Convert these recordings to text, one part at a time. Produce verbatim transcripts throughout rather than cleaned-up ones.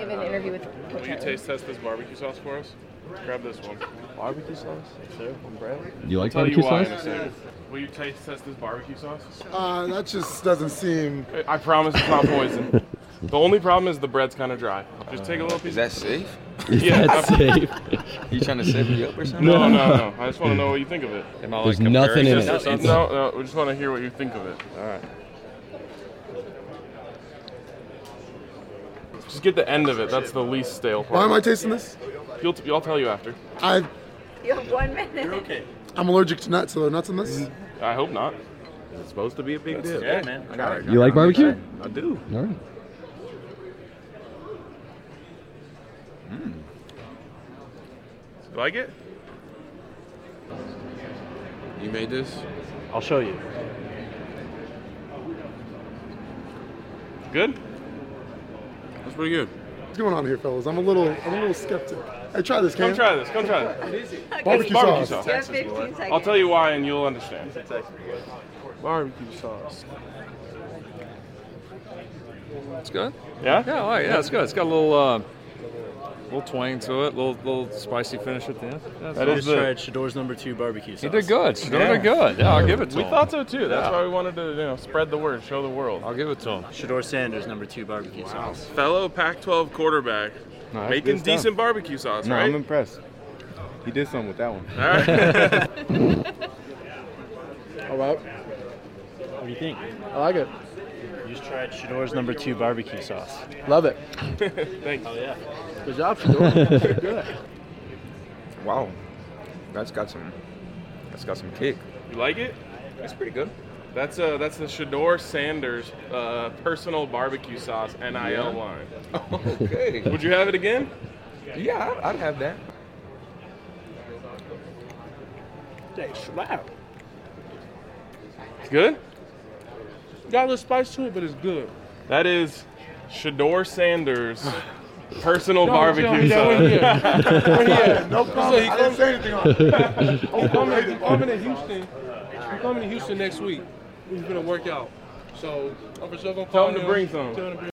of an interview with Coach Will you taste test this barbecue sauce for us? Grab this one. Barbecue sauce? Sir, on bread? You like I'll barbecue tell you sauce? why in a second. Will you taste test this barbecue sauce? Uh, that just doesn't seem... I promise it's not poison. The only problem is the bread's kind of dry. Just take a little piece. Is that safe? Yeah, That's safe. You trying to set me up or something? No, no, no. I just want to know what you think of it. Am I, There's like, nothing in comparing it. this or It's- something? No, no. We just want to hear what you think of it. All right. Just get the end of it. That's the least stale part. Why am I tasting this? You'll, I'll tell you after. I, You have one minute. You're okay. I'm allergic to nuts, so there are nuts in this? I hope not. It's supposed to be a big deal. Yeah, man. I got it. You like barbecue? I do. All right. You like it? You made this? I'll show you. Good? That's pretty good. What's going on here, fellas? I'm a little, I'm a little skeptic. Hey, try this, Come Cam. try this. Come try this. Barbecue, Barbecue sauce. sauce. You have fifteen seconds. I'll tell you why and you'll understand. Barbecue sauce. It's good? Yeah? Yeah, all right, yeah, it's good. It's got a little, uh, little twang to it, little, little spicy finish at the end. Yeah, That I is just the, tried Shador's number two barbecue sauce. he did good. Shador Yeah. did good. Yeah, I'll give it to we him. thought so too. That's Yeah. why we wanted to, you know, spread the word, show the world. I'll give it to him. Shador Sanders number two barbecue sauce. Fellow Pac twelve quarterback No, that's making good stuff. decent barbecue sauce, No, right? I'm impressed. He did something with that one. All right. All right. What do you think? I like it. You just tried Shador's number two barbecue sauce. Love it. Thanks. Oh yeah. Good job, Shador. Good. Wow. That's got some, that's got some kick. You like it? That's pretty good. That's uh that's the Shador Sanders uh, personal barbecue sauce N I L Yeah. line. Okay. Would you have it again? Yeah, I'd, I'd have that. They slap. Good? Got a little spice to it, but it's good. That is Shador Sanders personal No, barbecue tell me that when he sauce. at? When he at? No comment. he I didn't say anything on it. I'm coming, I'm coming to Houston. I'm coming to Houston next week. We're gonna work out. So I'm for sure gonna Tell call him to him, bring some. tell him to bring-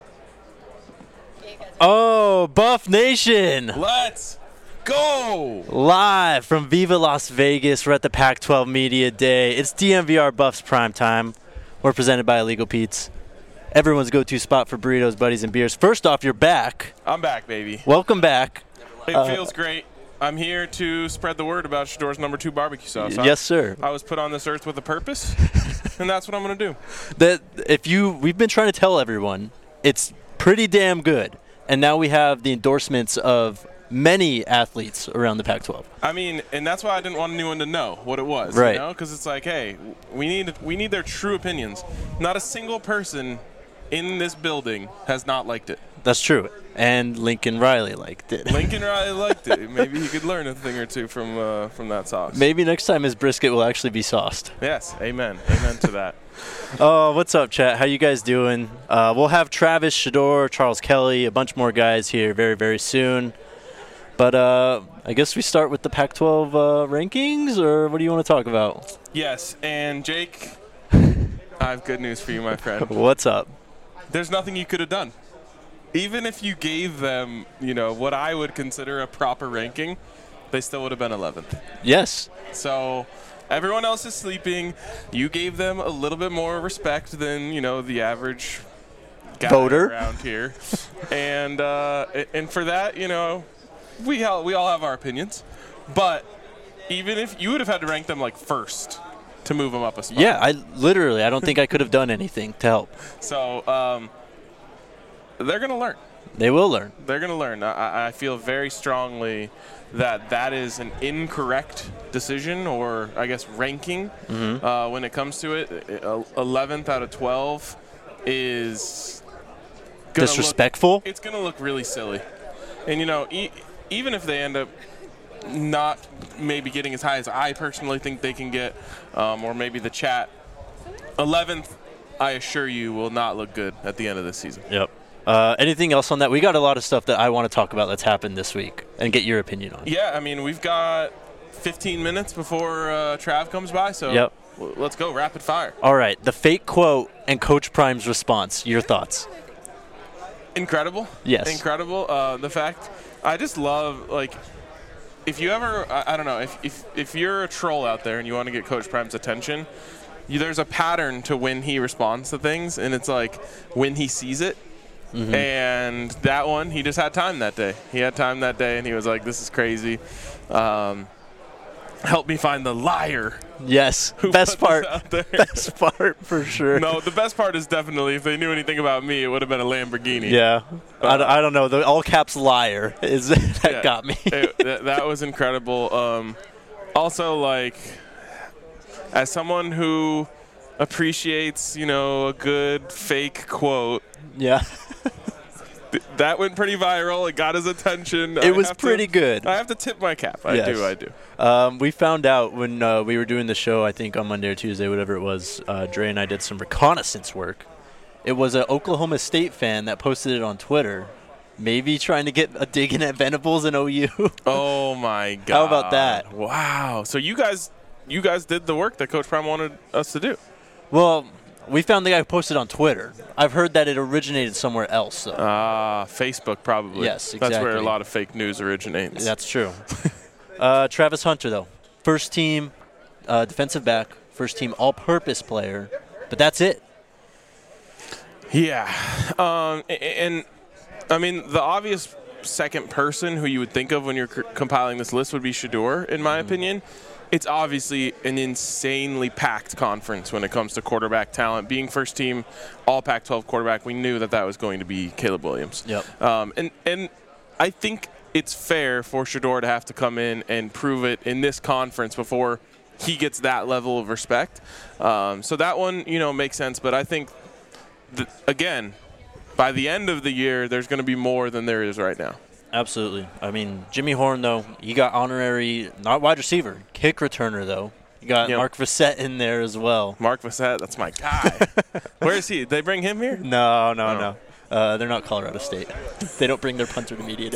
Oh, Buff Nation! Let's go! Live from Viva Las Vegas. We're at the Pac twelve Media Day. It's D M V R Buffs Prime Time. We're presented by Illegal Pete's. Everyone's go-to spot for burritos, buddies, and beers. First off, you're back. I'm back, baby. Welcome back. It Uh, feels great. I'm here to spread the word about Shador's number two barbecue sauce. Yes, sir. I was put on this earth with a purpose, and that's what I'm going to do. That if you, we've been trying to tell everyone, it's pretty damn good. And now we have the endorsements of many athletes around the Pac twelve. I mean, and that's why I didn't want anyone to know what it was, Right. you know? Because it's like, hey, we need we need their true opinions. Not a single person in this building has not liked it. That's true. And Lincoln Riley liked it. Lincoln Riley liked it. Maybe he could learn a thing or two from uh, from that sauce. Maybe next time his brisket will actually be sauced. Yes, amen. Amen to that. Oh, what's up, chat? How you guys doing? Uh, we'll have Travis, Shador, Charles Kelly, a bunch more guys here very, very soon. But uh, I guess we start with the Pac twelve uh, rankings, or what do you want to talk about? Yes, and Jake, I have good news for you, my friend. What's up? There's nothing you could have done. Even if you gave them, you know, what I would consider a proper ranking, they still would have been eleventh. Yes. So everyone else is sleeping. You gave them a little bit more respect than, you know, the average guy Voter. around here. and uh, and for that, you know, we all, we all have our opinions. But even if you would have had to rank them like first to move them up a spot. Yeah, I literally, I don't think I could have done anything to help. So um, they're going to learn. They will learn. They're going to learn. I, I feel very strongly that that is an incorrect decision, or I guess ranking, Mhm. uh, when it comes to it. Uh, eleventh out of twelve is gonna Disrespectful? Look, it's going to look really silly. And, you know, e- even if they end up not maybe getting as high as I personally think they can get, um, or maybe the chat, eleventh, I assure you, will not look good at the end of this season. Yep. Uh, anything else on that? We got a lot of stuff that I want to talk about that's happened this week and get your opinion on. Yeah, I mean, we've got fifteen minutes before uh, Trav comes by, so Yep. w- let's go, rapid fire. All right, the fake quote and Coach Prime's response. Your thoughts? Incredible. Yes. Incredible. Uh, the fact, I just love, like, if you ever, I, I don't know, if, if if you're a troll out there and you want to get Coach Prime's attention, you, there's a pattern to when he responds to things, and it's like when he sees it. Mm-hmm. And that one, he just had time that day. He had time that day, and he was like, this is crazy. Um, help me find the liar. Yes, best part. Best part for sure. No, the best part is definitely if they knew anything about me, it would have been a Lamborghini. Yeah, uh, I, don't, I don't know. The all caps liar is that yeah, got me. it, that, that was incredible. Um, also, like, as someone who appreciates, you know, a good fake quote. Yeah. th- that went pretty viral. It got his attention. It I was pretty to, good. I have to tip my cap. I yes. do. I do. Um, we found out when uh, we were doing the show, I think on Monday or Tuesday, whatever it was, uh, Dre and I did some reconnaissance work. It was an Oklahoma State fan that posted it on Twitter, maybe trying to get a dig in at Venables and O U. Oh, my God. How about that? Wow. So you guys you guys did the work that Coach Prime wanted us to do. Well, we found the guy who posted on Twitter. I've heard that it originated somewhere else, though. Ah, uh, Facebook probably. Yes, exactly. That's where a lot of fake news originates. That's true. uh, Travis Hunter, though. First team uh, defensive back, first team all-purpose player, but that's it. Yeah. Um, and, I mean, the obvious second person who you would think of when you're c- compiling this list would be Shedeur, in my mm. opinion. It's obviously an insanely packed conference when it comes to quarterback talent. Being first team all Pac twelve quarterback, we knew that that was going to be Caleb Williams. Yep. Um, and, and I think it's fair for Shedeur to have to come in and prove it in this conference before he gets that level of respect. Um, so that one, you know, makes sense. But I think, th- again, by the end of the year, there's going to be more than there is right now. Absolutely. I mean, Jimmy Horn, though, he got honorary, not wide receiver, kick returner, though. You got yep. Mark Vassett in there as well. Mark Vassett, that's my guy. Where is he? Did they bring him here? No, no, oh. no. Uh, they're not Colorado State. They don't bring their punter to media day.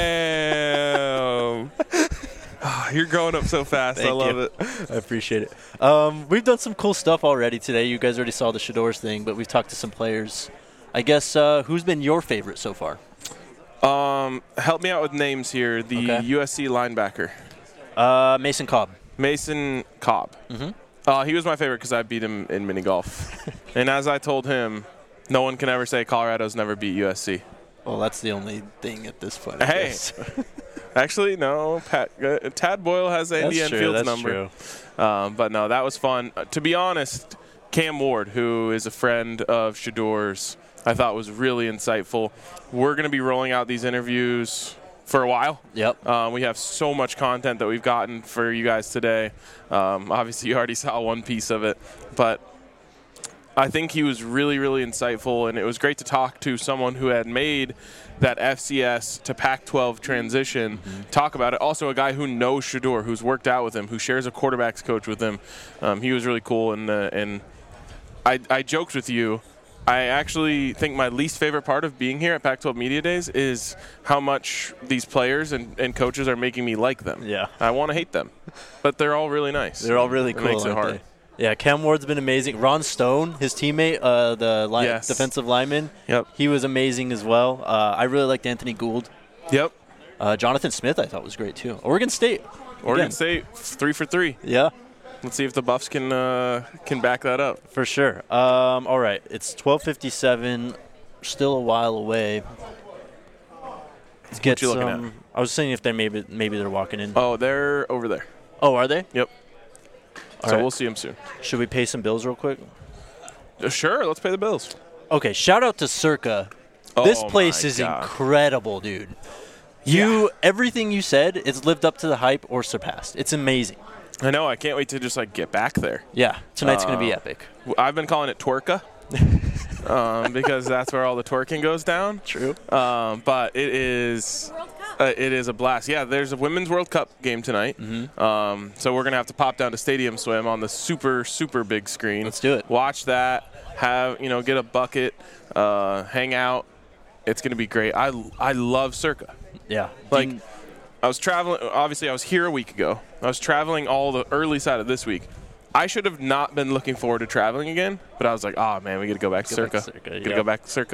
Damn. Oh, you're growing up so fast. Thank I love you. it. I appreciate it. Um, we've done some cool stuff already today. You guys already saw the Shedeur's thing, but we've talked to some players. I guess uh, who's been your favorite so far? Um, help me out with names here. The okay. U S C linebacker. Uh, Mason Cobb. Mason Cobb. Mm-hmm. Uh, he was my favorite because I beat him in mini golf. And as I told him, no one can ever say Colorado's never beat U S C. Well, that's the only thing at this point. I hey. guess. Actually, no. Pat, uh, Tad Boyle has Andy that's Enfield's true, that's number. True. Um, but no, that was fun. Uh, to be honest, Cam Ward, who is a friend of Shedeur's, I thought was really insightful. We're going to be rolling out these interviews for a while. Yep. Um, we have so much content that we've gotten for you guys today. Um, obviously, you already saw one piece of it. But I think he was really, really insightful, and it was great to talk to someone who had made that F C S to Pac twelve transition, mm-hmm. talk about it. Also, a guy who knows Shedeur, who's worked out with him, who shares a quarterback's coach with him. Um, he was really cool, and, uh, and I, I joked with you. I actually think my least favorite part of being here at Pac twelve Media Days is how much these players and, and coaches are making me like them. Yeah. I want to hate them, but they're all really nice. They're all really it cool. Makes it hard. They? Yeah, Cam Ward's been amazing. Ron Stone, his teammate, uh, the line, yes. defensive lineman, yep. he was amazing as well. Uh, I really liked Anthony Gould. Yep. Uh, Jonathan Smith I thought was great too. Oregon State. Oregon Again. State, three for three. Yeah. Let's see if the Buffs can uh, can back that up. For sure. Um, all right, it's twelve fifty-seven, still a while away. Let's get what you some. looking at? I was saying if they maybe maybe they're walking in. Oh, they're over there. Oh, are they? Yep. All so right. we'll see them soon. Should we pay some bills real quick? Uh, sure, let's pay the bills. Okay, shout out to Circa. Oh this place my is God. incredible, dude. You Yeah. everything you said, it's lived up to the hype or surpassed. It's amazing. I know. I can't wait to just like get back there. Yeah, tonight's uh, going to be epic. I've been calling it Twerka um, because that's where all the twerking goes down. True. Um, but it is uh, it is a blast. Yeah, there's a Women's World Cup game tonight. Mm-hmm. Um, so we're going to have to pop down to Stadium Swim on the super, super big screen. Let's do it. Watch that. Have, you know, get a bucket, uh, hang out. It's going to be great. I, I love Circa. Yeah. Like, Dean- I was traveling. Obviously, I was here a week ago. I was traveling all the early side of this week. I should have not been looking forward to traveling again, but I was like, oh, man, we got to go back to Go Circa. back to Circa, Got to yeah. go back to Circa.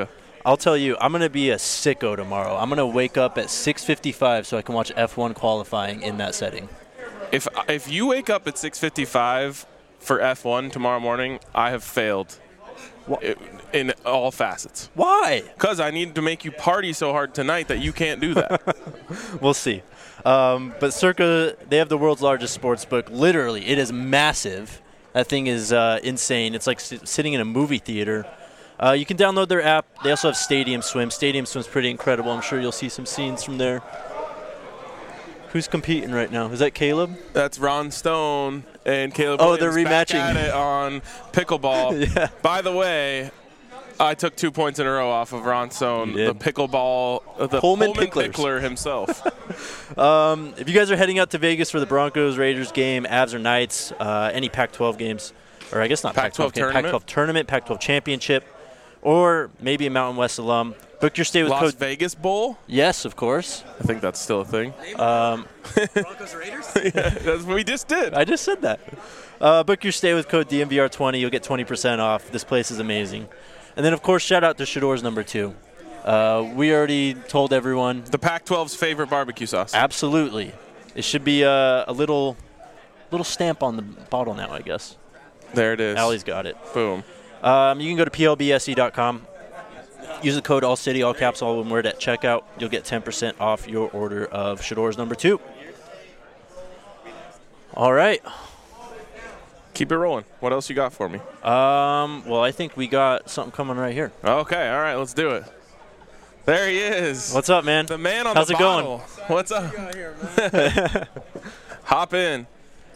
I'll tell you, I'm going to be a sicko tomorrow. I'm going to wake up at six fifty-five so I can watch F one qualifying in that setting. If if you wake up at six fifty-five for F one tomorrow morning, I have failed it, in all facets. Why? Because I need to make you party so hard tonight that you can't do that. We'll see. Um, but Circa, they have the world's largest sports book. Literally, it is massive. That thing is uh, insane. It's like s- sitting in a movie theater. Uh, you can download their app. They also have Stadium Swim. Stadium Swim's pretty incredible. I'm sure you'll see some scenes from there. Who's competing right now? Is that Caleb? That's Ron Stone and Caleb Oh, Williams they're back rematching. at it on pickleball. Yeah. By the way, I took two points in a row off of Ron Stone, You the did. pickleball, uh, the Pullman Pullman Picklers. pickler himself. Um, if you guys are heading out to Vegas for the Broncos-Raiders game, Avs or Knights, uh, any Pac twelve games, or I guess not Pac twelve Pac twelve game, tournament? Pac twelve tournament, Pac twelve championship, or maybe a Mountain West alum, book your stay with Las code. Vegas Bowl? Yes, of course. I think that's still a thing. Um, Broncos Raiders? Yeah, that's what we just did. I just said that. Uh, book your stay with code D M V R twenty. You'll get twenty percent off. This place is amazing. And then, of course, shout out to Shador's number two. Uh, we already told everyone. The Pac twelve's favorite barbecue sauce. Absolutely. It should be uh, a little little stamp on the bottle now, I guess. There it is. Allie's got it. Boom. Um, you can go to P L B S E dot com. Use the code ALLCITY, all caps, all one word at checkout. You'll get ten percent off your order of Shador's number two. All right. Keep it rolling. What else you got for me? Um, well, I think we got something coming right here. Okay, all right, let's do it. There he is. What's up, man? The man on How's the it bottle. going? What's up? Hop in.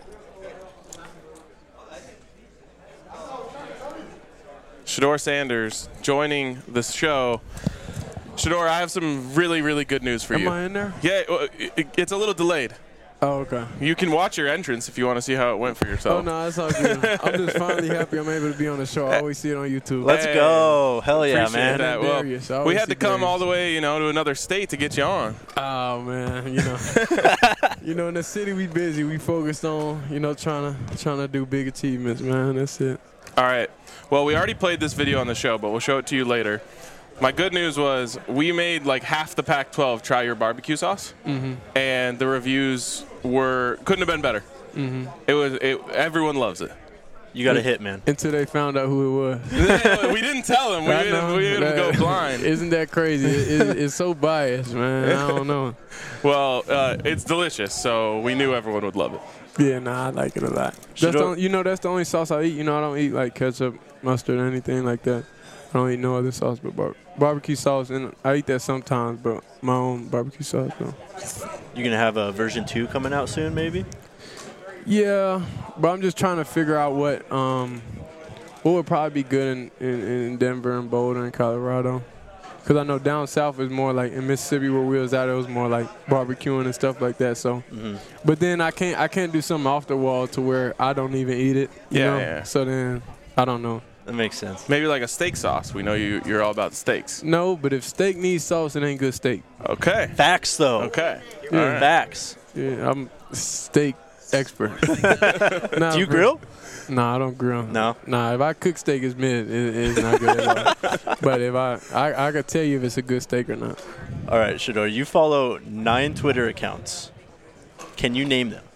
Shador Sanders joining the show. Shador, I have some really, really good news for Am you. I in there? Yeah, well, it, it's a little delayed. Oh, okay. You can watch your entrance if you want to see how it went for yourself. Oh, no, that's all good. I'm just finally happy I'm able to be on the show. I always see it on YouTube. Let's Hey, go. Hell yeah, Appreciate man. that. And Well, Darius. I we always had to see come all Darius. the way, you know, to another state to get you on. Oh, man, you know. you know, in the city we busy. We focused on, you know, trying to trying to do big achievements, man. That's it. All right. Well, we already played this video on the show, but we'll show it to you later. My good news was we made like half the Pac twelve try your barbecue sauce, Mm-hmm. and the reviews were couldn't have been better. Mm-hmm. It was it, everyone loves it. You got a hit, man. Until they found out who it was. We didn't tell them. We I didn't, know. we didn't go That- blind. Isn't that crazy? It, it, it's so biased, man. I don't know. Well, uh, it's delicious, so we knew everyone would love it. Yeah, nah, I like it a lot. Should That's the, I- only- you know, that's the only sauce I eat. You know, I don't eat like ketchup, mustard, or anything like that. I don't eat no other sauce but bar- barbecue sauce, and I eat that sometimes, but my own barbecue sauce, though. You gonna have a version two coming out soon, maybe? Yeah, but I'm just trying to figure out what um what would probably be good in, in, in Denver and Boulder and Colorado. Because I know down south is more like in Mississippi where we was at, it was more like barbecuing and stuff like that. So, Mm-hmm. but then I can't I can't do something off the wall to where I don't even eat it. You Yeah, know? yeah. So then I don't know. That makes sense. Maybe like a steak sauce. We know you you're all about the steaks. No, but if steak needs sauce, it ain't good steak. Okay. Facts, though. Okay. Yeah. All right. Facts. Yeah, I'm steak expert. Nah, Do you bro. grill? Nah, I don't grill. No? Nah, if I cook steak, it's mid. It, it's not good at all. But if I, I, I could tell you if it's a good steak or not. All right, Shador, you follow nine Twitter accounts. Can you name them?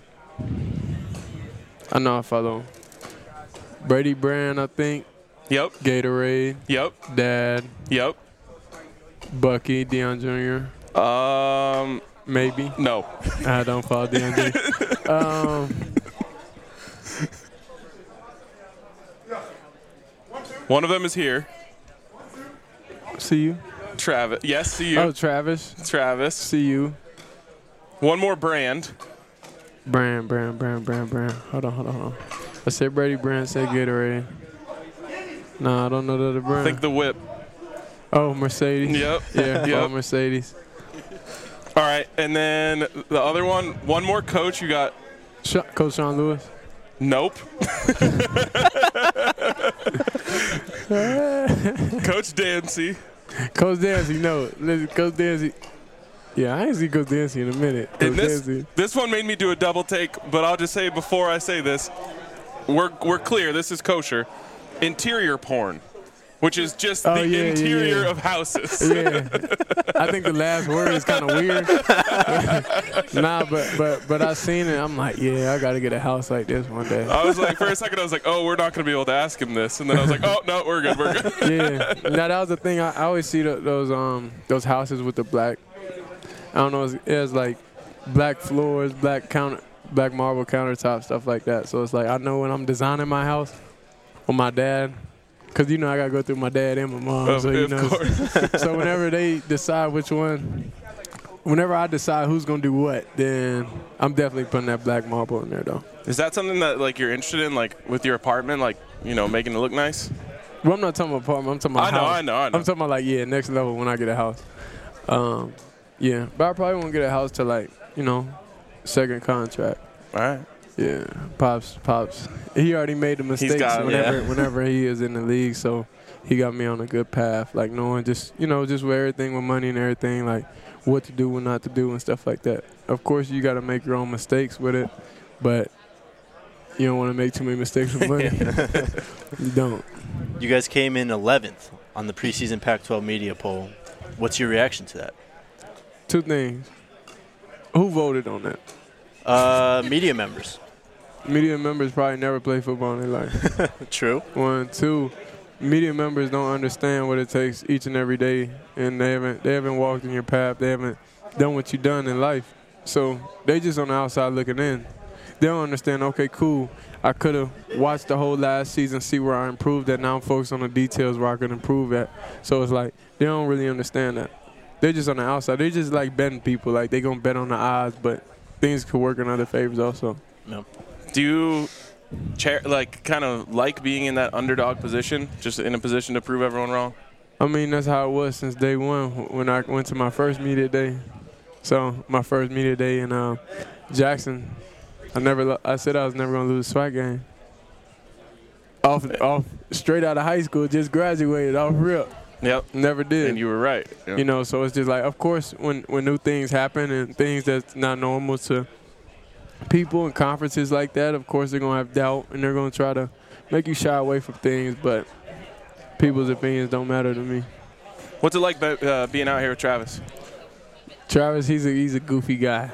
I know I follow Brady Brand, I think. Yep. Gatorade. Yep. Dad. Yep. Bucky, Deion Junior Um. Maybe. No. I don't follow Deion Junior um, One of them is here. see you. Travis. Yes, see you. Oh, Travis. Travis. See you. One more brand. Brand, brand, brand, brand, brand. Hold on, hold on, hold on. I said Brady Brand, said Gatorade. Nah, I don't know the other brand. Think the whip. Oh, Mercedes. Yep. Yeah, Yep. follow Mercedes. All right, and then the other one, one more coach. You got Sh- Coach Sean Lewis. nope. Coach Dancy. Coach Dancy, no. Listen, Coach Dancy. Yeah, I ain't see Coach Dancy in a minute. Coach And this Dancy. this one made me do a double take, but I'll just say before I say this, we're we're clear. This is kosher. Interior porn. which is just Oh, the yeah, yeah, interior yeah. of houses. Yeah, I think the last word is kind of weird. nah, but but but I seen it. I'm like, yeah, I gotta get a house like this one day. I was like, for a second, I was like, oh, we're not going to be able to ask him this. And then I was like, oh, no, we're good, we're good. Yeah. Now that was the thing. I, I always see the, those um those houses with the black. I don't know. It's, it's like black floors, black counter, black marble countertops, stuff like that. So it's like I know when I'm designing my house with my dad. Cause you know I gotta go through my dad and my mom, Of- so you of know. course. So whenever they decide which one, whenever I decide who's gonna do what, then I'm definitely putting that black marble in there, though. Is that something that like you're interested in, like with your apartment, like you know, making it look nice? Well, I'm not talking about apartment. I'm talking about I know, house. I know, I know. I'm talking about like yeah, next level when I get a house. Um, yeah, but I probably won't get a house till like you know, second contract. All right. Yeah, pops, pops. He already made the mistakes got 'em, whenever, yeah. whenever he is in the league, so he got me on a good path. Like knowing just, you know, just with everything with money and everything, like what to do, what not to do, and stuff like that. Of course, you got to make your own mistakes with it, but you don't want to make too many mistakes with money. You don't. You guys came in eleventh on the preseason Pac twelve media poll. What's your reaction to that? Two things. Who voted on that? Uh, media members. Media members probably never play football in their life. True. One, two, media members don't understand what it takes each and every day, and they haven't they haven't walked in your path. They haven't done what you've done in life, so they just on the outside looking in. They don't understand. Okay, cool. I could have watched the whole last season, see where I improved at. Now I'm focused on the details where I could improve at. So it's like they don't really understand that. They're just on the outside. They just like betting people. Like they gonna bet on the odds, but things could work in other favors also. No. Do you chair, like kind of like being in that underdog position, just in a position to prove everyone wrong? I mean, that's how it was since day one when I went to my first media day. So my first media day in uh, Jackson, I never. I said I was never gonna lose a SWAC game. Off, off, straight out of high school, just graduated off rip. Yep. Never did. And you were right. Yep. You know, so it's just like, of course, when when new things happen and things that's not normal to people in conferences like that, of course they're gonna have doubt and they're gonna try to make you shy away from things. But people's opinions don't matter to me. What's it like uh, being out here with Travis? Travis, he's a he's a goofy guy.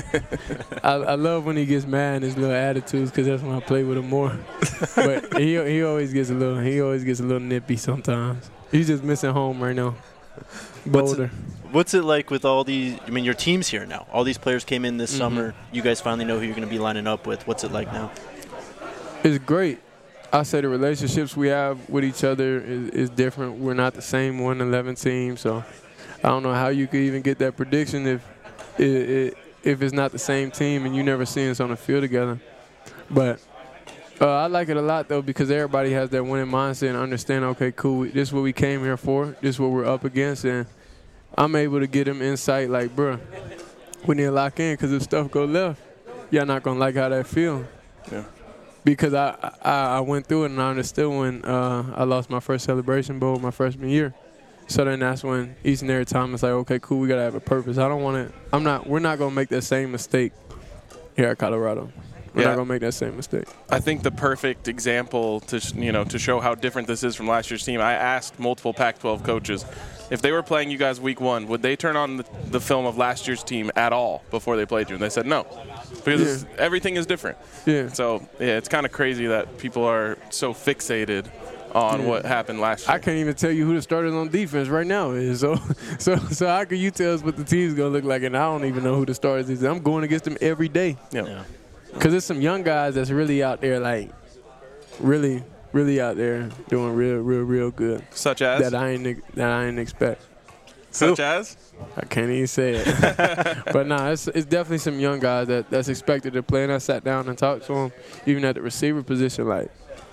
I, I love when he gets mad and his little attitudes because that's when I play with him more. But he he always gets a little he always gets a little nippy sometimes. He's just missing home right now. Boulder. What's it like with all these? I mean, your team's here now. All these players came in this Mm-hmm. summer. You guys finally know who you're going to be lining up with. What's it like now? It's great. I say the relationships we have with each other is, is different. We're not the same one eleven team, so I don't know how you could even get that prediction if it, it, if it's not the same team and you never seen us on the field together. But uh, I like it a lot, though, because everybody has that winning mindset and understand, okay, cool, this is what we came here for. This is what we're up against. And I'm able to get them insight like, bro, we need to lock in because if stuff go left, y'all not going to like how that feel. Yeah. Because I, I I went through it and I understood when uh, I lost my first Celebration Bowl my freshman year. So then that's when each and every time it's like, okay, cool, we got to have a purpose. I don't want to – I'm not – we're not going to make that same mistake here at Colorado. We're Yeah. not going to make that same mistake. I think the perfect example to sh- you know to show how different this is from last year's team. I asked multiple Pac twelve coaches if they were playing you guys week one, would they turn on the, the film of last year's team at all before they played you? And they said no, because Yeah. it's- everything is different. Yeah. So yeah, it's kind of crazy that people are so fixated on Yeah. what happened last year. I can't even tell you who the starters on defense right now is. So so so how can you tell us what the team's going to look like? And I don't even know who the starters is. I'm going against them every day. Yeah. Yeah. Because there's some young guys that's really out there, like, really, really out there doing real, real, real good. Such as? That I ain't that I ain't expect. Such as? I can't even say it. But nah, it's it's definitely some young guys that, that's expected to play. And I sat down and talked to them, even at the receiver position, like,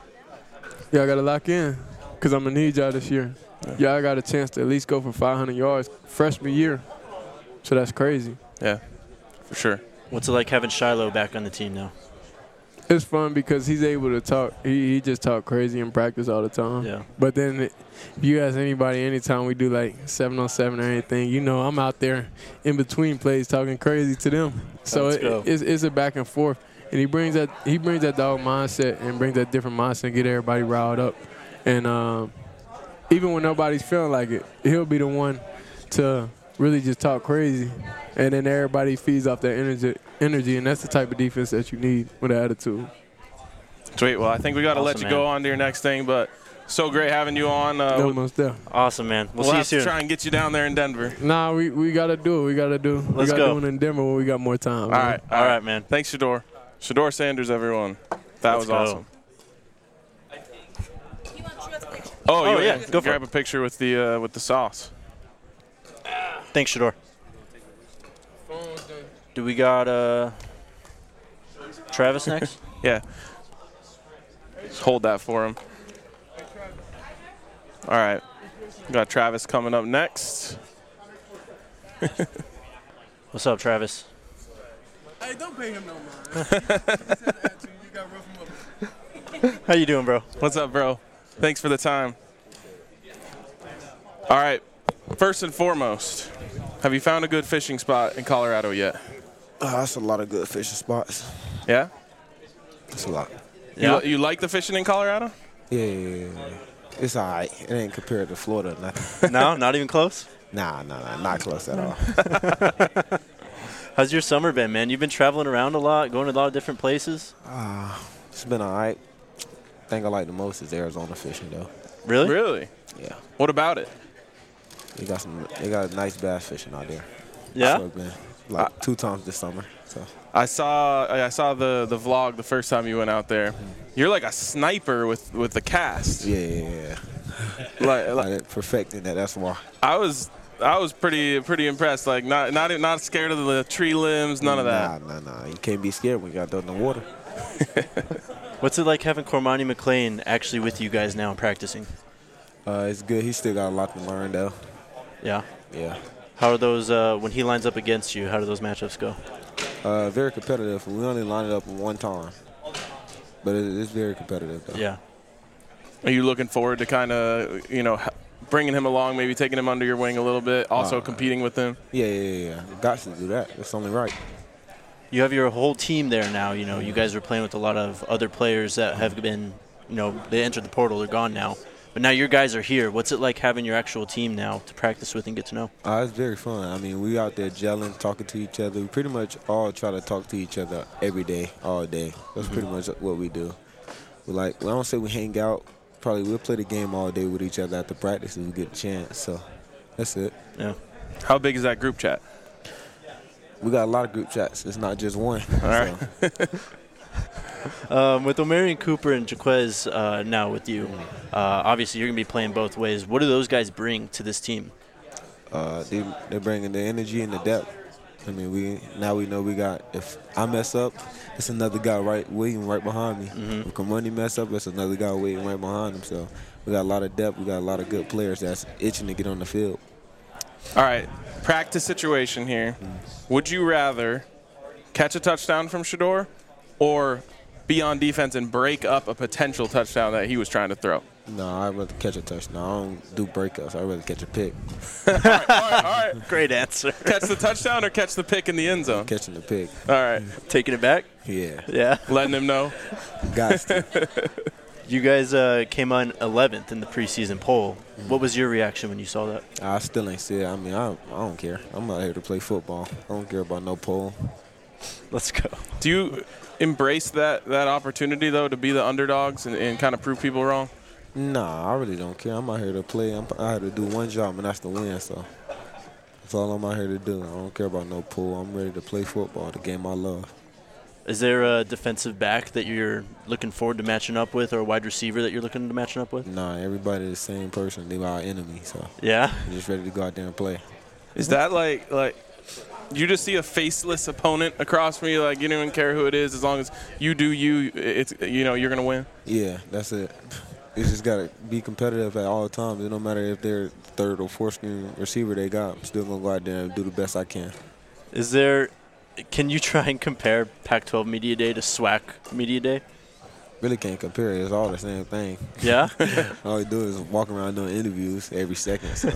y'all got to lock in because I'm going to need y'all this year. Y'all got a chance to at least go for five hundred yards freshman year. So that's crazy. Yeah, for sure. What's it like having Shiloh back on the team now? It's fun because he's able to talk. He, he just talk crazy in practice all the time. Yeah. But then if you ask anybody, anytime we do like seven on seven or anything, you know I'm out there in between plays talking crazy to them. So Let's it, go. it's, it's a back and forth. And he brings that he brings that dog mindset and brings that different mindset and get everybody riled up. And um, even when nobody's feeling like it, he'll be the one to really just talk crazy. And then everybody feeds off that energy, energy, and that's the type of defense that you need with an attitude. Sweet. Well, I think we got to Awesome, let you man. go on to your next thing, but so great having you on. Uh, No, most there. Awesome, man. We'll, we'll see you have soon. to try and get you down there in Denver. Nah, we, we got to do it. We got to do We Let's got go. to do it in Denver when we got more time. All man. right. All right, man. Thanks, Shador. Shador Sanders, everyone. That Let's was go. awesome. Oh, Oh, you yeah, want to go for grab it. a picture with the uh, with the sauce. Thanks, Shador. Do we got uh, Travis next? Yeah. Just hold that for him. All right. We got Travis coming up next. What's up, Travis? Hey, don't pay him no mind. How you doing, bro? What's up, bro? Thanks for the time. All right. First and foremost, have you found a good fishing spot in Colorado yet? Uh, that's a lot of good fishing spots. Yeah? That's a lot. Yeah. You, you like the fishing in Colorado? Yeah, yeah, yeah, yeah. It's all right. It ain't compared to Florida or nothing. No, not even close. Nah, nah, nah, not close at all. How's your summer been, man? You've been traveling around a lot, going to a lot of different places. Uh, it's been all right. Thing I like the most is Arizona fishing, though. Really? Really? Yeah. What about it? They got some. They got nice bass fishing out there. Yeah? That's what I've been like two times this summer. So I saw I saw the, the vlog the first time you went out there. You're like a sniper with, with the cast. yeah, yeah, yeah. Like, like Like perfecting that. That's why. I was I was pretty pretty impressed. Like not not not scared of the tree limbs, none of that. Nah, nah, nah. You can't be scared when you got done in the water. What's it like having Cormani McLean actually with you guys now practicing? Uh, it's good. He still got a lot to learn, though. Yeah. Yeah. How are those, uh, when he lines up against you, how do those matchups go? Uh, very competitive. We only lined it up one time, but it, it's very competitive, though. Yeah. Are you looking forward to kind of you know h- bringing him along, maybe taking him under your wing a little bit, also Uh, competing with him? Yeah, yeah, yeah, yeah. Got to do that. It's only right. You have your whole team there now. You know, you guys are playing with a lot of other players that have been, you know, they entered the portal, they're gone now. But now your guys are here. What's it like having your actual team now to practice with and get to know? Uh, it's very fun. I mean, we out there gelling, talking to each other. We pretty much all try to talk to each other every day, all day. That's pretty much what we do. We like, I don't say we hang out. Probably we'll play the game all day with each other after practice if we get a chance. So that's it. Yeah. How big is that group chat? We got a lot of group chats. It's not just one. All right. Um, with Omarion Cooper and Jaquez uh, now with you, uh, obviously you're going to be playing both ways. What do those guys bring to this team? Uh, they, they're bringing the energy and the depth. I mean, we now we know we got, if I mess up, it's another guy right waiting right behind me. Mm-hmm. If Kamani mess up, it's another guy waiting right behind him. So we got a lot of depth. We got a lot of good players that's itching to get on the field. All right, practice situation here. Would you rather catch a touchdown from Shador or be on defense and break up a potential touchdown that he was trying to throw? No, I'd rather catch a touchdown. I don't do breakups. I'd rather catch a pick. all right, all right, all right. Great answer. Catch the touchdown or catch the pick in the end zone? Catching the pick. All right, Taking it back? Yeah. Yeah. letting him know. Got to. You guys uh, came on eleventh in the preseason poll. What was your reaction when you saw that? I still ain't see it. I mean, I, I don't care. I'm out here to play football. I don't care about no poll. Let's go. Do you embrace that, that opportunity, though, to be the underdogs and, and kind of prove people wrong? Nah, I really don't care. I'm out here to play. I'm out here to do one job, and that's to win. So that's all I'm out here to do. I don't care about no pool. I'm ready to play football, the game I love. Is there a defensive back that you're looking forward to matching up with or a wide receiver that you're looking to matching up with? Nah, everybody the same person. They our enemy, so Yeah? I'm just ready to go out there and play. Is that like like you just see a faceless opponent across from you, like you don't even care who it is, as long as you do you, it's you know you're gonna win? Yeah, that's it. You just gotta be competitive at all times. It don't matter if they're third or fourth string receiver they got. I'm still gonna go out there and do the best I can. Is there – can you try and compare Pac twelve Media Day to SWAC Media Day? Really can't compare it. It's all the same thing. Yeah? All you do is walk around doing interviews every second. So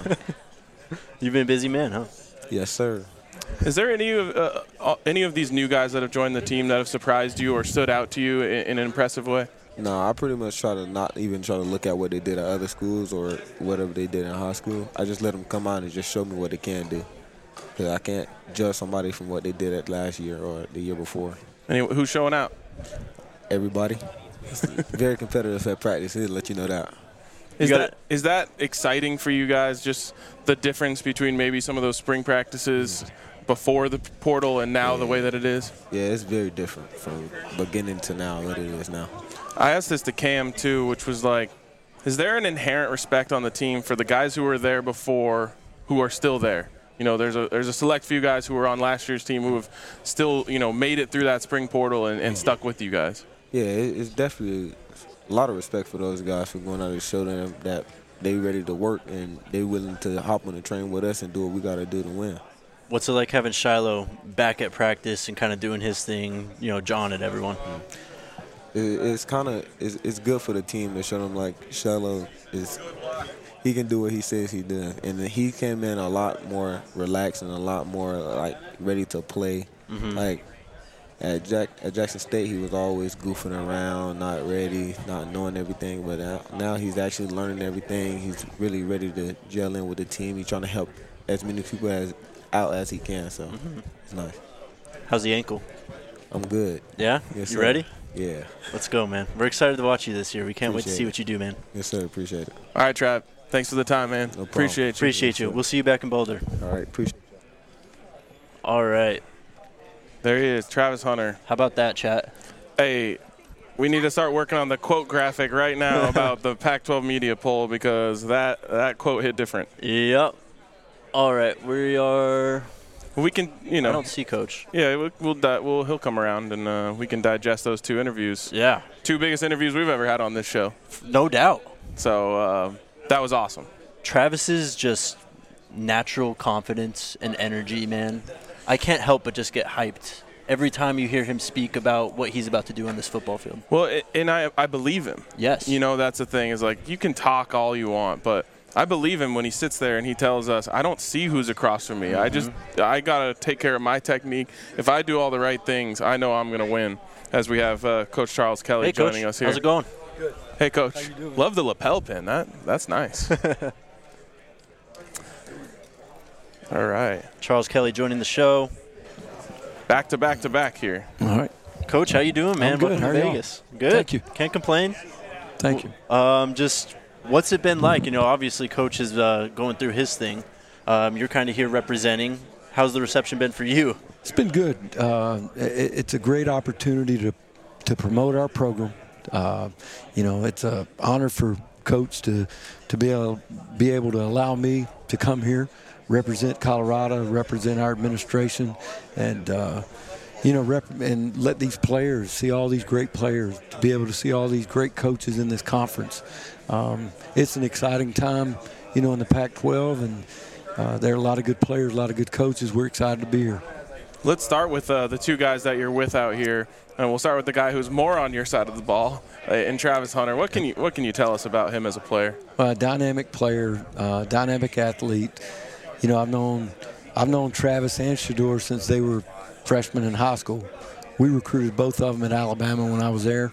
You've been a busy man, huh? yes, sir. Is there any of uh, any of these new guys that have joined the team that have surprised you or stood out to you in, in an impressive way? No, I pretty much try to not even try to look at what they did at other schools or whatever they did in high school. I just let them come out and just show me what they can do. Because I can't judge somebody from what they did at last year or the year before. Anyway, who's showing out? Everybody. Very competitive at practice. He'll let you know that. Is that is that exciting for you guys? Just the difference between maybe some of those spring practices before the portal and now yeah. the way that it is? Yeah, it's very different from beginning to now what it is now. I asked this to Cam too, which was like, is there an inherent respect on the team for the guys who were there before who are still there? You know, there's a there's a select few guys who were on last year's team who have still, you know, made it through that spring portal and, and stuck with you guys. Yeah, it, it's definitely a lot of respect for those guys for going out and show them that they ready to work and they willing to hop on the train with us and do what we got to do to win. What's it like having Shiloh back at practice and kind of doing his thing, you know, jawing at everyone? It, it's kind of it's, it's good for the team to show them like Shiloh is he can do what he says he does, and he came in a lot more relaxed and a lot more like ready to play. Mm-hmm. Like at Jack at Jackson State, he was always goofing around, not ready, not knowing everything. But now, now he's actually learning everything. He's really ready to gel in with the team. He's trying to help as many people as out as he can. So mm-hmm. it's nice. How's the ankle? I'm good. Yeah? Yes, you sir. ready? Yeah. Let's go, man. We're excited to watch you this year. We can't Appreciate wait to see it. what you do, man. Yes, sir. Appreciate it. All right, Trav. Thanks for the time, man. No problem. Appreciate you. Appreciate you. We'll see you back in Boulder. All right. Appreciate it. All right. There he is, Travis Hunter. How about that, chat? Hey, we need to start working on the quote graphic right now about the Pac twelve media poll because that, that quote hit different. Yep. All right. We are – We can, you know. I don't see Coach. Yeah, we'll, we'll, di- we'll he'll come around and uh, we can digest those two interviews. Yeah. Two biggest interviews we've ever had on this show. No doubt. So uh, that was awesome. Travis's just natural confidence and energy, man. I can't help but just get hyped every time you hear him speak about what he's about to do on this football field. Well, it, and I I believe him. Yes. You know, that's the thing is like you can talk all you want, but I believe him when he sits there and he tells us, I don't see who's across from me. Mm-hmm. I just, I got to take care of my technique. If I do all the right things, I know I'm going to win. As we have uh, Coach Charles Kelly hey, joining Coach. us here. How's it going? Good. Hey, Coach. How you doing? Love the lapel pin. That That's nice. All right. Charles Kelly joining the show. Back to back to back here. All right. Coach, how you doing, man? I'm good. Welcome How to are y'all? Vegas. Good. Thank you. Can't complain. Thank you. Um, just what's it been like? You know, obviously Coach is uh, going through his thing. Um, you're kind of here representing. How's the reception been for you? It's been good. Uh, it, it's a great opportunity to to promote our program. Uh, you know, it's an honor for Coach to to be able be able to allow me to come here, represent Colorado, represent our administration, and uh, you know, rep- and let these players see all these great players, to be able to see all these great coaches in this conference. Um, it's an exciting time, you know, in the Pac twelve, and uh, there are a lot of good players, a lot of good coaches. We're excited to be here. Let's start with uh, the two guys that you're with out here, and we'll start with the guy who's more on your side of the ball, uh, in Travis Hunter. What can you what can you tell us about him as a player? Uh, dynamic player, uh, dynamic athlete. You know, I've known I've known Travis and Shedeur since they were freshmen in high school. We recruited both of them at Alabama when I was there.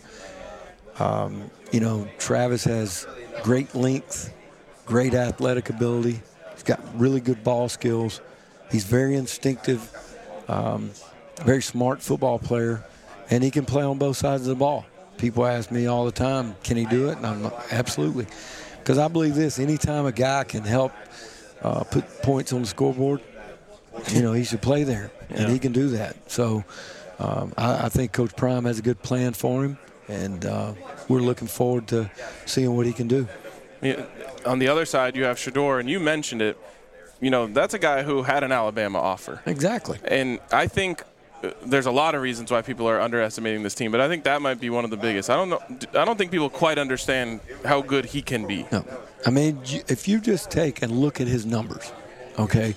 Um, you know, Travis has great length, great athletic ability. He's got really good ball skills. He's very instinctive, um, very smart football player, and he can play on both sides of the ball. People ask me all the time, can he do it? And I'm like, absolutely. Because I believe this, anytime a guy can help uh, put points on the scoreboard, you know, he should play there, and yeah. he can do that. So um, I, I think Coach Prime has a good plan for him, and uh, we're looking forward to seeing what he can do. Yeah, on the other side, you have Shedeur, and you mentioned it. You know, that's a guy who had an Alabama offer. Exactly. And I think there's a lot of reasons why people are underestimating this team, but I think that might be one of the biggest. I don't know. I don't think people quite understand how good he can be. No. I mean, if you just take and look at his numbers, okay,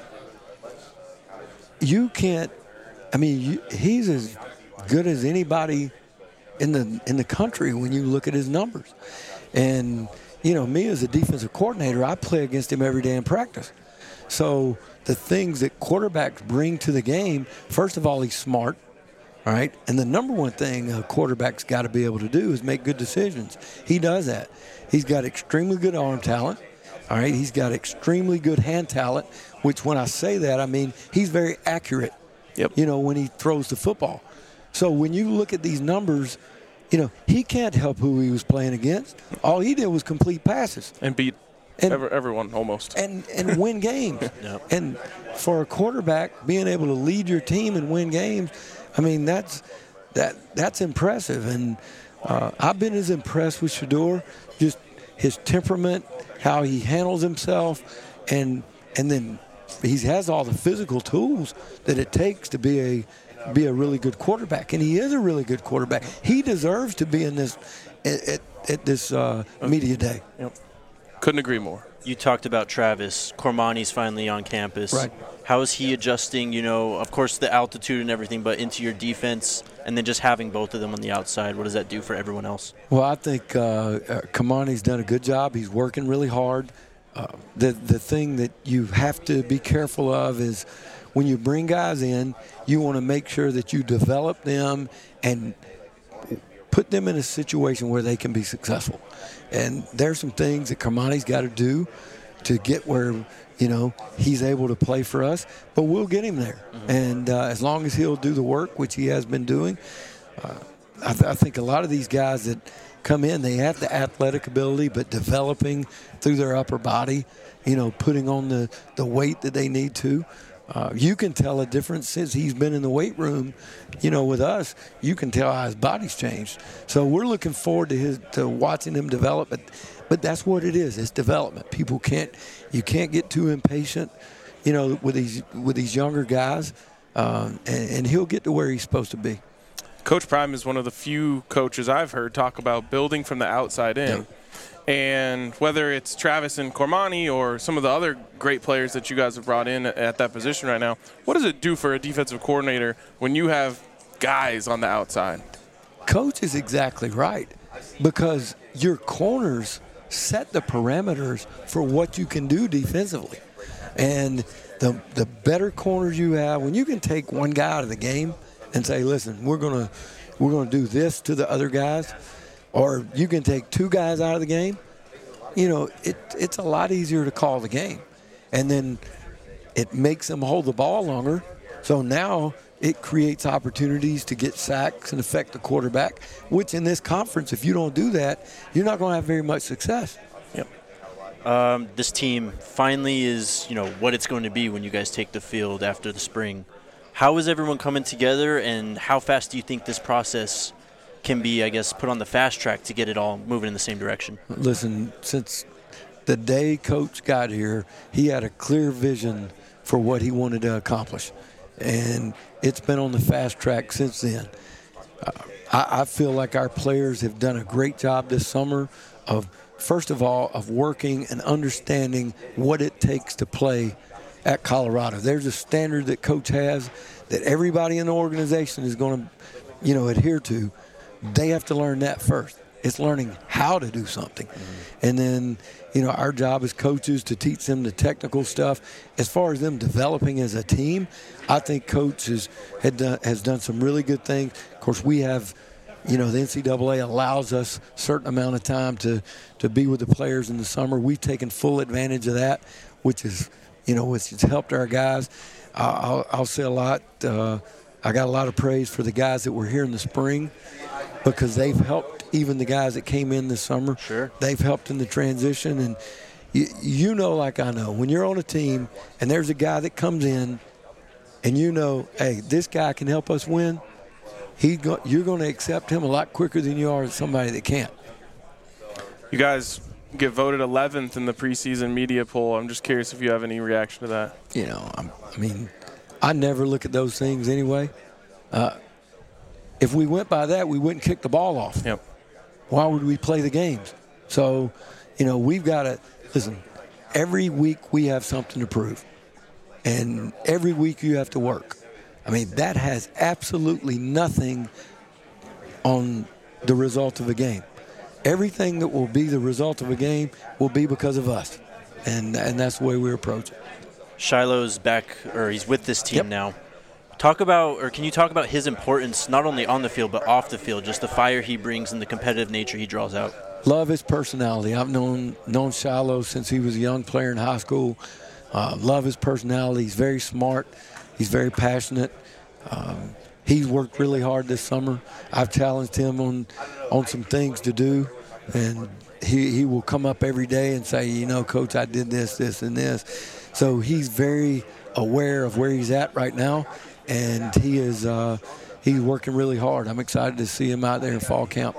you can't – I mean, you, he's as good as anybody in the in the country when you look at his numbers. And, you know, me as a defensive coordinator, I play against him every day in practice. So the things that quarterbacks bring to the game, first of all, he's smart, All right. And the number one thing a quarterback's got to be able to do is make good decisions. He does that. He's got extremely good arm talent. All right. He's got extremely good hand talent, which when I say that, I mean he's very accurate, yep. you know, when he throws the football. So when you look at these numbers, you know, he can't help who he was playing against. All he did was complete passes. And beat and, every, everyone almost. And, and win games. Yep. And for a quarterback, being able to lead your team and win games, I mean, that's that that's impressive. And uh, I've been as impressed with Shedeur, just his temperament, how he handles himself, and and then he has all the physical tools that it takes to be a be a really good quarterback. And he is a really good quarterback. He deserves to be in this at, at, at this uh, media day. Yep. Couldn't agree more. You talked about Travis. Cormani's finally on campus. Right. How is he adjusting, you know, of course the altitude and everything, but into your defense, and then just having both of them on the outside? What does that do for everyone else? Well, I think uh, uh, Cormani's done a good job. He's working really hard. Uh, the, the thing that you have to be careful of is when you bring guys in, you want to make sure that you develop them and put them in a situation where they can be successful. And there's some things that Cormani's got to do to get where, you know, he's able to play for us, but we'll get him there. Mm-hmm. And uh, as long as he'll do the work, which he has been doing, uh, I, th- I think a lot of these guys that come in, they have the athletic ability, but developing through their upper body, you know, putting on the, the weight that they need to. Uh, you can tell a difference since he's been in the weight room, you know, with us. You can tell how his body's changed. So we're looking forward to his to watching him develop. But, but that's what it is. It's development. People can't you can't get too impatient, you know, with these with these younger guys, um, and, and he'll get to where he's supposed to be. Coach Prime is one of the few coaches I've heard talk about building from the outside in. Yeah. And whether it's Travis and Cormani or some of the other great players that you guys have brought in at that position right now, what does it do for a defensive coordinator when you have guys on the outside? Coach is exactly right, because your corners set the parameters for what you can do defensively. And the the better corners you have, when you can take one guy out of the game and say, listen, we're gonna we're gonna do this to the other guys, or you can take two guys out of the game, you know, it it's a lot easier to call the game. And then it makes them hold the ball longer. So now it creates opportunities to get sacks and affect the quarterback, which in this conference, if you don't do that, you're not going to have very much success. Yep. Um, this team finally is, you know, what it's going to be when you guys take the field after the spring. How is everyone coming together, and how fast do you think this process can be, I guess, put on the fast track to get it all moving in the same direction? Listen, since the day Coach got here, he had a clear vision for what he wanted to accomplish. And it's been on the fast track since then. Uh, I, I feel like our players have done a great job this summer of, first of all, of working and understanding what it takes to play at Colorado. There's a standard that Coach has that everybody in the organization is going to, you know, adhere to. They have to learn that first. It's learning how to do something. Mm-hmm. And then, you know, our job as coaches to teach them the technical stuff. As far as them developing as a team, I think Coach has, had done, has done some really good things. Of course, we have, you know, the N C double A allows us a certain amount of time to, to be with the players in the summer. We've taken full advantage of that, which is, you know, which has helped our guys. I'll, I'll say a lot. Uh, I got a lot of praise for the guys that were here in the spring, because they've helped even the guys that came in this summer. Sure. They've helped in the transition. And you, you know, like I know, when you're on a team and there's a guy that comes in and you know, hey, this guy can help us win, he go, you're going to accept him a lot quicker than you are somebody that can't. You guys get voted eleventh in the preseason media poll. I'm just curious if you have any reaction to that. You know, I'm, I mean, I never look at those things anyway. Uh, if we went by that, we wouldn't kick the ball off. Yep. Why would we play the games? So, you know, we've got to – listen, every week we have something to prove. And every week you have to work. I mean, that has absolutely nothing on the result of a game. Everything that will be the result of a game will be because of us. And and that's the way we approach it. Shiloh's back, or he's with this team Yep. now. talk about, or can you talk about his importance not only on the field but off the field, just the fire he brings and the competitive nature he draws out? Love his personality. I've known known Shiloh since he was a young player in high school. Uh, love his personality. He's very smart. He's very passionate. Um, he's worked really hard this summer. I've challenged him on on some things to do, and he, he will come up every day and say, you know, Coach, I did this, this, and this. So he's very aware of where he's at right now, and he is uh, he's working really hard. I'm excited to see him out there in fall camp.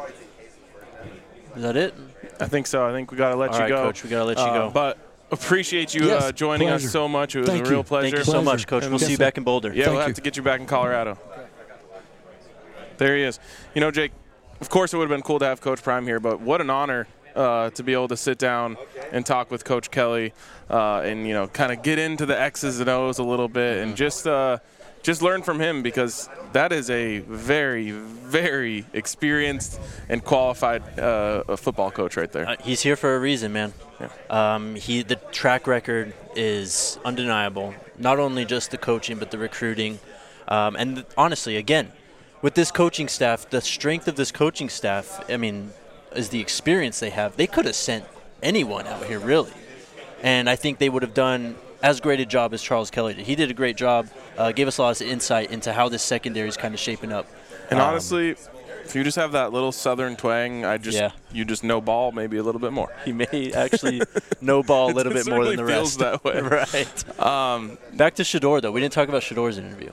Is that it? I think so. I think we got to let All you right, go. Coach, we got to let you Uh, go. But appreciate you Yes, uh, joining pleasure. us so much. It was Thank a real you. pleasure. Thank you so much, Coach. Pleasure. We'll Yes, see you sir. back in Boulder. Yeah, Thank we'll have you. to get you back in Colorado. There he is. You know, Jake, of course it would have been cool to have Coach Prime here, but what an honor uh, to be able to sit down and talk with Coach Kelly uh, and, you know, kind of get into the X's and O's a little bit and just uh, just learn from him, because that is a very, very experienced and qualified uh, football coach right there. Uh, he's here for a reason, man. Yeah. Um, he the track record is undeniable. Not only just the coaching, but the recruiting, um, and th- honestly, again, with this coaching staff, the strength of this coaching staff, I mean, is the experience they have. They could have sent anyone out here, really, and I think they would have done as great a job as Charles Kelly did. He did a great job. Uh, gave us a lot of insight into how this secondary is kind of shaping up. And Um, honestly, if you just have that little southern twang, I just Yeah. you just know ball maybe a little bit more. He may actually know ball a little It bit more than the certainly feels rest. that way. Right. Um, Back to Shedeur, though. We didn't talk about Shedor's interview.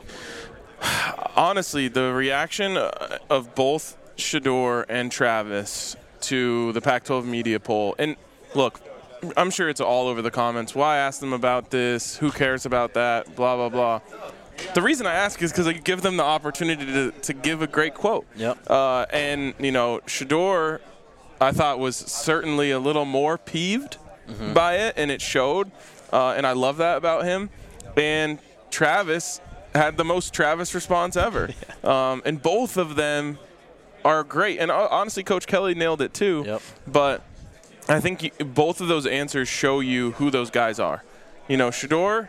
honestly, the reaction uh, of both Shedeur and Travis to the Pac twelve media poll, and look, I'm sure it's all over the comments. Why ask them about this? Who cares about that? Blah, blah, blah. The reason I ask is because I give them the opportunity to, to give a great quote. Yep. Uh, and, you know, Shedeur, I thought, was certainly a little more peeved Mm-hmm. by it, and it showed. Uh, and I love that about him. And Travis had the most Travis response ever. yeah. um, and both of them are great. And uh, honestly, Coach Kelly nailed it too. Yep. But I think you, both of those answers show you who those guys are. You know, Shedeur,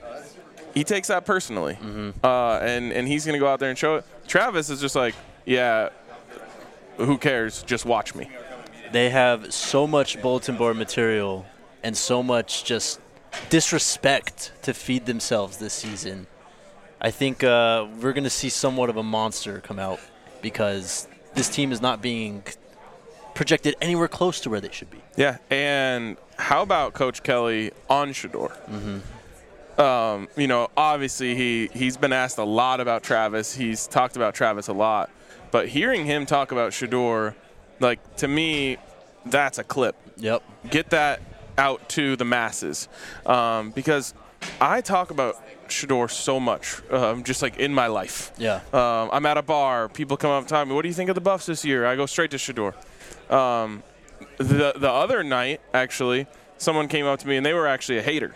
he takes that personally. Mm-hmm. Uh, and, and he's going to go out there and show it. Travis is just like, yeah, who cares? Just watch me. They have so much bulletin board material and so much just disrespect to feed themselves this season. I think uh, we're going to see somewhat of a monster come out, because this team is not being projected anywhere close to where they should be. Yeah, and how about Coach Kelly on Shedeur? Mm-hmm. Um, you know, obviously he, he's been asked a lot about Travis. He's talked about Travis a lot. But hearing him talk about Shedeur, like, to me, that's a clip. Yep. Get that out to the masses. Um, because I talk about Shedeur so much, um, just like in my life. Yeah. Um, I'm at a bar. People come up and tell me, what do you think of the Buffs this year? I go straight to Shedeur. Um, the, the other night, actually, someone came up to me, and they were actually a hater.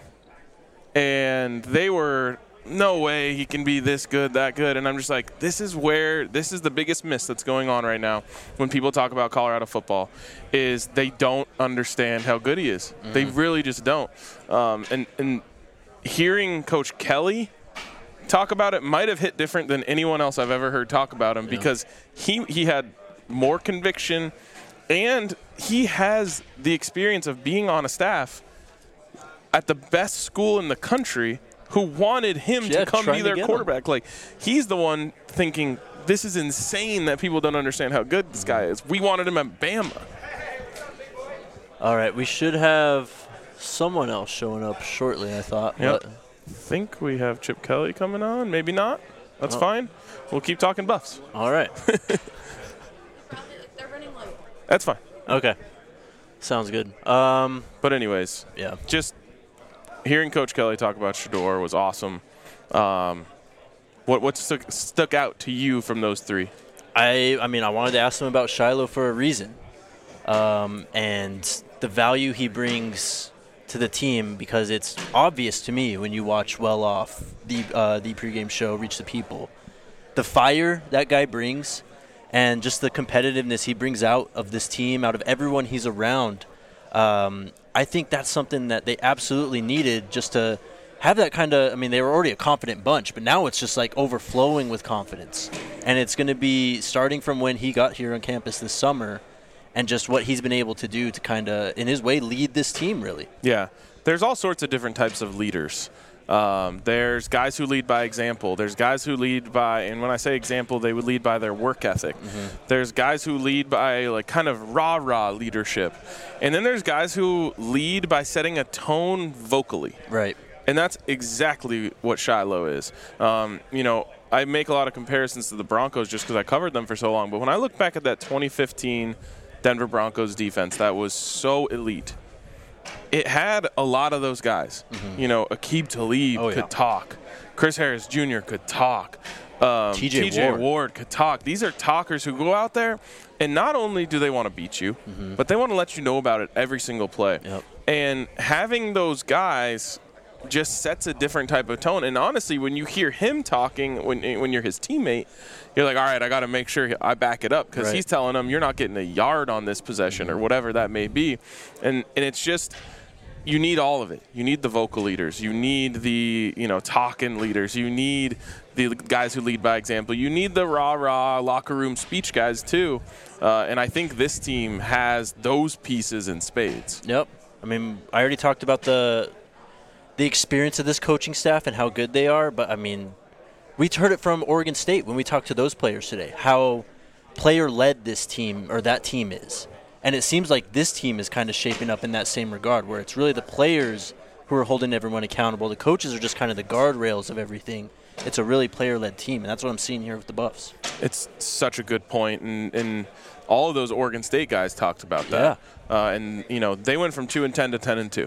And they were, no way he can be this good, that good. And I'm just like, this is where, this is the biggest miss that's going on right now when people talk about Colorado football, is they don't understand how good he is. Mm-hmm. They really just don't. Um, and, and hearing Coach Kelly talk about it might have hit different than anyone else I've ever heard talk about him, yeah. because he, he had more conviction, and he has the experience of being on a staff at the best school in the country who wanted him yeah, to come be their to quarterback. Like, he's the one thinking, this is insane that people don't understand how good this guy is. We wanted him at Bama. All right, we should have someone else showing up shortly, I thought. Yep. But I think we have Chip Kelly coming on. Maybe not. That's oh. fine. We'll keep talking Buffs. All right. That's fine. Okay. Sounds good. Um, but anyways, yeah. Just hearing Coach Kelly talk about Shedeur was awesome. Um, what what stuck, stuck out to you from those three? I I mean, I wanted to ask him about Shiloh for a reason, um, and the value he brings to the team, because it's obvious to me when you watch Well Off, the uh, the pregame show, Reach the People, the fire that guy brings, and just the competitiveness he brings out of this team, out of everyone he's around. Um, I think that's something that they absolutely needed, just to have that kind of, I mean, they were already a confident bunch, but now it's just like overflowing with confidence. And it's going to be starting from when he got here on campus this summer and just what he's been able to do to kind of, in his way, lead this team, really. Yeah. There's all sorts of different types of leaders. Um, there's guys who lead by example. There's guys who lead by, and when I say example, they would lead by their work ethic. Mm-hmm. There's guys who lead by like kind of rah-rah leadership. And then there's guys who lead by setting a tone vocally. Right. And that's exactly what Shiloh is. Um, you know, I make a lot of comparisons to the Broncos just because I covered them for so long. But when I look back at that twenty fifteen Denver Broncos defense that was so elite, it had a lot of those guys. Mm-hmm. You know, Aqib Talib oh, could yeah. talk. Chris Harris Junior could talk. Um, T J T J Ward. Ward could talk. These are talkers who go out there, and not only do they want to beat you, mm-hmm. but they want to let you know about it every single play. Yep. And having those guys just sets a different type of tone. And honestly, when you hear him talking, when when you're his teammate, you're like, all right, I got to make sure I back it up because right. he's telling them you're not getting a yard on this possession or whatever that may be. And and it's just, you need all of it. You need the vocal leaders. You need the, you know, talking leaders. You need the guys who lead by example. You need the rah-rah locker room speech guys too. Uh, and I think this team has those pieces in spades. Yep. I mean, I already talked about the the experience of this coaching staff and how good they are, but I mean, we heard it from Oregon State when we talked to those players today, how player-led this team or that team is. And it seems like this team is kind of shaping up in that same regard, where it's really the players who are holding everyone accountable. The coaches are just kind of the guardrails of everything. It's a really player-led team, and that's what I'm seeing here with the Buffs. It's such a good point, and, and all of those Oregon State guys talked about that. Yeah. Uh, and, you know, they went from two and ten to ten and two.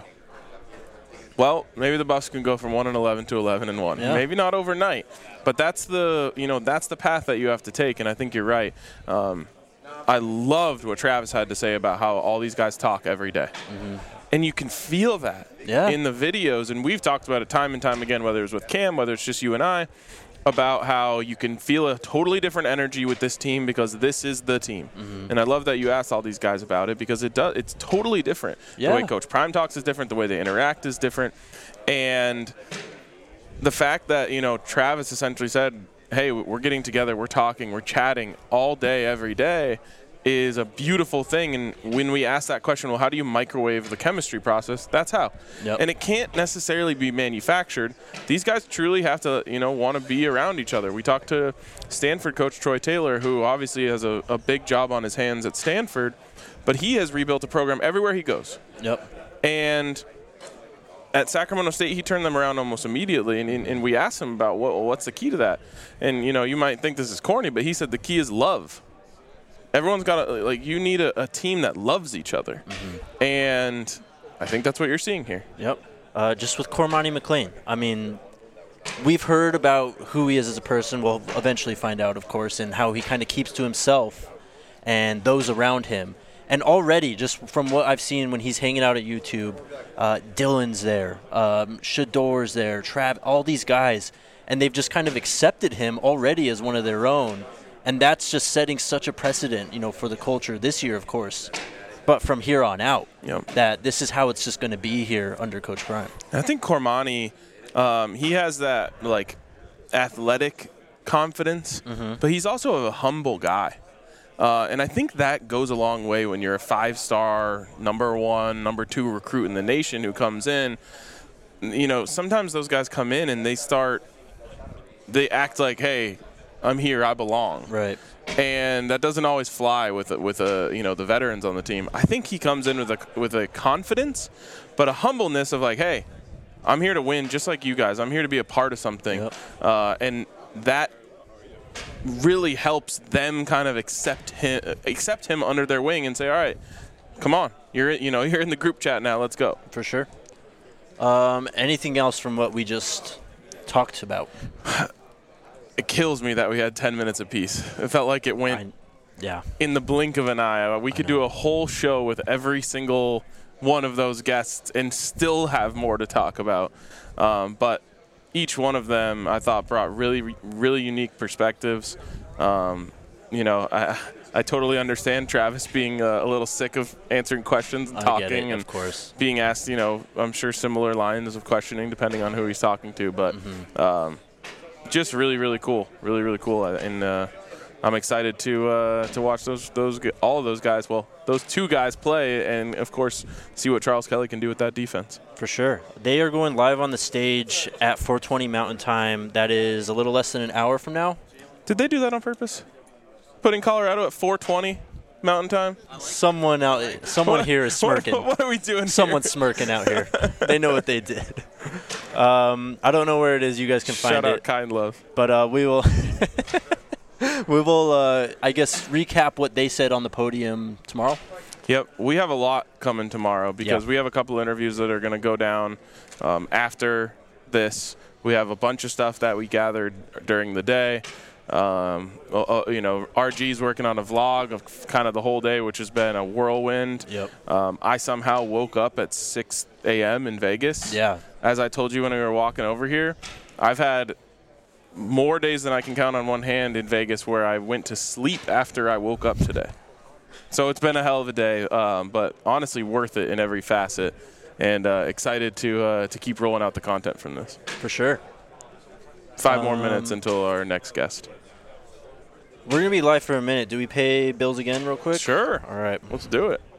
Well, maybe the Buffs can go from one and eleven to eleven and one. Yeah. Maybe not overnight, but that's the, you know, that's the path that you have to take, and I think you're right. Um, I loved what Travis had to say about how all these guys talk every day. Mm-hmm. And you can feel that yeah. in the videos. And we've talked about it time and time again, whether it's with Cam, whether it's just you and I, about how you can feel a totally different energy with this team because this is the team. Mm-hmm. And I love that you asked all these guys about it because it does. It's totally different. Yeah. The way Coach Prime talks is different. The way they interact is different. And the fact that, you know, Travis essentially said, hey, we're getting together, we're talking, we're chatting all day, every day, is a beautiful thing. And when we ask that question, well, how do you microwave the chemistry process? That's how. Yep. And it can't necessarily be manufactured. These guys truly have to, you know, want to be around each other. We talked to Stanford coach Troy Taylor, who obviously has a, a big job on his hands at Stanford, but he has rebuilt a program everywhere he goes. Yep. And at Sacramento State, he turned them around almost immediately, and, and we asked him about what, what's the key to that. And, you know, you might think this is corny, but he said the key is love. Everyone's got a, like, you need a, a team that loves each other. Mm-hmm. And I think that's what you're seeing here. Yep. Uh, just with Cormani McLean. I mean, we've heard about who he is as a person. We'll eventually find out, of course, and how he kind of keeps to himself and those around him. And already, just from what I've seen when he's hanging out at YouTube, uh, Dylan's there, um, Shador's there, Trav, all these guys, and they've just kind of accepted him already as one of their own. And that's just setting such a precedent, you know, for the culture this year, of course, but from here on out, yep. that this is how it's just going to be here under Coach Prime. I think Cormani, um, he has that, like, athletic confidence, mm-hmm. but he's also a humble guy. Uh, and I think that goes a long way when you're a five-star, number one, number two recruit in the nation who comes in. You know, sometimes those guys come in and they start, they act like, hey, I'm here, I belong. Right. And that doesn't always fly with with a, you know, the veterans on the team. I think he comes in with a with a confidence, but a humbleness of like, hey, I'm here to win just like you guys. I'm here to be a part of something. Yep. Uh, and that really helps them kind of accept him accept him under their wing and say, all right, come on. You're you know, you're in the group chat now. Let's go. For sure. Um, anything else from what we just talked about? It kills me that we had ten minutes apiece. It felt like it went I, yeah. in the blink of an eye. We could do a whole show with every single one of those guests and still have more to talk about. Um, but each one of them, I thought, brought really, really unique perspectives. Um, you know, I, I totally understand Travis being uh, a little sick of answering questions and I talking get it, and of course. being asked, you know, I'm sure similar lines of questioning depending on who he's talking to. But Mm-hmm. um, just really, really cool. Really, really cool. And uh, I'm excited to uh, to watch those those all of those guys. Well, those two guys play, and of course, see what Charles Kelly can do with that defense. For sure. They are going live on the stage at four twenty Mountain Time. That is a little less than an hour from now. Did they do that on purpose? Putting Colorado at four twenty Mountain Time? Someone out, someone here is smirking. What, what are we doing? Someone's here? smirking out here. They know what they did. Um, I don't know where it is. You guys can find Shout it. out Kind Love. But uh, we will. we will. Uh, I guess recap what they said on the podium tomorrow. Yep, we have a lot coming tomorrow because Yep. we have a couple interviews that are going to go down um, after this. We have a bunch of stuff that we gathered during the day. Um, uh, you know, R G's working on a vlog of kind of the whole day, which has been a whirlwind. Yep. Um, I somehow woke up at six a.m. in Vegas. Yeah. As I told you when we were walking over here, I've had more days than I can count on one hand in Vegas where I went to sleep after I woke up today. So it's been a hell of a day, um, but honestly worth it in every facet, and uh, excited to uh, to keep rolling out the content from this. For sure. Five more Um, minutes until our next guest. We're gonna be live for a minute. Do we pay bills again, real quick? Sure. All right. Let's do it.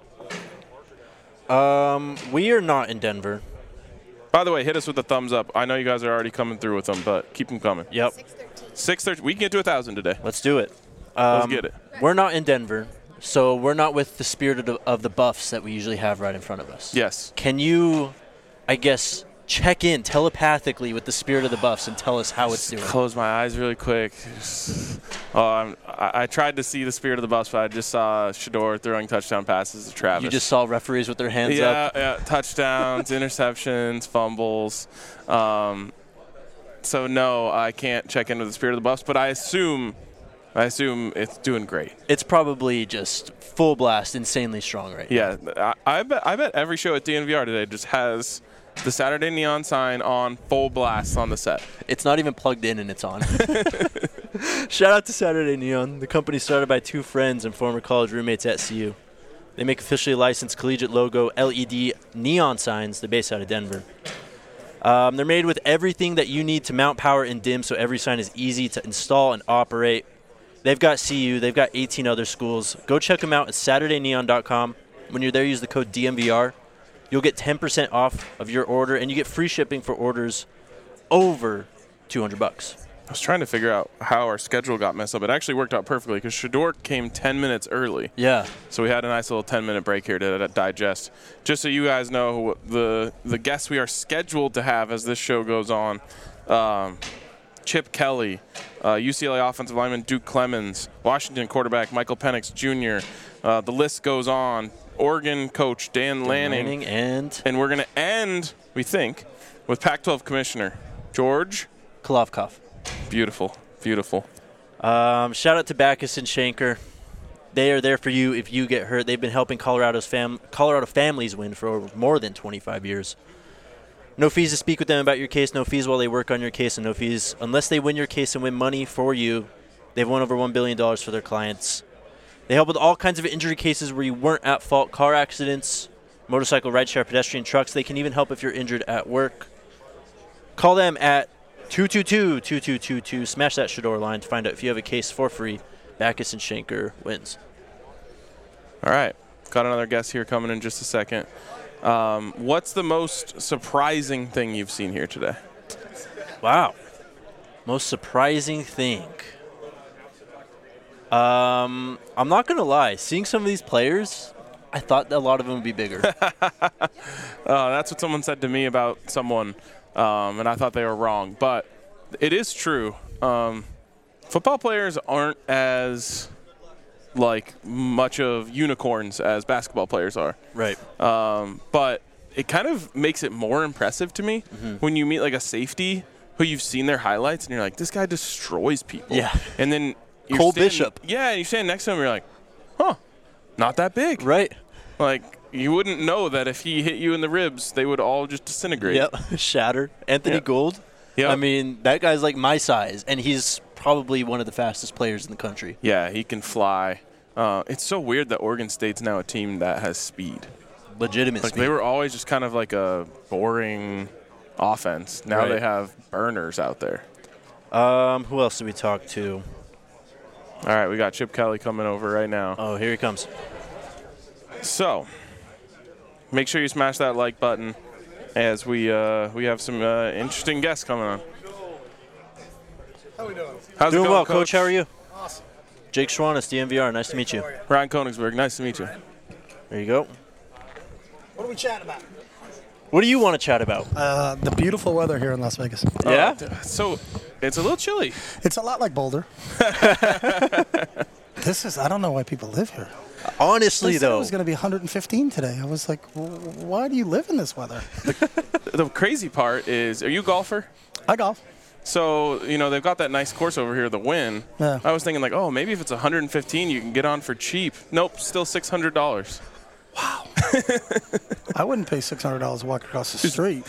Um, we are not in Denver. By the way, hit us with a thumbs up. I know you guys are already coming through with them, but keep them coming. Yep. six thirty. We can get to a thousand today. Let's do it. Um, Let's get it. We're not in Denver, so we're not with the spirit of the, of the Buffs that we usually have right in front of us. Yes. Can you, I guess, check in telepathically with the spirit of the Buffs and tell us how it's doing? Close my eyes really quick. Oh, I'm, I, I tried to see the spirit of the Buffs, but I just saw Shedeur throwing touchdown passes to Travis. You just saw referees with their hands yeah, up? Yeah, touchdowns, interceptions, fumbles. Um, so, no, I can't check in with the spirit of the Buffs, but I assume I assume it's doing great. It's probably just full blast, insanely strong right Yeah, I, I bet I bet every show at D N V R today just has the Saturday Neon sign on full blast on the set. It's not even plugged in and it's on. Shout out to Saturday Neon, the company started by two friends and former college roommates at C U. They make officially licensed collegiate logo L E D neon signs. They're based out of Denver. Um, they're made with everything that you need to mount, power, and dim, so every sign is easy to install and operate. They've got C U. They've got eighteen other schools. Go check them out at saturday neon dot com. When you're there, use the code D M V R. You'll get ten percent off of your order, and you get free shipping for orders over two hundred bucks. I was trying to figure out how our schedule got messed up. It actually worked out perfectly because Shedeur came ten minutes early. Yeah. So we had a nice little ten-minute break here to, to digest. Just so you guys know, the the guests we are scheduled to have as this show goes on, um, Chip Kelly, uh, U C L A offensive lineman Duke Clemens, Washington quarterback Michael Penix Junior Uh, the list goes on. Oregon coach Dan, Dan Lanning. Lanning and And we're going to end, we think, with Pac twelve commissioner George Kolovkov. Beautiful, beautiful. Um, shout out to Backus and Shanker. They are there for you if you get hurt. They've been helping Colorado's fam- Colorado families win for over more than twenty-five years. No fees to speak with them about your case, no fees while they work on your case, and no fees unless they win your case and win money for you. They've won over one billion dollars for their clients. They help with all kinds of injury cases where you weren't at fault, car accidents, motorcycle, rideshare, pedestrian, trucks. They can even help if you're injured at work. Call them at two two two, two two two two. Smash that Shedeur line to find out if you have a case for free. Backus and Shanker wins. All right. Got another guest here coming in just a second. Um, what's the most surprising thing you've seen here today? Wow. Most surprising thing. Um, I'm not going to lie. Seeing some of these players, I thought a lot of them would be bigger. uh, that's what someone said to me about someone, um, and I thought they were wrong. But it is true. Um, football players aren't as, like, much of unicorns as basketball players are. Right. Um, but it kind of makes it more impressive to me mm-hmm. when you meet, like, a safety who you've seen their highlights, and you're like, this guy destroys people. Yeah. And then you're Cole standing, Bishop. Yeah, you stand next to him, you're like, huh, not that big. Right. Like, you wouldn't know that if he hit you in the ribs, they would all just disintegrate. Yep. Shattered. Anthony yeah. Gould. Yep. I mean, that guy's like my size, and he's probably one of the fastest players in the country. Yeah, he can fly. Uh, it's so weird that Oregon State's now a team that has speed. Legitimate like speed. They were always just kind of like a boring offense. Now Right. they have burners out there. Um, who else did we talk to? All right, we got Chip Kelly coming over right now. Oh, here he comes. So, make sure you smash that like button as we uh, we have some uh, interesting guests coming on. How we doing? How's Doing it going, well, Coach? How are you? Awesome. Jake Schwannis, D M V R. Nice to meet you. Ryan Konigsberg, nice to meet you. There you go. What are we chatting about? What do you want to chat about? Uh, the beautiful weather here in Las Vegas. Yeah? Uh, so, it's a little chilly. It's a lot like Boulder. This is, I don't know why people live here. Honestly, they said though. it was going to be one hundred fifteen today. I was like, "W- why do you live in this weather? The crazy part is, are you a golfer? I golf. So, you know, they've got that nice course over here, the Wynn. Yeah. I was thinking, like, oh, maybe if it's one hundred fifteen, you can get on for cheap. Nope, still six hundred dollars. I wouldn't pay six hundred dollars to walk across the street,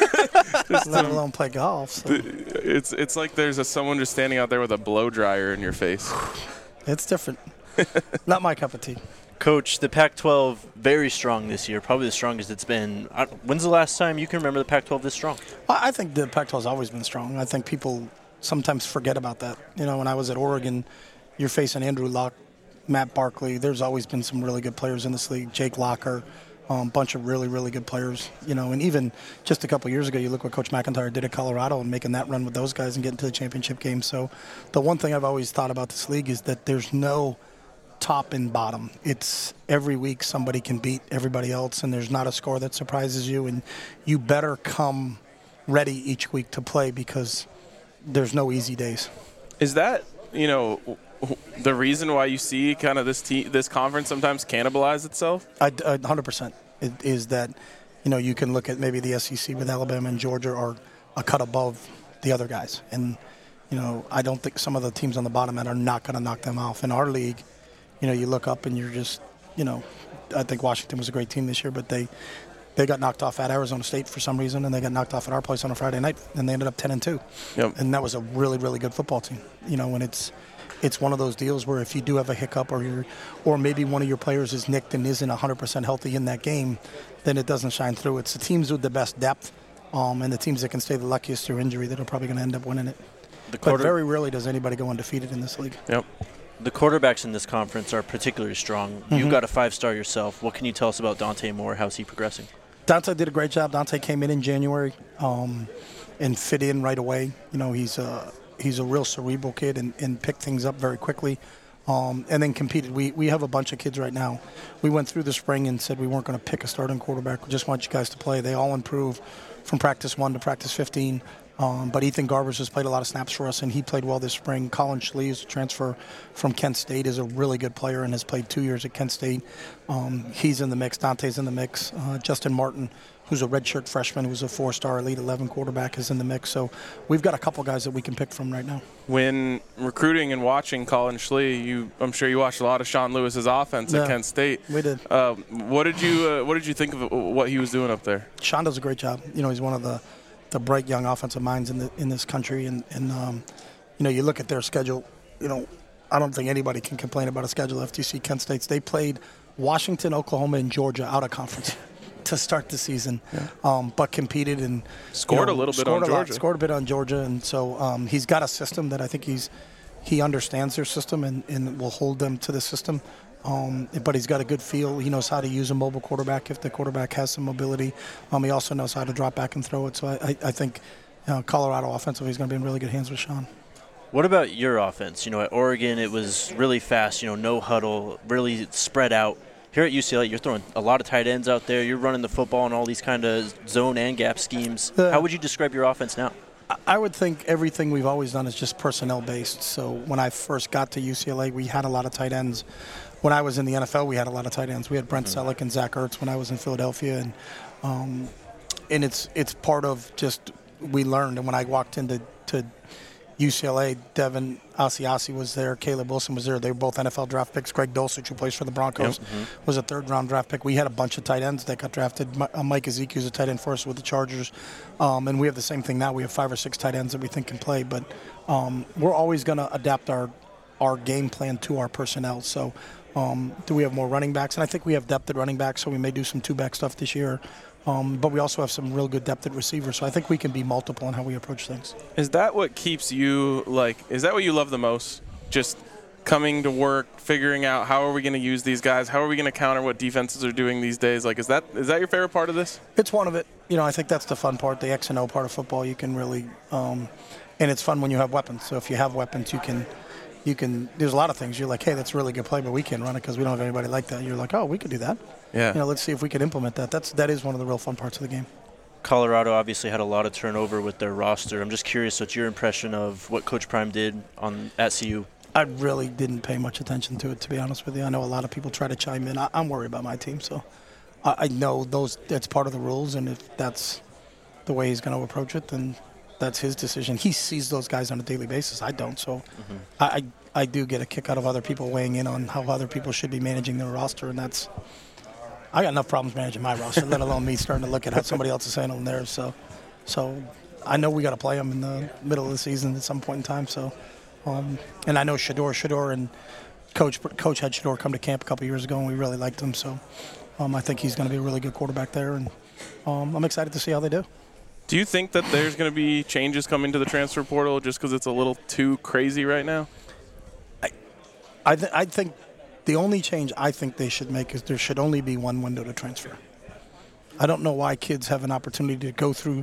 let alone play golf. So. It's it's like there's a, someone just standing out there with a blow dryer in your face. It's different. Not my cup of tea. Coach, the Pac twelve very strong this year, probably the strongest it's been. I- When's the last time you can remember the Pac twelve this strong? Well, I think the Pac twelve has always been strong. I think people sometimes forget about that. You know, when I was at Oregon, you're facing Andrew Luck, Matt Barkley. There's always been some really good players in this league. Jake Locker, a um, bunch of really, really good players. You know, and even just a couple years ago, you look what Coach McIntyre did at Colorado and making that run with those guys and getting to the championship game. So the one thing I've always thought about this league is that there's no top and bottom. It's every week somebody can beat everybody else, and there's not a score that surprises you, and you better come ready each week to play because there's no easy days. Is that, you know, the reason why you see kind of this te- this conference sometimes cannibalize itself? I, I, one hundred percent. It is that, you know, you can look at maybe the S E C with Alabama and Georgia are a cut above the other guys. And, you know, I don't think some of the teams on the bottom end are not going to knock them off. In our league, you know, you look up and you're just, you know, I think Washington was a great team this year, but they they got knocked off at Arizona State for some reason, and they got knocked off at our place on a Friday night, and they ended up ten and two. Yep. And that was a really, really good football team. You know, and it's it's one of those deals where if you do have a hiccup or you're, or maybe one of your players is nicked and isn't one hundred percent healthy in that game, then it doesn't shine through. It's the teams with the best depth um, and the teams that can stay the luckiest through injury that are probably going to end up winning it. The But quarter- very rarely does anybody go undefeated in this league. Yep. The quarterbacks in this conference are particularly strong. Mhm. You've got a five-star yourself. What can you tell us about Dante Moore? How's he progressing? Dante did a great job. Dante came in in January um, and fit in right away. You know, he's a, he's a real cerebral kid and, and picked things up very quickly um, and then competed. We, we have a bunch of kids right now. We went through the spring and said we weren't going to pick a starting quarterback. We just want you guys to play. They all improve from practice one to practice fifteen. Um, but Ethan Garbers has played a lot of snaps for us, and he played well this spring. Colin Schley is a transfer from Kent State, is a really good player and has played two years at Kent State. Um, he's in the mix. Dante's in the mix. Uh, Justin Martin, who's a redshirt freshman, who's a four-star Elite eleven quarterback, is in the mix. So we've got a couple guys that we can pick from right now. When recruiting and watching Colin Schley, you, I'm sure you watched a lot of Sean Lewis's offense Yeah, at Kent State. we did. Uh, what did you uh, What did you think of what he was doing up there? Sean does a great job. You know, he's one of the, the bright young offensive minds in the in this country. And, and um, you know, you look at their schedule, you know, I don't think anybody can complain about a schedule. F T C, Kent State's, they played Washington, Oklahoma, and Georgia out of conference to start the season, yeah. um, but competed and Scored you know, a little bit scored on a lot- Georgia. Scored a bit on Georgia, and so um, he's got a system that I think he's he understands their system and, and will hold them to the system. Um, but he's got a good feel. He knows how to use a mobile quarterback if the quarterback has some mobility. Um, he also knows how to drop back and throw it. So I, I, I think you know, Colorado offensively is going to be in really good hands with Sean. What about your offense? You know, at Oregon, it was really fast, you know, no huddle, really spread out. Here at U C L A, you're throwing a lot of tight ends out there. You're running the football in all these kind of zone and gap schemes. Yeah. How would you describe your offense now? I would think everything we've always done is just personnel based. So when I first got to U C L A, we had a lot of tight ends. When I was in the N F L, we had a lot of tight ends. We had Brent Mm-hmm. Selleck and Zach Ertz when I was in Philadelphia, and um, and it's it's part of just we learned. And when I walked into to U C L A, Devin Asiasi was there. Caleb Wilson was there. They were both N F L draft picks. Greg Dulcich, who plays for the Broncos, Yep. mm-hmm. was a third-round draft pick. We had a bunch of tight ends that got drafted. Mi- uh, Mike Ezekiel's a tight end for us with the Chargers. Um, and we have the same thing now. We have five or six tight ends that we think can play. But um, we're always going to adapt our, our game plan to our personnel. So um, do we have more running backs? And I think we have depth at running back, so we may do some two-back stuff this year. Um, but we also have some real good depth at receiver, so I think we can be multiple in how we approach things. Is that what keeps you, like, is that what you love the most? Just coming to work, figuring out how are we going to use these guys? How are we going to counter what defenses are doing these days? Like, is that is that your favorite part of this? It's one of it. You know, I think that's the fun part, the X and O part of football. You can really, um, and it's fun when you have weapons. So if you have weapons, you can, you can, there's a lot of things. You're like, hey, that's a really good play, but we can't run it because we don't have anybody like that. You're like, oh, we could do that. Yeah. You know, let's see if we can implement that. That's that is one of the real fun parts of the game. Colorado obviously had a lot of turnover with their roster. I'm just curious, what's your impression of what Coach Prime did on at C U? I really didn't pay much attention to it, to be honest with you. I know a lot of people try to chime in. I, I'm worried about my team, so I, I know those that's part of the rules, and if that's the way he's going to approach it, then that's his decision. He sees those guys on a daily basis. I don't, so mm-hmm. I, I I do get a kick out of other people weighing in on how other people should be managing their roster, and that's I got enough problems managing my roster, let alone me starting to look at how somebody else is handling theirs. So, so I know we got to play them in the middle of the season at some point in time. So, um, and I know Shedeur, Shedeur, and Coach Coach had Shedeur come to camp a couple years ago, and we really liked him. So, um, I think he's going to be a really good quarterback there, and um, I'm excited to see how they do. Do you think that there's going to be changes coming to the transfer portal just because it's a little too crazy right now? I, I, th- I think. The only change I think they should make is there should only be one window to transfer. I don't know why kids have an opportunity to go through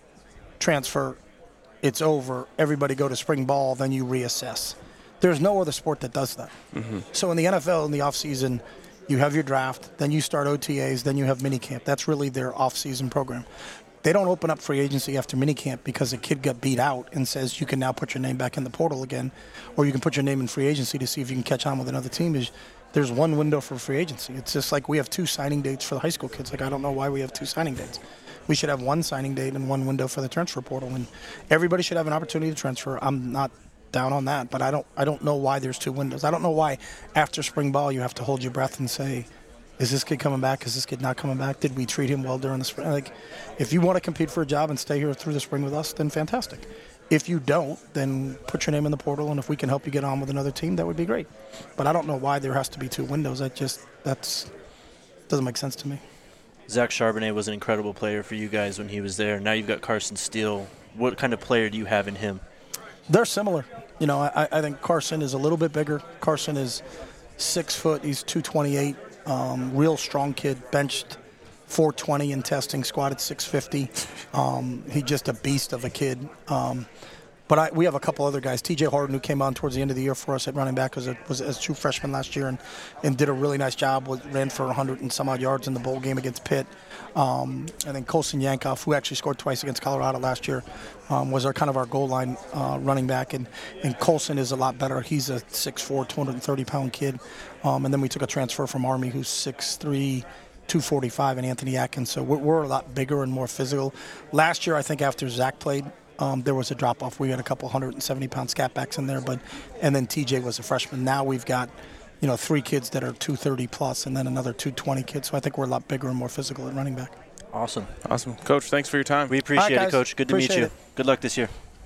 transfer, it's over, everybody go to spring ball, then you reassess. There's no other sport that does that. Mm-hmm. So in the N F L, in the offseason, you have your draft, then you start O T As, then you have minicamp. That's really their off-season program. They don't open up free agency after minicamp because a kid got beat out and says you can now put your name back in the portal again, or you can put your name in free agency to see if you can catch on with another team. Is there's one window for free agency. It's just like we have two signing dates for the high school kids. Like I don't know why we have two signing dates. We should have one signing date and one window for the transfer portal, and everybody should have an opportunity to transfer. I'm not down on that, but I don't I don't know why there's two windows. I don't know why after spring ball you have to hold your breath and say, is this kid coming back? Is this kid not coming back? Did we treat him well during the spring? Like, if you want to compete for a job and stay here through the spring with us, then fantastic. If you don't, then put your name in the portal, and if we can help you get on with another team, that would be great. But I don't know why there has to be two windows. That just that's doesn't make sense to me. Zach Charbonnet was an incredible player for you guys when he was there. Now you've got Carson Steele. What kind of player do you have in him? They're similar. You know, I, I think Carson is a little bit bigger. Carson is six foot. He's two twenty-eight. Um, real strong kid, benched four twenty in testing, squatted six fifty. Um, he's just a beast of a kid. Um, but I, we have a couple other guys. T J Harden, who came on towards the end of the year for us at running back, was a, was a true freshman last year and, and did a really nice job. Was, ran for one hundred and some odd yards in the bowl game against Pitt. Um, and then Colson Yankoff, who actually scored twice against Colorado last year, um, was our kind of our goal line uh, running back. And, and Colson is a lot better. He's a six four, two hundred thirty pound kid. Um, and then we took a transfer from Army who's six three, two forty-five, and Anthony Atkins. So we're, we're a lot bigger and more physical. Last year, I think after Zach played, um, there was a drop-off. We had a couple one hundred seventy pound scat backs in there, but and then T J was a freshman. Now we've got, you know, three kids that are two thirty plus, and then another two twenty kids. So I think we're a lot bigger and more physical at running back. Awesome. Awesome. Coach, thanks for your time. We appreciate right, it, Coach. Good to appreciate meet you. it. Good luck this year.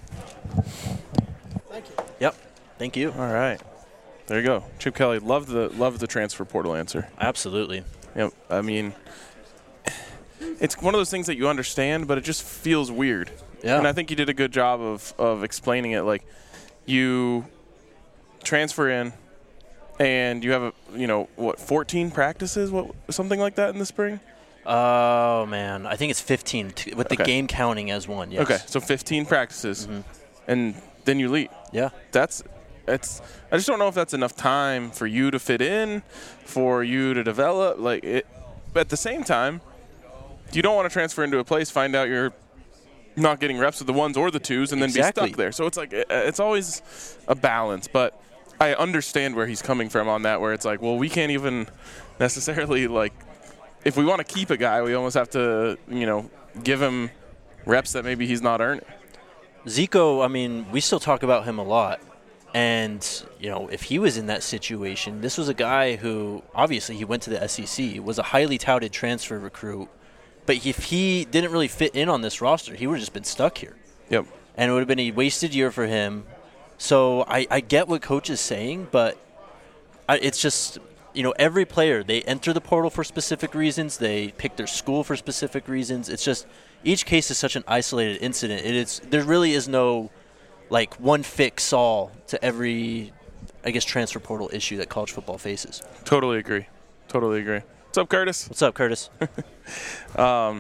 Thank you. Yep. Thank you. All right. There you go. Chip Kelly, love the love the transfer portal answer. Absolutely. Yep. I mean, it's one of those things that you understand, but it just feels weird. Yeah. And I think you did a good job of, of explaining it. Like, you transfer in, and you have, a you know, what, fourteen practices, what something like that in the spring? Oh, man. I think it's fifteen, t- with the Okay. game counting as one, yes. Okay, so fifteen practices, Mhm. and then you leave. Yeah. That's it's. I just don't know if that's enough time for you to fit in, for you to develop. Like it, but at the same time, you don't want to transfer into a place, find out you're not getting reps with the ones or the twos, and then Exactly. be stuck there. So it's like it, it's always a balance. But I understand where he's coming from on that, where it's like, well, we can't even necessarily like. If we want to keep a guy, we almost have to, you know, give him reps that maybe he's not earning. Zico, I mean, we still talk about him a lot. And, you know, if he was in that situation, this was a guy who, obviously, he went to the S E C, was a highly touted transfer recruit. But if he didn't really fit in on this roster, he would have just been stuck here. Yep. And it would have been a wasted year for him. So I, I get what Coach is saying, but I, it's just, you know, every player, they enter the portal for specific reasons. They pick their school for specific reasons. It's just each case is such an isolated incident. It is there really is no, like, one fix all to every, I guess, transfer portal issue that college football faces. Totally agree. Totally agree. What's up, Curtis? What's up, Curtis? um,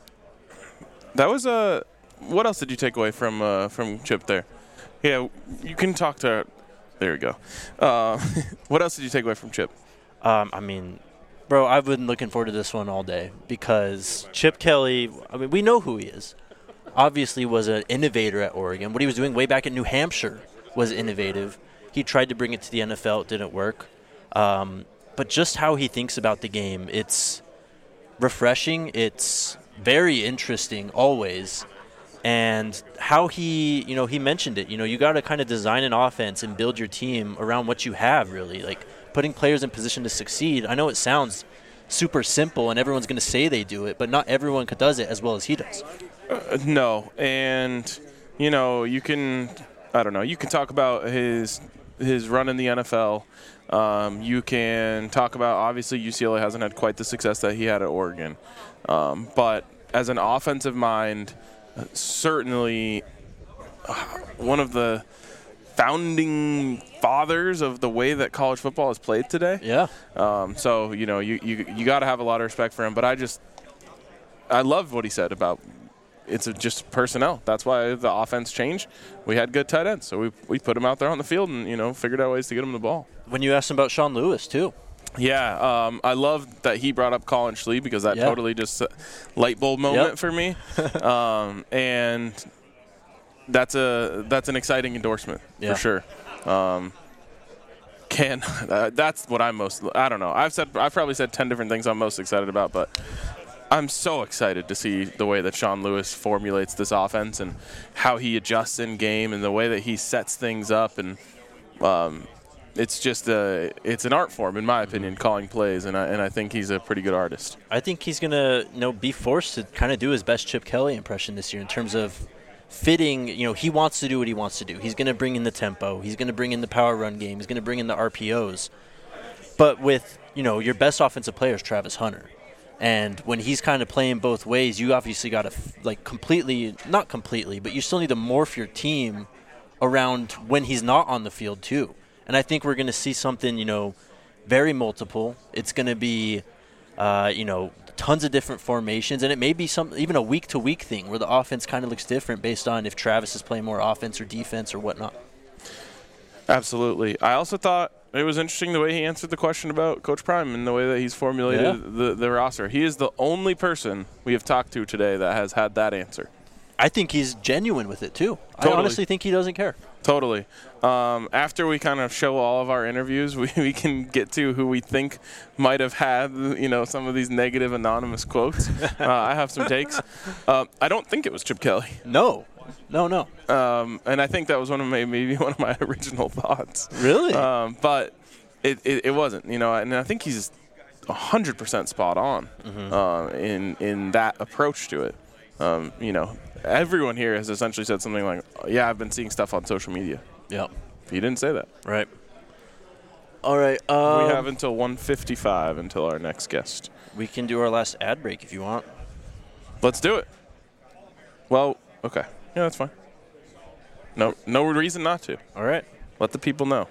that was a. Uh, what else did you take away from uh, from Chip there? Yeah, you can talk to. There we go. Uh, what else did you take away from Chip? Um, I mean, bro, I've been looking forward to this one all day because Chip Kelly. I mean, we know who he is. Obviously, was an innovator at Oregon. What he was doing way back in New Hampshire was innovative. He tried to bring it to the N F L. It didn't work. Um, but just how he thinks about the game, it's refreshing. It's very interesting always. And how he, you know, he mentioned it. You know, you got to kind of design an offense and build your team around what you have, really. Like, putting players in position to succeed. I know it sounds super simple and everyone's going to say they do it, but not everyone does it as well as he does. Uh, no. And, you know, you can, I don't know, you can talk about his his run in the N F L. Um, you can talk about, obviously, U C L A hasn't had quite the success that he had at Oregon. Um, but as an offensive mind, certainly uh, one of the founding fathers of the way that college football is played today. Yeah. Um, so, you know, you, you, you got to have a lot of respect for him. But I just – I love what he said about it's just personnel. That's why the offense changed. We had good tight ends, so we we put him out there on the field and, you know, figured out ways to get him the ball. When you asked him about Sean Lewis, too. Yeah, um, I love that he brought up Colin Schlee because that yeah. totally just a light bulb moment yep. for me. um, and that's a that's an exciting endorsement yeah. for sure. Um, can uh, that's what I'm most I don't know. I've said I've probably said ten different things I'm most excited about, but I'm so excited to see the way that Sean Lewis formulates this offense and how he adjusts in game and the way that he sets things up. And um, it's just a, it's an art form, in my opinion, calling plays, and I, and I think he's a pretty good artist. I think he's going to you know, be forced to kind of do his best Chip Kelly impression this year in terms of fitting. You know, he wants to do what he wants to do. He's going to bring in the tempo. He's going to bring in the power run game. He's going to bring in the R P Os. But with, you know, your best offensive player is Travis Hunter. And when he's kind of playing both ways, you obviously got to, like, completely, not completely, but you still need to morph your team around when he's not on the field, too. And I think we're going to see something, you know, very multiple. It's going to be, uh, you know, tons of different formations. And it may be some even a week-to-week thing where the offense kind of looks different based on if Travis is playing more offense or defense or whatnot. Absolutely. I also thought it was interesting the way he answered the question about Coach Prime and the way that he's formulated yeah. the, the roster. He is the only person we have talked to today that has had that answer. I think he's genuine with it, too. Totally. I honestly think he doesn't care. Totally. Um, after we kind of show all of our interviews, we, we can get to who we think might have had, you know, some of these negative anonymous quotes. uh, I have some takes. Uh, I don't think it was Chip Kelly. No. No, no. Um, and I think that was one of my, maybe one of my original thoughts. Really? Um, but it, it, it wasn't, you know, and I think he's one hundred percent spot on mm-hmm. uh, in, in that approach to it. Um, you know, everyone here has essentially said something like, yeah, I've been seeing stuff on social media. Yep. He didn't say that. Right. All right. Um, we have until one fifty-five until our next guest. We can do our last ad break if you want. Let's do it. Well, okay. Yeah, that's fine. No, no reason not to. All right. Let the people know.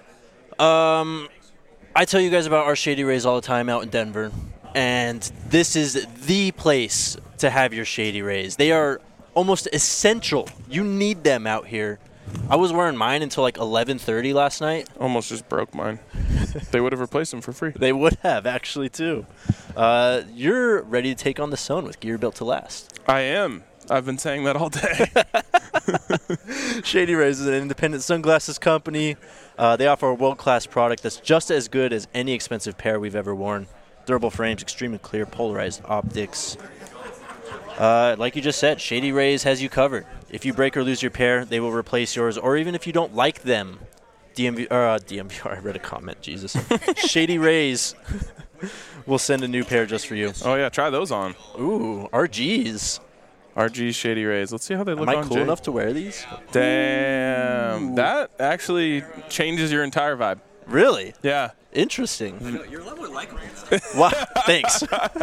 Um, I tell you guys about our Shady Rays all the time out in Denver, and this is the place to have your Shady Rays. They are almost essential. You need them out here. I was wearing mine until like eleven thirty last night. Almost just broke mine. They would have replaced them for free. They would have, actually, too. Uh, you're ready to take on the sun with gear built to last. I am. I've been saying that all day. Shady Rays is an independent sunglasses company. Uh, they offer a world-class product that's just as good as any expensive pair we've ever worn. Durable frames, extremely clear, polarized optics. Uh, like you just said, Shady Rays has you covered. If you break or lose your pair, they will replace yours. Or even if you don't like them, D M V, or, uh, D M V R, I read a comment, Jesus. Shady Rays will send a new pair just for you. Oh, yeah, try those on. Ooh, R Gs. R G Shady Rays. Let's see how they look Am I on cool Jay. enough to wear these? Damn. Ooh. That actually changes your entire vibe. Really? Yeah. Interesting. You're a lot more likable. Wow, thanks.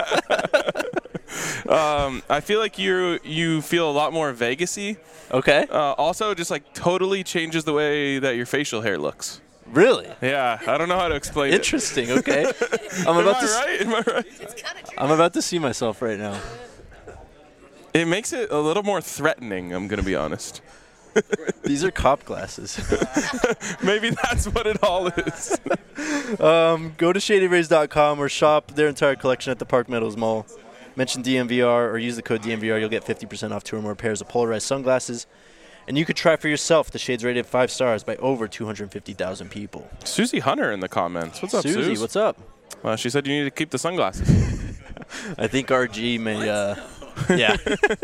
um, I feel like you you feel a lot more Vegas-y. Okay. Uh, also, just like totally changes the way that your facial hair looks. Really? Yeah, I don't know how to explain Interesting. it. Okay. I'm Am about I to. s- right? Am I right? I'm about to see myself right now. It makes it a little more threatening, I'm going to be honest. These are cop glasses. Maybe that's what it all is. um, go to shady rays dot com or shop their entire collection at the Park Meadows Mall. Mention D M V R or use the code D M V R. You'll get fifty percent off two or more pairs of polarized sunglasses. And you could try for yourself. The shades rated five stars by over two hundred fifty thousand people. Susie Hunter in the comments. What's up, Susie, Susie? what's up? Well, she said you need to keep the sunglasses. I think R G may, uh, yeah.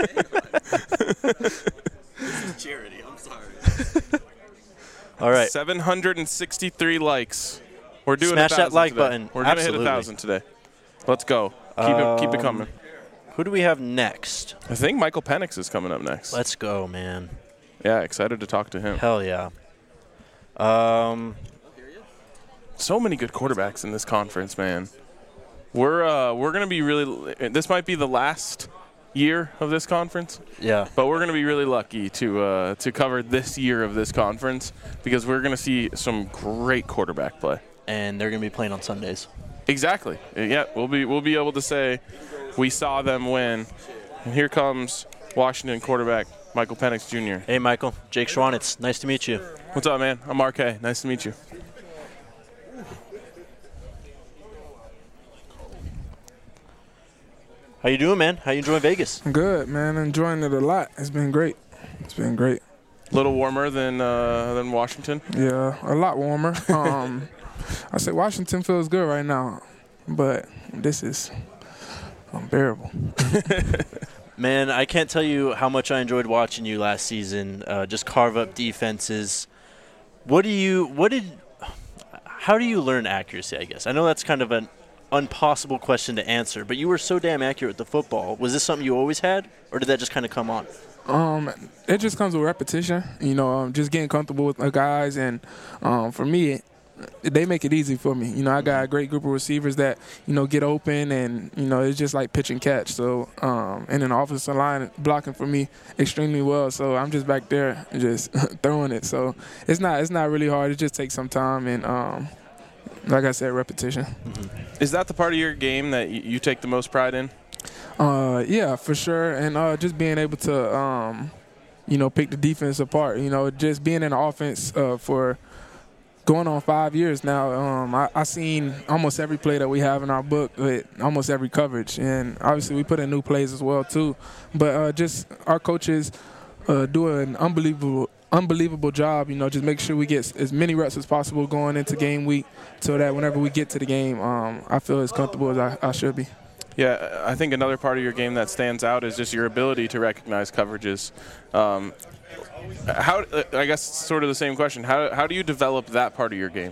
This is charity. I'm sorry. All right. seven hundred sixty-three likes. We're doing Smash a that thousand like today. button. We're gonna Absolutely. hit a thousand today. Let's go. Keep it keep it Um, coming. Who do we have next? I think Michael Penix is coming up next. Let's go, man. Yeah, excited to talk to him. Hell yeah. Um, so many good quarterbacks in this conference, man. We're uh, we're gonna be really. This might be the last year of this conference. Yeah. But we're gonna be really lucky to uh, to cover this year of this conference because we're gonna see some great quarterback play. And they're gonna be playing on Sundays. Exactly. Yeah, we'll be we'll be able to say we saw them win. And here comes Washington quarterback Michael Penix Junior Hey, Michael. Jake Schwanitz. Nice to meet you. What's up, man? I'm R K. Nice to meet you. How you doing, man? How you enjoying Vegas? Good, man. Enjoying it a lot. It's been great. It's been great. A little warmer than uh, than Washington. Yeah, a lot warmer. Um, I say Washington feels good right now, but this is unbearable. Man, I can't tell you how much I enjoyed watching you last season. Uh, just carve up defenses. What do you? What did? How do you learn accuracy? I guess I know that's kind of an impossible question to answer, but you were so damn accurate with the football. Was this something you always had, or did that just kind of come on? Um, it just comes with repetition. You know, um, just getting comfortable with the guys, and um, for me, they make it easy for me. You know, I got a great group of receivers that, you know, get open, and, you know, it's just like pitch and catch. So, um, and then the offensive line blocking for me extremely well. So I'm just back there just throwing it. So it's not it's not really hard. It just takes some time and, um, like I said, repetition. Mm-hmm. Is that the part of your game that y- you take the most pride in? Uh, yeah, for sure. And uh, just being able to, um, you know, pick the defense apart. You know, just being in the offense uh, for – going on five years now, um, I, I seen almost every play that we have in our book with almost every coverage. And obviously we put in new plays as well too. But uh, just our coaches uh, do an unbelievable unbelievable job, you know, just make sure we get as many reps as possible going into game week so that whenever we get to the game, um, I feel as comfortable as I, I should be. Yeah, I think another part of your game that stands out is just your ability to recognize coverages. Um, how I guess sort of the same question. How how do you develop that part of your game?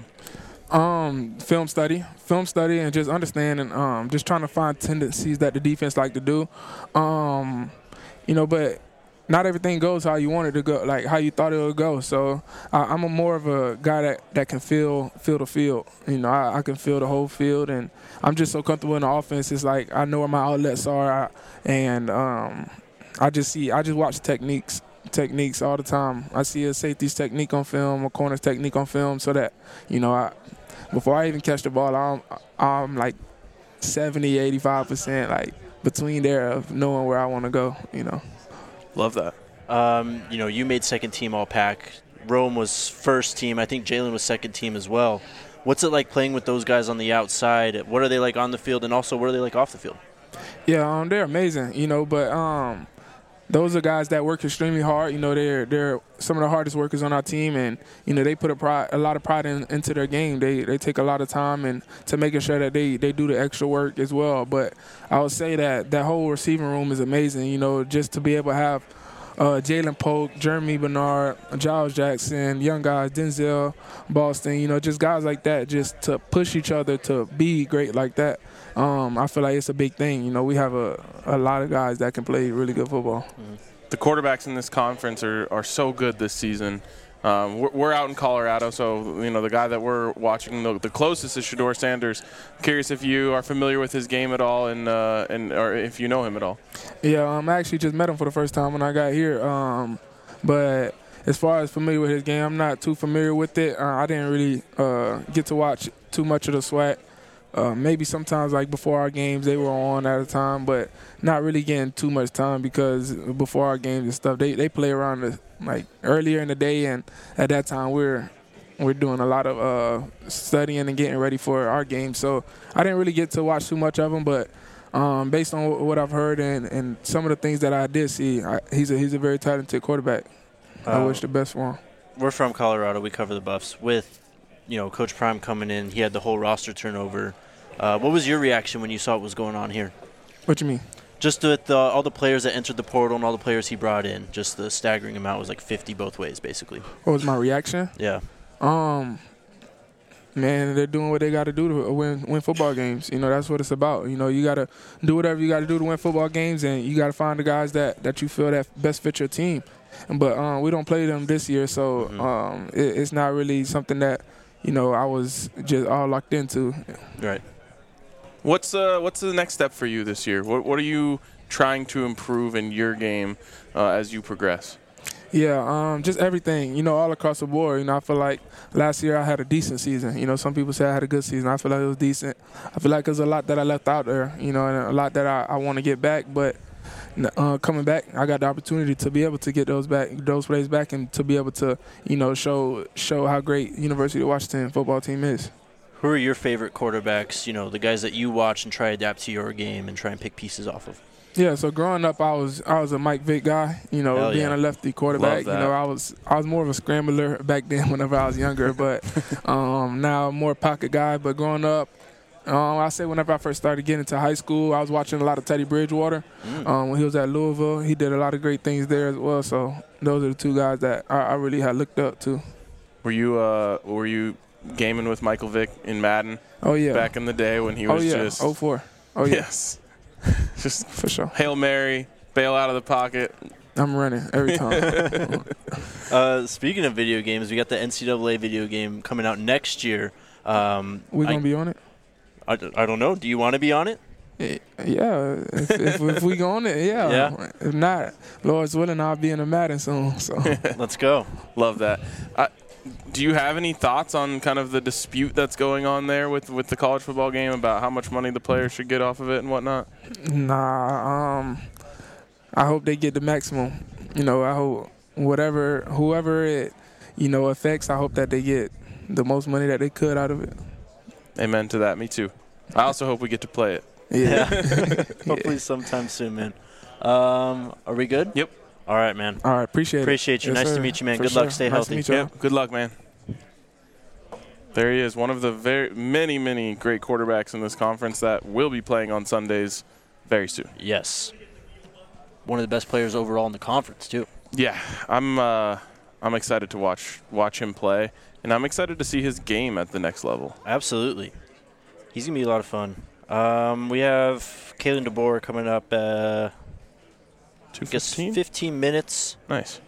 Um, film study, film study, and just understanding, um, just trying to find tendencies that the defense like to do. Um, you know, but not everything goes how you want it to go, like how you thought it would go. So uh, I'm a more of a guy that, that can feel feel the field. You know, I, I can feel the whole field, and I'm just so comfortable in the offense. It's like I know where my outlets are, I, and um, I just see, I just watch techniques. techniques all the time. I see a safety's technique on film, a corner's technique on film, so that, you know, I, before I even catch the ball, I'm, I'm like seventy, eighty-five percent like between there of knowing where I want to go, you know. Love that. Um, you know, you made second team All-Pac. Rome was first team. I think Jalen was second team as well. What's it like playing with those guys on the outside? What are they like on the field, and also what are they like off the field? Yeah, um, they're amazing, you know, but um, those are guys that work extremely hard. You know, they're they're some of the hardest workers on our team, and you know they put a pride, a lot of pride in, into their game. They they take a lot of time and to making sure that they, they do the extra work as well. But I would say that that whole receiving room is amazing. You know, just to be able to have uh, Jalen Polk, Jeremy Bernard, Giles Jackson, young guys, Denzel Boston. You know, just guys like that, just to push each other to be great like that. Um, I feel like it's a big thing. You know, we have a, a lot of guys that can play really good football. Mm-hmm. The quarterbacks in this conference are, are so good this season. Um, we're, we're out in Colorado, so, you know, the guy that we're watching the, the closest is Shedeur Sanders. I'm curious if you are familiar with his game at all and, uh, and or if you know him at all. Yeah, um, I actually just met him for the first time when I got here. Um, but as far as familiar with his game, I'm not too familiar with it. Uh, I didn't really uh, get to watch too much of the SWAC. Uh, maybe sometimes, like, before our games, they were on at a time, but not really getting too much time because before our games and stuff, they, they play around, the, like, earlier in the day, and at that time we're we're doing a lot of uh, studying and getting ready for our games. So I didn't really get to watch too much of them, but um, based on what I've heard and, and some of the things that I did see, I, he's, a, he's a very talented quarterback. Uh, I wish the best for him. We're from Colorado. We cover the Buffs. With, you know, Coach Prime coming in, he had the whole roster turnover. Uh, what was your reaction when you saw what was going on here? What you mean? Just with uh, all the players that entered the portal and all the players he brought in, just the staggering amount was like fifty both ways, basically. What was my reaction? Yeah. Um, man, they're doing what they got to do to win win football games. You know, that's what it's about. You know, you got to do whatever you got to do to win football games, and you got to find the guys that, that you feel that best fit your team. But um, we don't play them this year, so mm-hmm. um, it, it's not really something that, you know, I was just all locked into. Right. What's uh what's the next step for you this year? What what are you trying to improve in your game uh, as you progress? Yeah, um, just everything, you know, all across the board. You know, I feel like last year I had a decent season. You know, some people say I had a good season. I feel like it was decent. I feel like there's a lot that I left out there, you know, and a lot that I, I want to get back. But uh, coming back, I got the opportunity to be able to get those back, those plays back, and to be able to, you know, show show how great University of Washington football team is. Who are your favorite quarterbacks, you know, the guys that you watch and try to adapt to your game and try and pick pieces off of? Yeah, so growing up, I was I was a Mike Vick guy, you know, Hell being yeah. a lefty quarterback. You know, I was I was more of a scrambler back then whenever I was younger, but um, now I'm more pocket guy. But growing up, um, I say whenever I first started getting into high school, I was watching a lot of Teddy Bridgewater. Mm. Um, when he was at Louisville, he did a lot of great things there as well. So those are the two guys that I, I really had looked up to. Were you uh were you gaming with Michael Vick in Madden? Oh yeah. Back in the day when he was oh, yeah. just oh four. Oh yeah. Yes. Just for sure. Hail Mary, bail out of the pocket. I'm running every time. uh, speaking of video games, we got the N C double A video game coming out next year. Um, we gonna I, be on it? I, I don't know. Do you want to be on it? Yeah, if, if, if we go on it, yeah. yeah. If not, Lord's willing, I'll be in a Madden soon. So let's go. Love that. I, do you have any thoughts on kind of the dispute that's going on there with, with the college football game about how much money the players should get off of it and whatnot? Nah, um, I hope they get the maximum. You know, I hope whatever, whoever it, you know, affects, I hope that they get the most money that they could out of it. Amen to that. Me too. I also hope we get to play it. Yeah. Hopefully yeah. sometime soon, man. Um, are we good? Yep. All right, man. All right, appreciate it. Appreciate you. Yes, nice sir. to meet you, man. For Good sure. luck. Stay nice healthy. To meet you. Yep. Good luck, man. There he is, one of the very many, many great quarterbacks in this conference that will be playing on Sundays very soon. Yes. One of the best players overall in the conference, too. Yeah, I'm uh, I'm excited to watch watch him play, and I'm excited to see his game at the next level. Absolutely. He's going to be a lot of fun. Um, we have Kalen DeBoer coming up uh, two fifteen? fifteen minutes. Nice.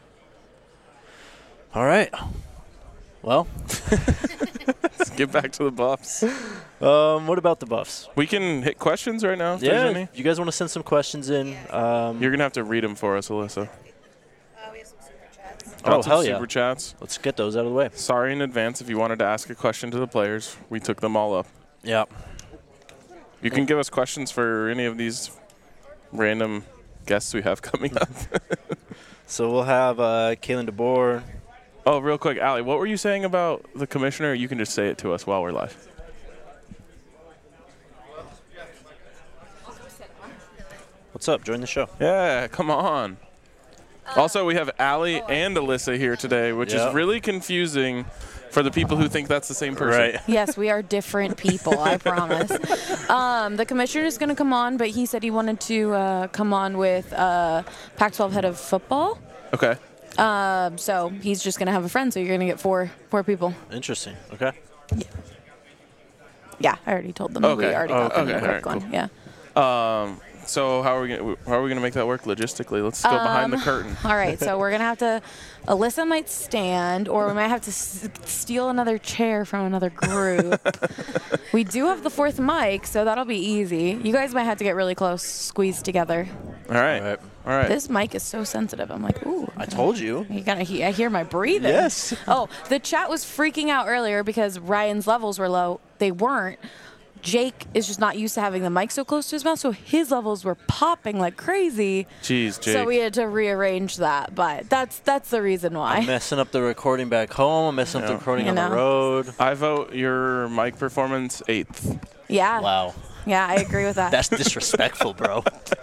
All right. Well. Let's get back to the Buffs. Um, what about the Buffs? We can hit questions right now if yeah, there's any. If you guys want to send some questions in. Um, You're going to have to read them for us, Alyssa. Uh, we have some super chats. Oh, hell super yeah. chats. Let's get those out of the way. Sorry in advance if you wanted to ask a question to the players. We took them all up. Yeah. You can give us questions for any of these random guests we have coming up. So we'll have uh, Kalen DeBoer. Oh, real quick, Allie, what were you saying about the commissioner? You can just say it to us while we're live. What's up? Join the show. Yeah, come on. Also, we have Allie and Alyssa here today, which Yep. is really confusing for the people who think that's the same person. Right. Yes, we are different people, I promise. Um, the commissioner is going to come on, but he said he wanted to uh, come on with uh, Pac twelve head of football. Okay. Um, so he's just going to have a friend, so you're going to get four four people. Interesting. Okay. Yeah, I already told them. Okay. We already Oh, got them okay. the All right, correct one. cool. Yeah. Um, so how are we gonna how are we gonna make that work logistically? Let's go behind the Um, curtain. All right, so we're going to have to, Alyssa might stand, or we might have to s- steal another chair from another group. We do have the fourth mic, so that'll be easy. You guys might have to get really close, squeezed together. All right. All right. This mic is so sensitive. I'm like, ooh. I told you. You gotta he- I hear my breathing. Yes. Oh, the chat was freaking out earlier because Ryan's levels were low. They weren't. Jake is just not used to having the mic so close to his mouth, so his levels were popping like crazy. Jeez, Jake. So we had to rearrange that, but that's that's the reason why. I'm messing up the recording back home. I'm messing up the recording You on know. the road. I vote your mic performance eighth. Yeah. Wow. Yeah, I agree with that. That's disrespectful, bro.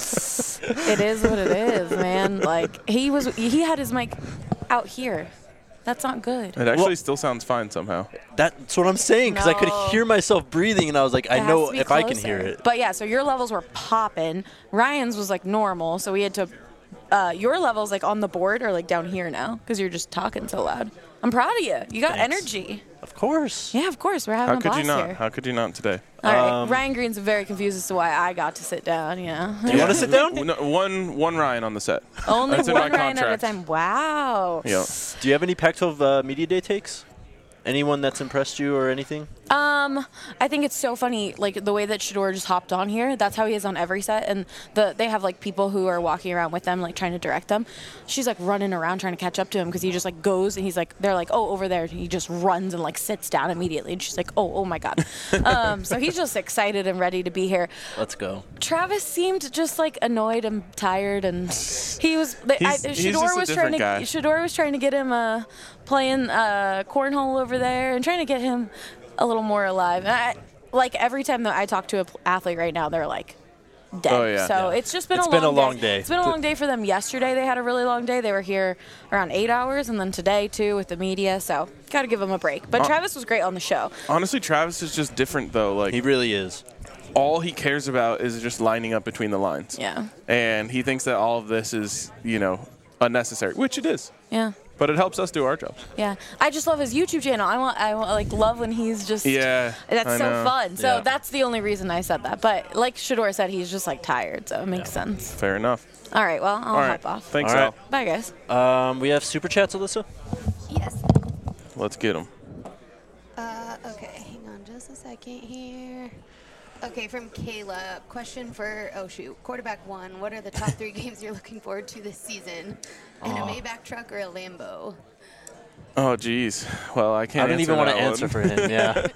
It is what it is, man. Like he was, he had his mic out here. That's not good. It actually still sounds fine somehow. That's what I'm saying, because I could No. hear myself breathing, and I was like, I It has know to be if I can hear closer. it. But yeah, so your levels were popping. Ryan's was like normal, so we had to. Uh, your levels like on the board are like down here now because you're just talking so loud. I'm proud of you. You got Thanks. energy. Of course. Yeah, of course. We're having How a could blast you not? here. How could you not today? All right. Um, Ryan Green's very confused as to why I got to sit down. Yeah. You want to sit down? No, one one Ryan on the set. Only That's in one my Ryan at a contract. time. Wow. Yeah. Do you have any Pac twelve uh, Media Day takes? Anyone that's impressed you or anything? Um, I think it's so funny, like the way that Shador just hopped on here. That's how he is on every set, and the they have like people who are walking around with them, like trying to direct them. She's like running around trying to catch up to him because he just like goes and he's like, they're like, oh, over there. And he just runs and like sits down immediately, and she's like, oh, oh my god. um, so he's just excited and ready to be here. Let's go. Travis seemed just like annoyed and tired, and he was. They, I, He's- he's Shador just a was trying different to. guy. Shador was trying to get him uh, playing uh, cornhole over there and trying to get him a little more alive. And I, like every time that I talk to an athlete right now, they're like dead. Oh, yeah. So Yeah. it's just been It's a been long a long day. It's been a long day for them. Yesterday they had a really long day. They were here around eight hours, and then today too with the media. So got to give them a break. But Uh, Travis was great on the show. Honestly, Travis is just different though. Like He really is. all he cares about is just lining up between the lines. Yeah. And he thinks that all of this is, you know, unnecessary, which it is. Yeah. But it helps us do our jobs. Yeah, I just love his YouTube channel. I want, I want, like, love when he's just. Yeah, That's I so know. fun. So Yeah. that's the only reason I said that. But like Shador said, he's just like tired, so it makes sense. Fair enough. All right, well, I'll All right. hop off. Thanks, All Al. right. Bye, guys. Um, we have super chats, Alyssa. Yes. Let's get him. Uh, okay, hang on just a second here. Okay, from Kayla, question for, oh shoot, quarterback one, what are the top three games you're looking forward to this season? In a Maybach truck or a Lambo? Oh, geez. Well, I can't I don't answer even want to that answer one. for him. Yeah.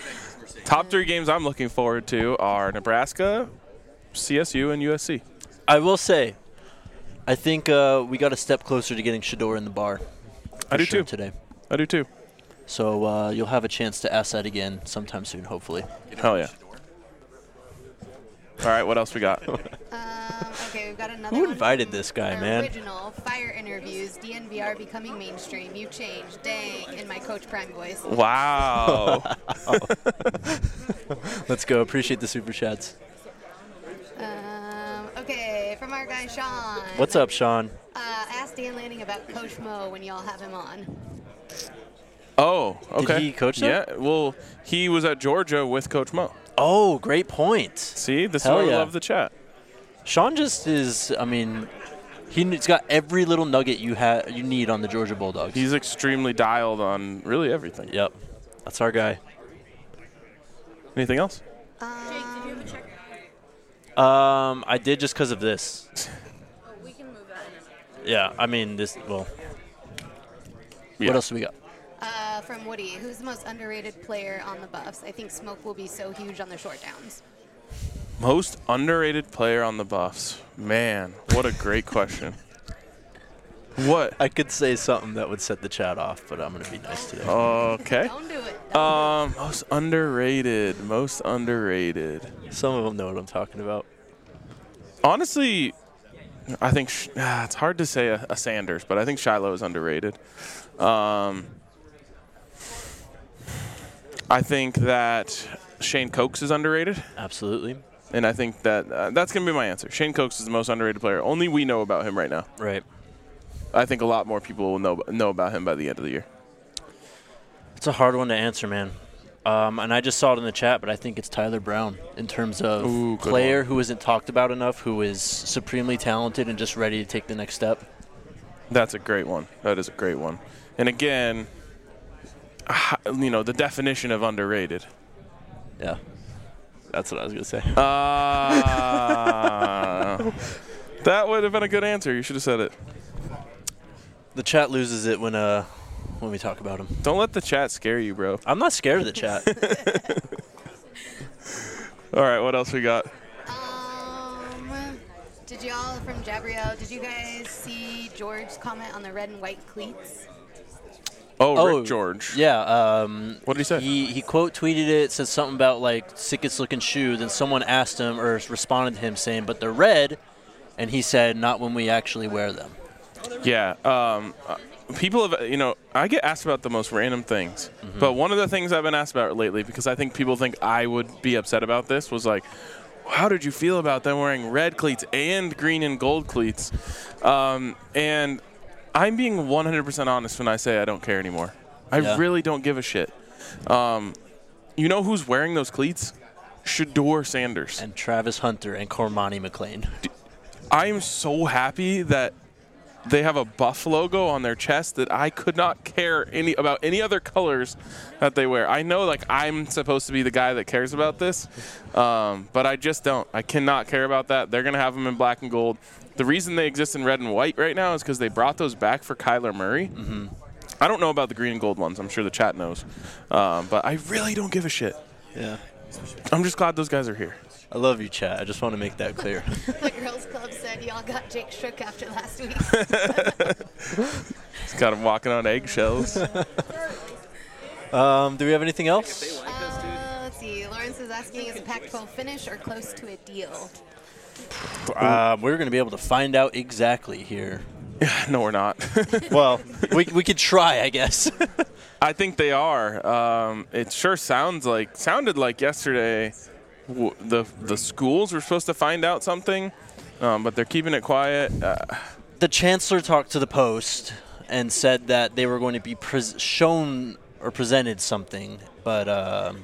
Top three games I'm looking forward to are Nebraska, C S U, and U S C. I will say, I think uh, we got a step closer to getting Shador in the bar. I for do sure too. Today. I do too. So uh, you'll have a chance to ask that again sometime soon, hopefully. Hell yeah. All right, what else we got? Um, okay, we've got another Who one invited from this guy, man? Original Fire interviews. D N V R becoming mainstream. You changed. Dang, in my Coach Prime voice. Wow. Let's go. Appreciate the super chats. Um, okay, from our guy Sean. What's up, Sean? Uh, ask Dan Lanning about Coach Mo when y'all have him on. Oh, okay. he coach them? Yeah, well, he was at Georgia with Coach Mo. Oh, great point. See, this Hell is why yeah. I love the chat. Sean just is, I mean, he's got every little nugget you ha- you need on the Georgia Bulldogs. He's extremely dialed on really everything. Yep. That's our guy. Anything else? Um, Jake, did you have a check? Um, I did just because of this. Oh, we can move that in a minute. Yeah, I mean, this, well. Yeah. What else do we got? Uh, from Woody, who's the most underrated player on the Buffs? I think Smoke will be so huge on the short downs. Most underrated player on the Buffs. Man, what a great question. What? I could say something that would set the chat off, but I'm going to be nice today. Okay. Don't do it. Um, most underrated. Most underrated. Some of them know what I'm talking about. Honestly, I think sh- ah, it's hard to say a, a Sanders, but I think Shiloh is underrated. Um, I think that Shane Cokes is underrated. Absolutely. And I think that uh, that's going to be my answer. Shane Cokes is the most underrated player. Only we know about him right now. Right. I think a lot more people will know know about him by the end of the year. It's a hard one to answer, man. Um, and I just saw it in the chat, but I think it's Tyler Brown in terms of Ooh, good player one. who isn't talked about enough, who is supremely talented and just ready to take the next step. That's a great one. That is a great one. And again, you know, the definition of underrated. Yeah. That's what I was going to say. Uh, that would have been a good answer. You should have said it. The chat loses it when uh when we talk about him. Don't let the chat scare you, bro. I'm not scared of the chat. All right, what else we got? Um, did y'all from Jabriel? Did you guys see George's comment on the red and white cleats? Oh, Rick George. Yeah. Um, what did he say? He, he quote tweeted it, said something about like sickest looking shoe. Then someone asked him or responded to him saying, "But they're red," and he said, "Not when we actually wear them." Yeah. Um, uh, people have, you know, I get asked about the most random things. Mm-hmm. But one of the things I've been asked about lately, because I think people think I would be upset about this, was like, how did you feel about them wearing red cleats and green and gold cleats? Um, and I'm being one hundred percent honest when I say I don't care anymore. I Yeah. really don't give a shit. Um, you know who's wearing those cleats? Shador Sanders. And Travis Hunter and Cormani McLean. I am so happy that they have a Buff logo on their chest that I could not care any about any other colors that they wear. I know, like, I'm supposed to be the guy that cares about this, um, but I just don't. I cannot care about that. They're going to have them in black and gold. The reason they exist in red and white right now is because they brought those back for Kyler Murray. Mm-hmm. I don't know about the green and gold ones. I'm sure the chat knows. Um, but I really don't give a shit. Yeah. I'm just glad those guys are here. I love you, chat. I just want to make that clear. The girls' club said y'all got Jake shook after last week. It's got him walking on eggshells. um, do we have anything else? Uh, let's see. Lawrence is asking, is the Pac twelve finish or close to a deal? Uh, we're going to be able to find out exactly here. No, we're not. Well, we we could try, I guess. I think they are. Um, it sure sounds like sounded like yesterday. W- the the schools were supposed to find out something, um, but they're keeping it quiet. Uh, The chancellor talked to the Post and said that they were going to be pres- shown or presented something, but um,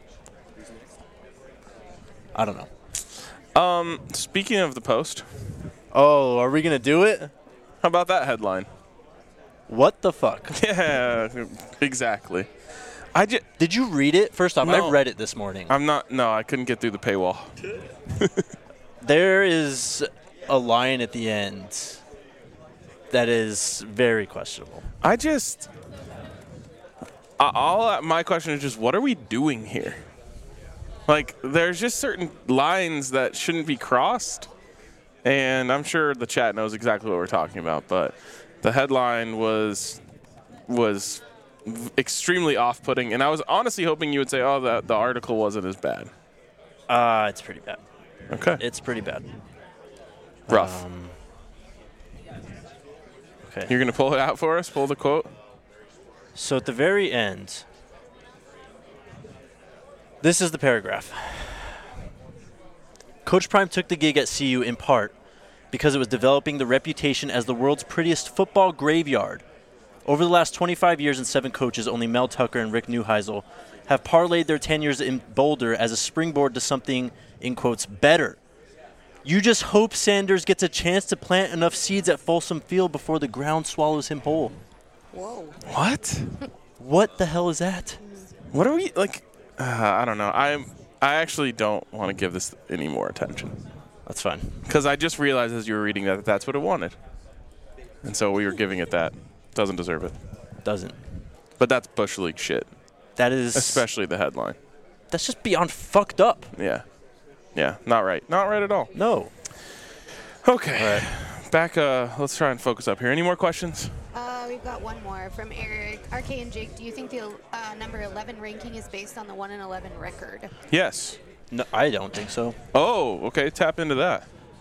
I don't know. Um, speaking of the Post. Oh, are we going to do it? How about that headline? What the fuck? Yeah, exactly. I just, Did you read it? First off, No. I read it this morning. I'm not, no, I couldn't get through the paywall. There is a line at the end that is very questionable. I just, uh, all my question is just, what are we doing here? Like, there's just certain lines that shouldn't be crossed, and I'm sure the chat knows exactly what we're talking about, but the headline was was extremely off-putting, and I was honestly hoping you would say, oh, the, the article wasn't as bad. Uh, it's pretty bad. Okay. It's pretty bad. Rough. Um, okay. You're going to pull it out for us? Pull the quote? So at the very end, this is the paragraph. Coach Prime took the gig at C U in part because it was developing the reputation as the world's prettiest football graveyard. Over the last twenty-five years and seven coaches, only Mel Tucker and Rick Neuheisel have parlayed their tenures in Boulder as a springboard to something, in quotes, better. You just hope Sanders gets a chance to plant enough seeds at Folsom Field before the ground swallows him whole. Whoa. What? What the hell is that? What are we, like, uh, I don't know. I I actually don't want to give this any more attention. That's fine. Because I just realized as you were reading that, that that's what it wanted. And so we were giving it that. Doesn't deserve it. Doesn't. But that's Bush League shit. That is... Especially the headline. That's just beyond fucked up. Yeah. Yeah, not right. Not right at all. No. Okay. All right. Back, uh, let's try and focus up here. Any more questions? Uh, we've got one more from Eric. R K and Jake, do you think the uh, number eleven ranking is based on the one and eleven record? Yes. No, I don't think so. Oh, okay. Tap into that.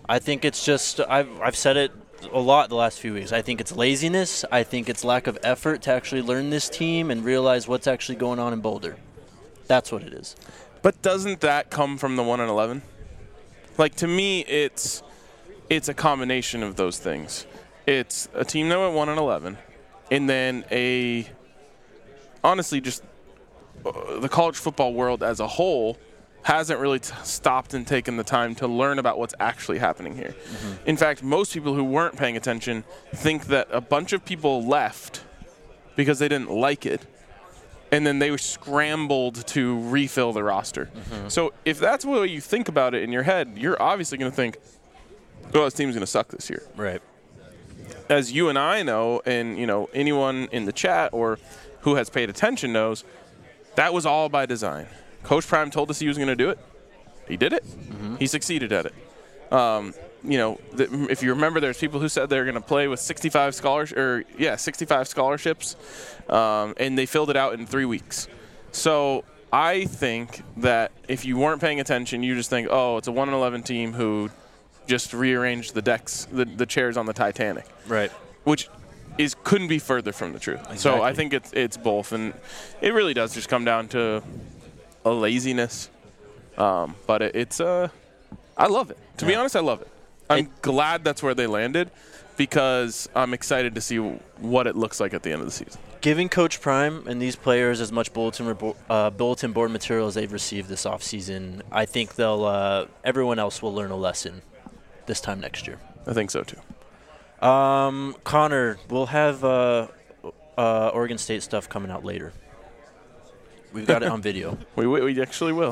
I think it's just I've I've said it a lot the last few weeks. I think it's laziness. I think it's lack of effort to actually learn this team and realize what's actually going on in Boulder. That's what it is. But doesn't that come from the one and eleven? Like, to me, it's it's a combination of those things. It's a team that went one and eleven, and then a honestly just uh, the college football world as a whole hasn't really t- stopped and taken the time to learn about what's actually happening here. Mm-hmm. In fact, most people who weren't paying attention think that a bunch of people left because they didn't like it, and then they were scrambled to refill the roster. Mm-hmm. So if that's the way you think about it in your head, you're obviously going to think, oh, this team's going to suck this year. Right. As you and I know, and you know anyone in the chat or who has paid attention knows, that was all by design. Coach Prime told us he was going to do it. He did it. Mm-hmm. He succeeded at it. Um, you know, the, if you remember, there's people who said they were going to play with sixty-five scholarships, or yeah, sixty-five scholarships, um, and they filled it out in three weeks. So I think that if you weren't paying attention, you just think, oh, it's a one and eleven team who just rearranged the decks, the, the chairs on the Titanic. Right. Which is couldn't be further from the truth. Exactly. So I think it's it's both, and it really does just come down to a laziness. Um, but it, it's uh, I love it. To yeah. be honest, I love it. I'm it, glad that's where they landed, because I'm excited to see what it looks like at the end of the season. Giving Coach Prime and these players as much bulletin rebo- uh, bulletin board material as they've received this offseason, I think they'll uh, everyone else will learn a lesson this time next year. I think so too. Um, Connor, we'll have uh, uh, Oregon State stuff coming out later. We've got it on video. we, we we actually will.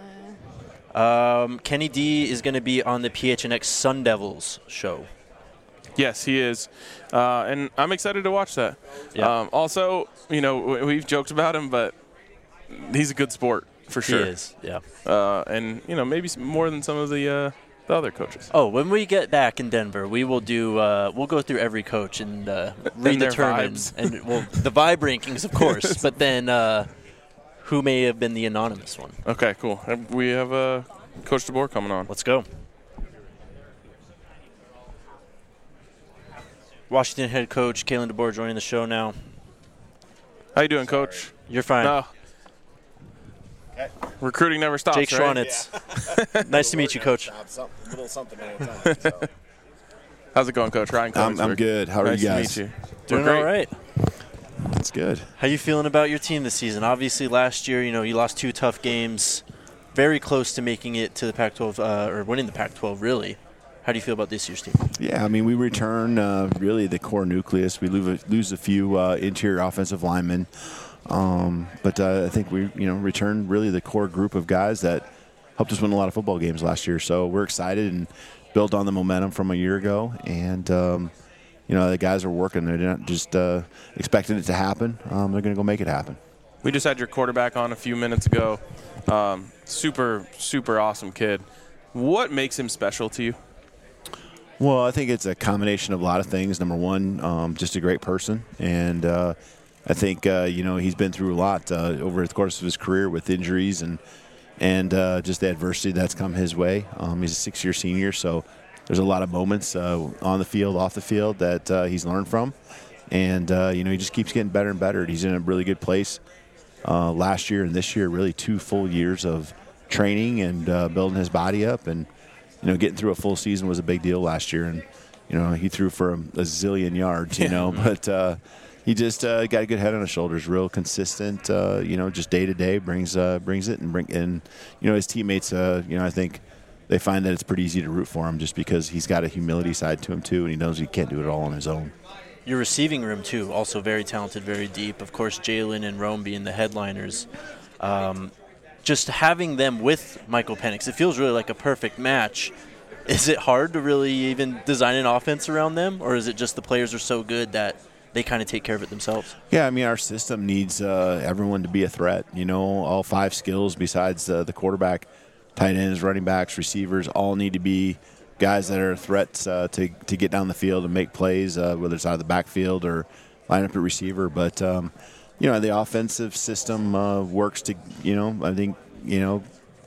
Um, Kenny D is going to be on the P H N X Sun Devils show. Yes, he is, uh, and I'm excited to watch that. Yeah. Um, also, you know, we've joked about him, but he's a good sport for sure. He is, yeah. Uh, and you know, maybe more than some of the. Uh, The other coaches. Oh, when we get back in Denver, we will do. Uh, we'll go through every coach and uh, redetermine, and, and well, the vibe rankings, of course. But then, uh, who may have been the anonymous one? Okay, cool. We have uh, Coach DeBoer coming on. Let's go. Washington head coach Kalen DeBoer joining the show now. How you doing, Coach? You're fine. No. Recruiting never stops, Jake right? Schwanitz. Yeah. Nice to meet you, Coach. A little something at a time. So. How's it going, Coach? Ryan I'm, I'm good. How are nice you guys? To meet you. Doing all right. That's good. How you feeling about your team this season? Obviously, last year, you know, you lost two tough games, very close to making it to the Pac twelve, uh, or winning the Pac twelve, really. How do you feel about this year's team? Yeah, I mean, we return uh, really the core nucleus. We lose a, lose a few uh, interior offensive linemen. Um, but uh, I think we, you know, returned really the core group of guys that helped us win a lot of football games last year. So we're excited and build on the momentum from a year ago. And, um, you know, the guys are working. They're not just uh, expecting it to happen. Um, they're going to go make it happen. We just had your quarterback on a few minutes ago. Um, super, super awesome kid. What makes him special to you? Well, I think it's a combination of a lot of things. Number one, um, just a great person. And, uh, I think, uh, you know, he's been through a lot uh, over the course of his career with injuries and and uh, just the adversity that's come his way. Um, he's a six-year senior, so there's a lot of moments uh, on the field, off the field that uh, he's learned from. And, uh, you know, he just keeps getting better and better. He's in a really good place uh, last year and this year, really two full years of training and uh, building his body up. And, you know, getting through a full season was a big deal last year. And, you know, he threw for a, a zillion yards, you know, but uh, – he just uh, got a good head on his shoulders, real consistent. Uh, you know, just day to day brings uh, brings it and bring and you know his teammates. Uh, you know, I think they find that it's pretty easy to root for him just because he's got a humility side to him too, and he knows he can't do it all on his own. Your receiving room too, also very talented, very deep. Of course, Jalen and Rome being the headliners. Um, just having them with Michael Penix, it feels really like a perfect match. Is it hard to really even design an offense around them, or is it just the players are so good that they kind of take care of it themselves? Yeah, I mean, our system needs uh, everyone to be a threat. You know, all five skills besides uh, the quarterback, tight ends, running backs, receivers, all need to be guys that are threats uh, to, to get down the field and make plays, uh, whether it's out of the backfield or line up at receiver. But, um, you know, the offensive system uh, works to, you know, I think, you know,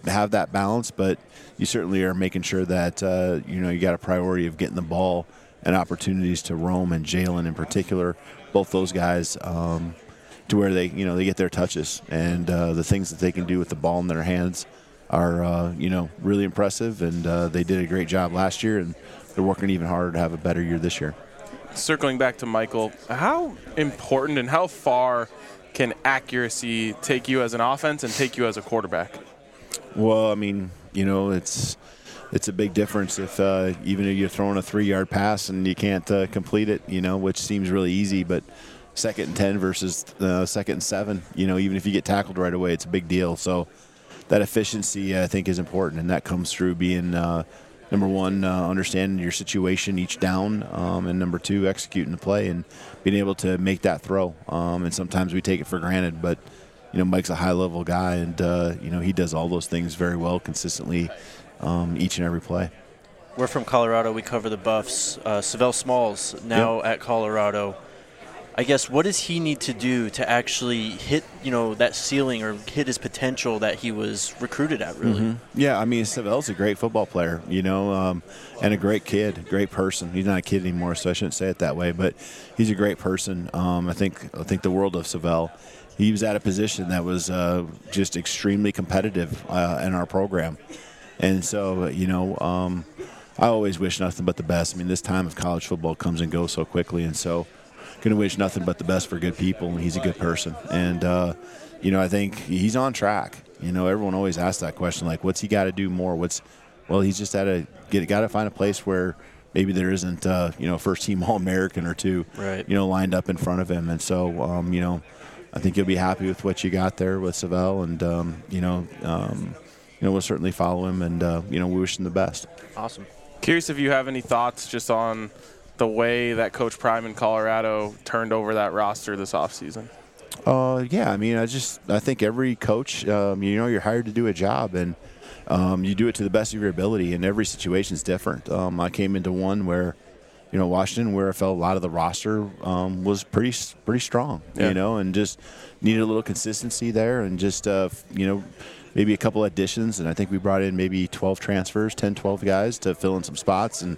have that balance, but you certainly are making sure that uh, you know you got a priority of getting the ball and opportunities to Rome and Jalen in particular, both those guys, um, to where they you know they get their touches, and uh, the things that they can do with the ball in their hands are uh, you know really impressive, and uh, they did a great job last year, and they're working even harder to have a better year this year. Circling back to Michael, how important and how far can accuracy take you as an offense and take you as a quarterback? Well, I mean, you know, it's it's a big difference if uh, even if you're throwing a three-yard pass and you can't uh, complete it, you know, which seems really easy, but second and ten versus uh, second and seven, you know, even if you get tackled right away, it's a big deal. So that efficiency, I think, is important, and that comes through being uh, number one, uh, understanding your situation each down, um, and number two, executing the play and being able to make that throw. Um, and sometimes we take it for granted, but you know, Mike's a high-level guy, and uh, you know he does all those things very well, consistently, um, each and every play. We're from Colorado. We cover the Buffs. Uh, Savell Smalls now Yep. at Colorado. I guess what does he need to do to actually hit, you know, that ceiling or hit his potential that he was recruited at, really? Mm-hmm. Yeah, I mean, Savell's a great football player, you know, um, and a great kid, great person. He's not a kid anymore, so I shouldn't say it that way, but he's a great person. Um, I think I think the world of Savell. He was at a position that was uh, just extremely competitive uh, in our program. And so, you know, um, I always wish nothing but the best. I mean, this time of college football comes and goes so quickly, and so going to wish nothing but the best for good people, and he's a good person. And, uh, you know, I think he's on track. You know, everyone always asks that question, like, what's he got to do more? What's Well, he's just got to get got to find a place where maybe there isn't, uh, you know, first-team All-American or two, right. you know, lined up in front of him. And so, um, you know, I think you'll be happy with what you got there with Savell, and um, you know, um, you know, we'll certainly follow him, and uh, you know, we wish him the best. Awesome. Curious if you have any thoughts just on the way that Coach Prime in Colorado turned over that roster this offseason. Uh, yeah, I mean, I just I think every coach, um, you know, you're hired to do a job, and um, you do it to the best of your ability, and every situation is different. Um, I came into one where, you know, Washington, where I felt a lot of the roster um, was pretty pretty strong, Yeah. you know, and just needed a little consistency there, and just, uh, you know, maybe a couple additions. And I think we brought in maybe twelve transfers, ten, twelve guys to fill in some spots, and,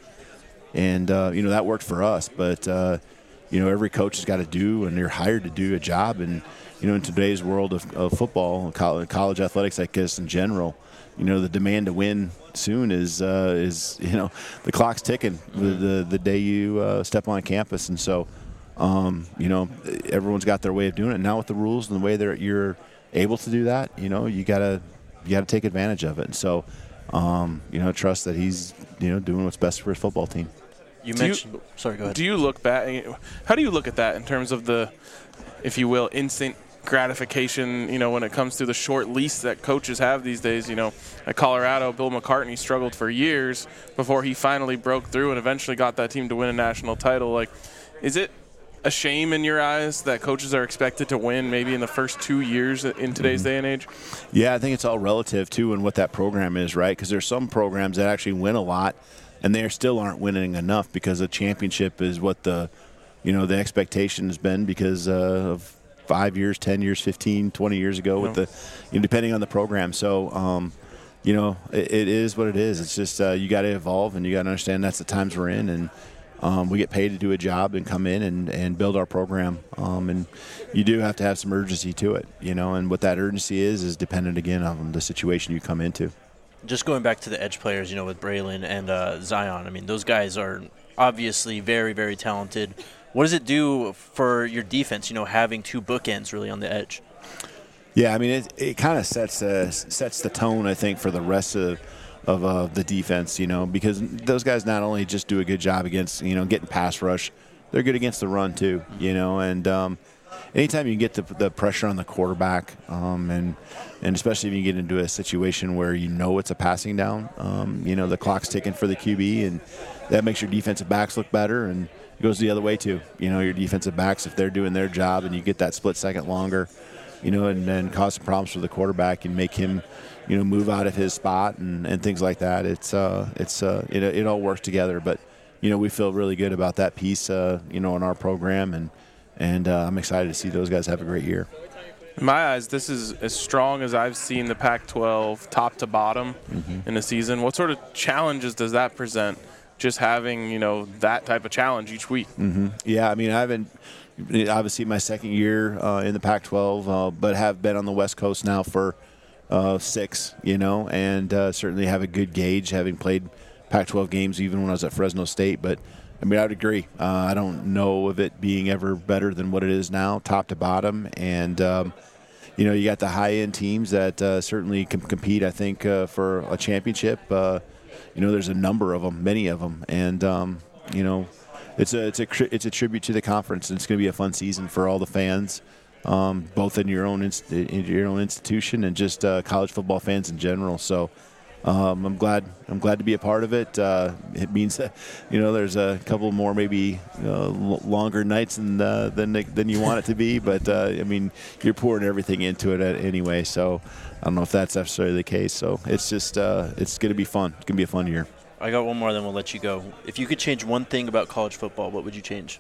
and uh, you know, that worked for us. But, uh, you know, every coach has got to do, and you're hired to do a job. And, you know, in today's world of, of football, college, college athletics, I guess, in general, you know, the demand to win soon is, uh, is you know, the clock's ticking the, the, the day you uh, step on campus. And so, um, you know, everyone's got their way of doing it. Now with the rules and the way that you're able to do that, you know, you got to you got to take advantage of it. And so, um, you know, trust that he's, you know, doing what's best for his football team. You Do mentioned. you- sorry, go ahead. Do you look back? How do you look at that in terms of the, if you will, instant gratification, you know, when it comes to the short lease that coaches have these days? You know, at Colorado, Bill McCartney struggled for years before he finally broke through and eventually got that team to win a national title. Like, is it a shame in your eyes that coaches are expected to win maybe in the first two years in today's Mm-hmm. day and age? Yeah, I think it's all relative, too, and what that program is, right? Because there's some programs that actually win a lot, and they still aren't winning enough because a championship is what the, you know, the expectation has been because uh, of five years, ten years, fifteen, twenty years ago with the, you know, depending on the program. So, um, you know, it, it is what it is. It's just uh, you got to evolve, and you got to understand that's the times we're in, and um, we get paid to do a job and come in and, and build our program. Um, and you do have to have some urgency to it, you know, and what that urgency is is dependent, again, on the situation you come into. Just going back to the edge players, you know, with Braylon and uh, Zion, I mean, those guys are obviously very, very talented. What does it do for your defense, you know, having two bookends really on the edge? Yeah, I mean, it, it kind of sets uh, sets the tone, I think, for the rest of of uh, the defense, you know, because those guys not only just do a good job against, you know, getting pass rush, they're good against the run too, you know, and um, anytime you get the, the pressure on the quarterback, um, and and especially if you get into a situation where you know it's a passing down, um, you know, the clock's ticking for the Q B, and that makes your defensive backs look better, and it goes the other way too. You know, your defensive backs, if they're doing their job and you get that split second longer, you know, and then cause some problems for the quarterback and make him, you know, move out of his spot and, and things like that. It's uh, it's uh, it, it all works together. But, you know, we feel really good about that piece, uh, you know, in our program, and and uh, I'm excited to see those guys have a great year. In my eyes, this is as strong as I've seen the Pac twelve top to bottom Mhm. in a season. What sort of challenges does that present, just having, you know, that type of challenge each week? hmm Yeah, I mean, I haven't obviously my second year uh, in the Pac twelve, uh, but have been on the West Coast now for uh, six, you know, and uh, certainly have a good gauge, having played Pac twelve games even when I was at Fresno State. But I mean, I would agree. Uh, I don't know of it being ever better than what it is now, top to bottom, and um, you know, you got the high-end teams that uh, certainly can compete, I think, uh, for a championship. Uh, you know, there's a number of them, many of them, and um, you know, it's a it's a it's a tribute to the conference, and it's going to be a fun season for all the fans, um, both in your own inst- in your own institution and just uh, college football fans in general. So. Um, I'm glad. I'm glad to be a part of it. Uh, it means that, you know, there's a couple more maybe uh, l- longer nights than uh, than than you want it to be. But uh, I mean, you're pouring everything into it anyway. So I don't know if that's necessarily the case. So it's just uh, it's going to be fun. It's going to be a fun year. I got one more, then we'll let you go. If you could change one thing about college football, what would you change?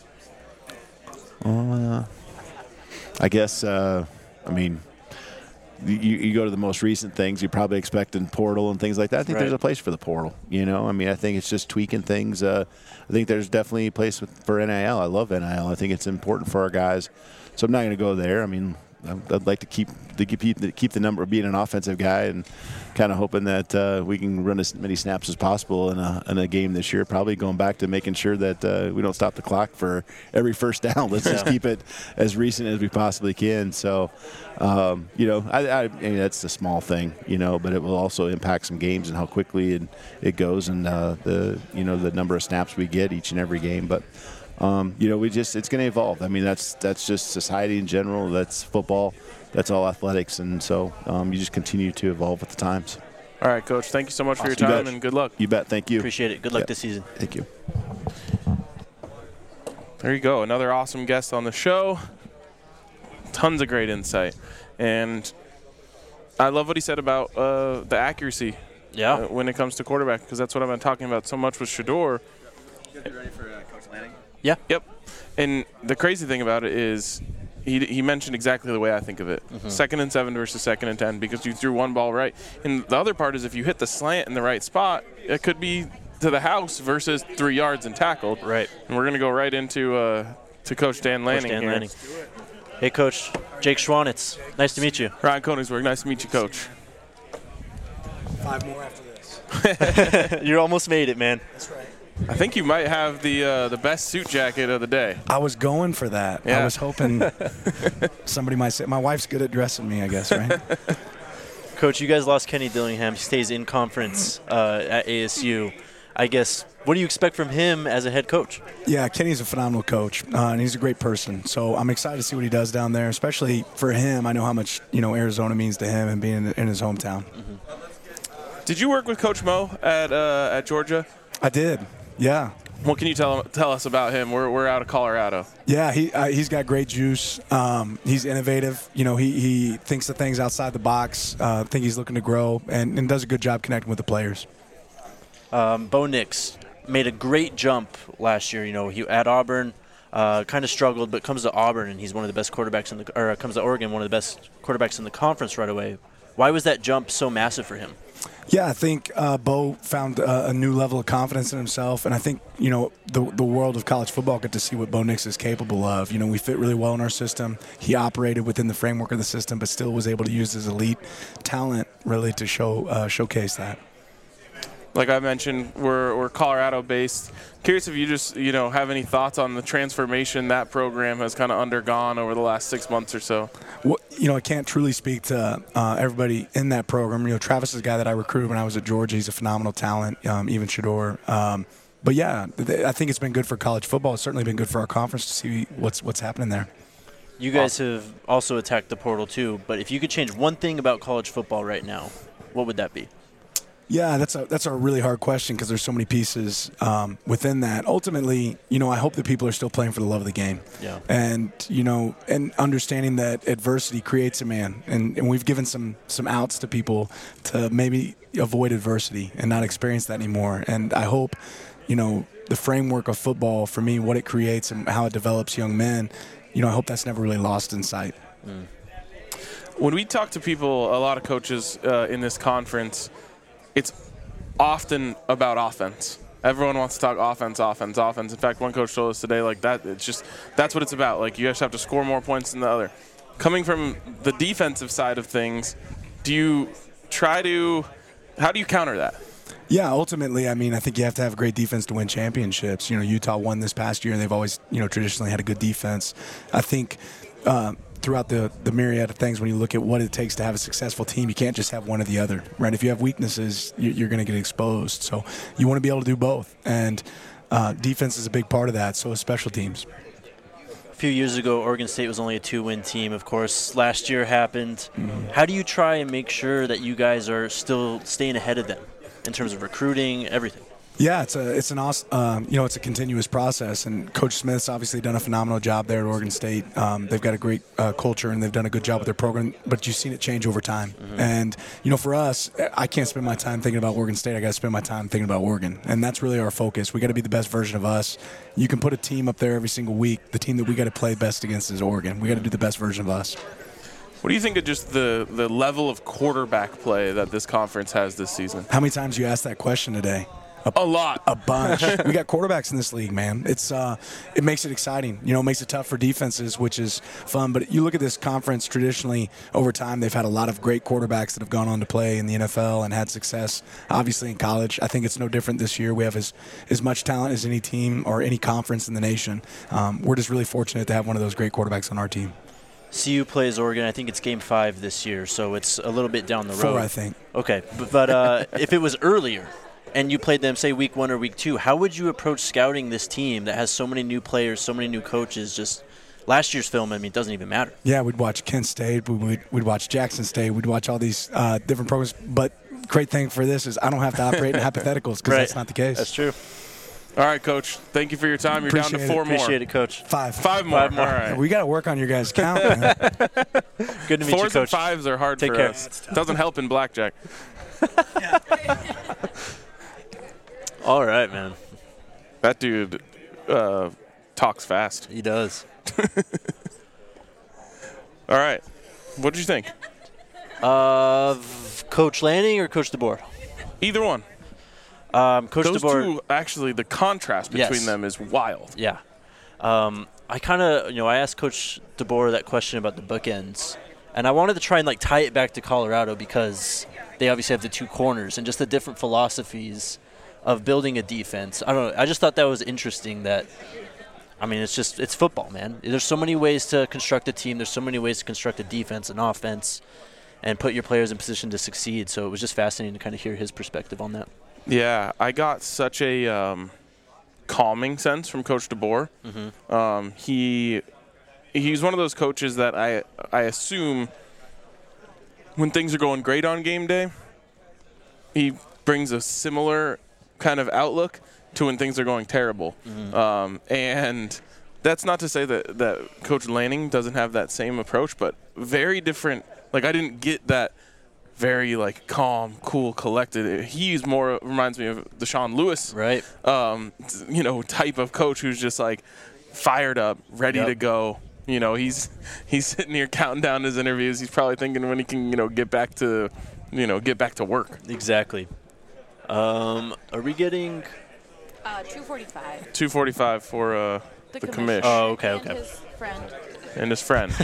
Uh, I guess. Uh, I mean. You, you go to the most recent things, you're probably expecting portal and things like that. I think Right. there's a place for the portal, you know? I mean, I think it's just tweaking things. Uh, I think there's definitely a place with, for N I L. I love N I L. I think it's important for our guys. So I'm not going to go there. I mean, I'd I'd like to keep to keep the, keep the number of being an offensive guy and kind of hoping that uh, we can run as many snaps as possible in a, in a game this year. Probably going back to making sure that uh, we don't stop the clock for every first down. Let's just Yeah. keep it as recent as we possibly can. So, um, you know, I, I, I mean, that's a small thing, you know, but it will also impact some games and how quickly it, it goes and uh, the, you know, the number of snaps we get each and every game. But, um, you know, we just, it's going to evolve. I mean, that's, that's just society in general. That's football. That's all athletics. And so um, you just continue to evolve with the times. All right, Coach. Thank you so much for your You time bet. and good luck. You bet. Thank you. Appreciate it. Good luck Yeah. this season. Thank you. There you go. Another awesome guest on the show. Tons of great insight. And I love what he said about uh, the accuracy Yeah. uh, when it comes to quarterback, because that's what I've been talking about so much with Shedeur. You guys be ready for uh, Coach Lanning? Yeah. Yep. And the crazy thing about it is he, he mentioned exactly the way I think of it. Mhm. Second and seven versus second and ten, because you threw one ball right. And the other part is if you hit the slant in the right spot, it could be to the house versus three yards and tackled. Right. And we're going to go right into uh, to Coach Dan Lanning Coach Dan here. Lanning. Hey, Coach. Jake Schwanitz. Nice to meet you. Ryan Koenigsberg, nice to meet you, Coach. Five more after this. You almost made it, man. That's right. I think you might have the uh, the best suit jacket of the day. I was going for that. Yeah. I was hoping somebody might say, my wife's good at dressing me, I guess, right? Coach, you guys lost Kenny Dillingham. He stays in conference uh, at A S U. I guess, what do you expect from him as a head coach? Yeah, Kenny's a phenomenal coach, uh, and he's a great person. So I'm excited to see what he does down there, especially for him. I know how much, you know, Arizona means to him and being in, in his hometown. Did you work with Coach Mo at uh, at Georgia? I did, yeah. What can you tell tell us about him? We're we're out of Colorado. Yeah, he uh, he's got great juice. Um, he's innovative. You know, he, he thinks of things outside the box. Uh, I think he's looking to grow and, and does a good job connecting with the players. Um, Bo Nix made a great jump last year. You know, he at Auburn, uh, kind of struggled, but comes to Auburn and he's one of the best quarterbacks in the, or uh, comes to Oregon, one of the best quarterbacks in the conference right away. Why was that jump so massive for him? Yeah, I think uh, Bo found uh, a new level of confidence in himself, and I think, you know, the the world of college football got to see what Bo Nix is capable of. You know, we fit really well in our system. He operated within the framework of the system, but still was able to use his elite talent really to show uh, showcase that. Like I mentioned, we're we're Colorado-based. Curious if you just you know have any thoughts on the transformation that program has kind of undergone over the last six months or so. Well, you know, I can't truly speak to uh, everybody in that program. You know, Travis is a guy that I recruited when I was at Georgia. He's a phenomenal talent, um, even Shedeur. Um, but, yeah, th- I think it's been good for college football. It's certainly been good for our conference to see what's what's happening there. You guys have also attacked the portal too, but if you could change one thing about college football right now, what would that be? Yeah, that's a that's a really hard question because there's so many pieces um, within that. Ultimately, you know, I hope that people are still playing for the love of the game. Yeah. And you know, and understanding that adversity creates a man, and, and we've given some some outs to people to maybe avoid adversity and not experience that anymore. And I hope, you know, the framework of football for me, what it creates and how it develops young men, you know, I hope that's never really lost in sight. Mm. when we talk to people, a lot of coaches uh, in this conference, it's often about offense. Everyone wants to talk offense, offense, offense. In fact, one coach told us today, like that, it's just that's what it's about. Like you just have to score more points than the other. Coming from the defensive side of things, do you try to? How do you counter that? Yeah, ultimately, I mean, I think you have to have a great defense to win championships. You know, Utah won this past year, and they've always, you know, traditionally had a good defense. I think uh, throughout the, the myriad of things, when you look at what it takes to have a successful team, you can't just have one or the other, right? If you have weaknesses, you're going to get exposed. So you want to be able to do both, and uh, defense is a big part of that, so is special teams. A few years ago, Oregon State was only a two-win team. Of course, last year happened. Mm-hmm. How do you try and make sure that you guys are still staying ahead of them in terms of recruiting, everything? Yeah, it's a it's an awesome, um, you know, it's a continuous process, and Coach Smith's obviously done a phenomenal job there at Oregon State. Um, they've got a great uh, culture, and they've done a good job with their program. But you've seen it change over time. Mm-hmm. And you know, for us, I can't spend my time thinking about Oregon State. I got to spend my time thinking about Oregon, and that's really our focus. We got to be the best version of us. You can put a team up there every single week. The team that we got to play best against is Oregon. We got to do the best version of us. What do you think of just the, the level of quarterback play that this conference has this season? How many times you asked that question today? A, a lot. A bunch. We got quarterbacks in this league, man. It's uh, it makes it exciting. You know, it makes it tough for defenses, which is fun. But you look at this conference traditionally over time, they've had a lot of great quarterbacks that have gone on to play in the N F L and had success, obviously, in college. I think it's no different this year. We have as, as much talent as any team or any conference in the nation. Um, we're just really fortunate to have one of those great quarterbacks on our team. C U plays Oregon. I think it's game five this year, so it's a little bit down the road. Four, I think. Okay, but, but uh, if it was earlier and you played them, say, week one or week two, how would you approach scouting this team that has so many new players, so many new coaches? Just last year's film, I mean, it doesn't even matter. Yeah, we'd watch Kent State. We'd, we'd watch Jackson State. We'd watch all these uh, different programs. But great thing for this is I don't have to operate in hypotheticals because right. that's not the case. That's true. All right, Coach. Thank you for your time. You're Appreciate down to four it. more. Appreciate it, Coach. Five. Five more. Five more. All right. We got to work on your guys' count, man. Good to meet Fours you, Coach. and fives are hard Take for care. us. Doesn't help in blackjack. All right, man. That dude uh, talks fast. He does. All right. What did you think? Uh, Coach Lanning or Coach DeBoer? Either one. Um, Coach Those DeBoer. two, actually, the contrast between Yes. them is wild. Yeah. Um, I kind of, you know, I asked Coach DeBoer that question about the bookends, and I wanted to try and, like, tie it back to Colorado because they obviously have the two corners and just the different philosophies of building a defense. I don't know. I just thought that was interesting that, I mean, it's just, it's football, man. There's so many ways to construct a team. There's so many ways to construct a defense and offense and put your players in position to succeed. So it was just fascinating to kind of hear his perspective on that. Yeah, I got such a um, calming sense from Coach DeBoer. Mm-hmm. Um, he he's one of those coaches that I I assume when things are going great on game day, he brings a similar kind of outlook to when things are going terrible. Mm-hmm. Um, and that's not to say that, that Coach Lanning doesn't have that same approach, but very different. Like, I didn't get that very, like, calm, cool, collected. He's more reminds me of Deshaun Lewis, right? Um, you know, type of coach who's just, like, fired up, ready Yep. to go. You know, he's he's sitting here counting down his interviews. He's probably thinking when he can, you know, get back to, you know, get back to work. Exactly. Um, are we getting Uh, two forty-five. two forty-five for uh, The the, commish. commish. Oh, okay, And okay. his friend. And his friend.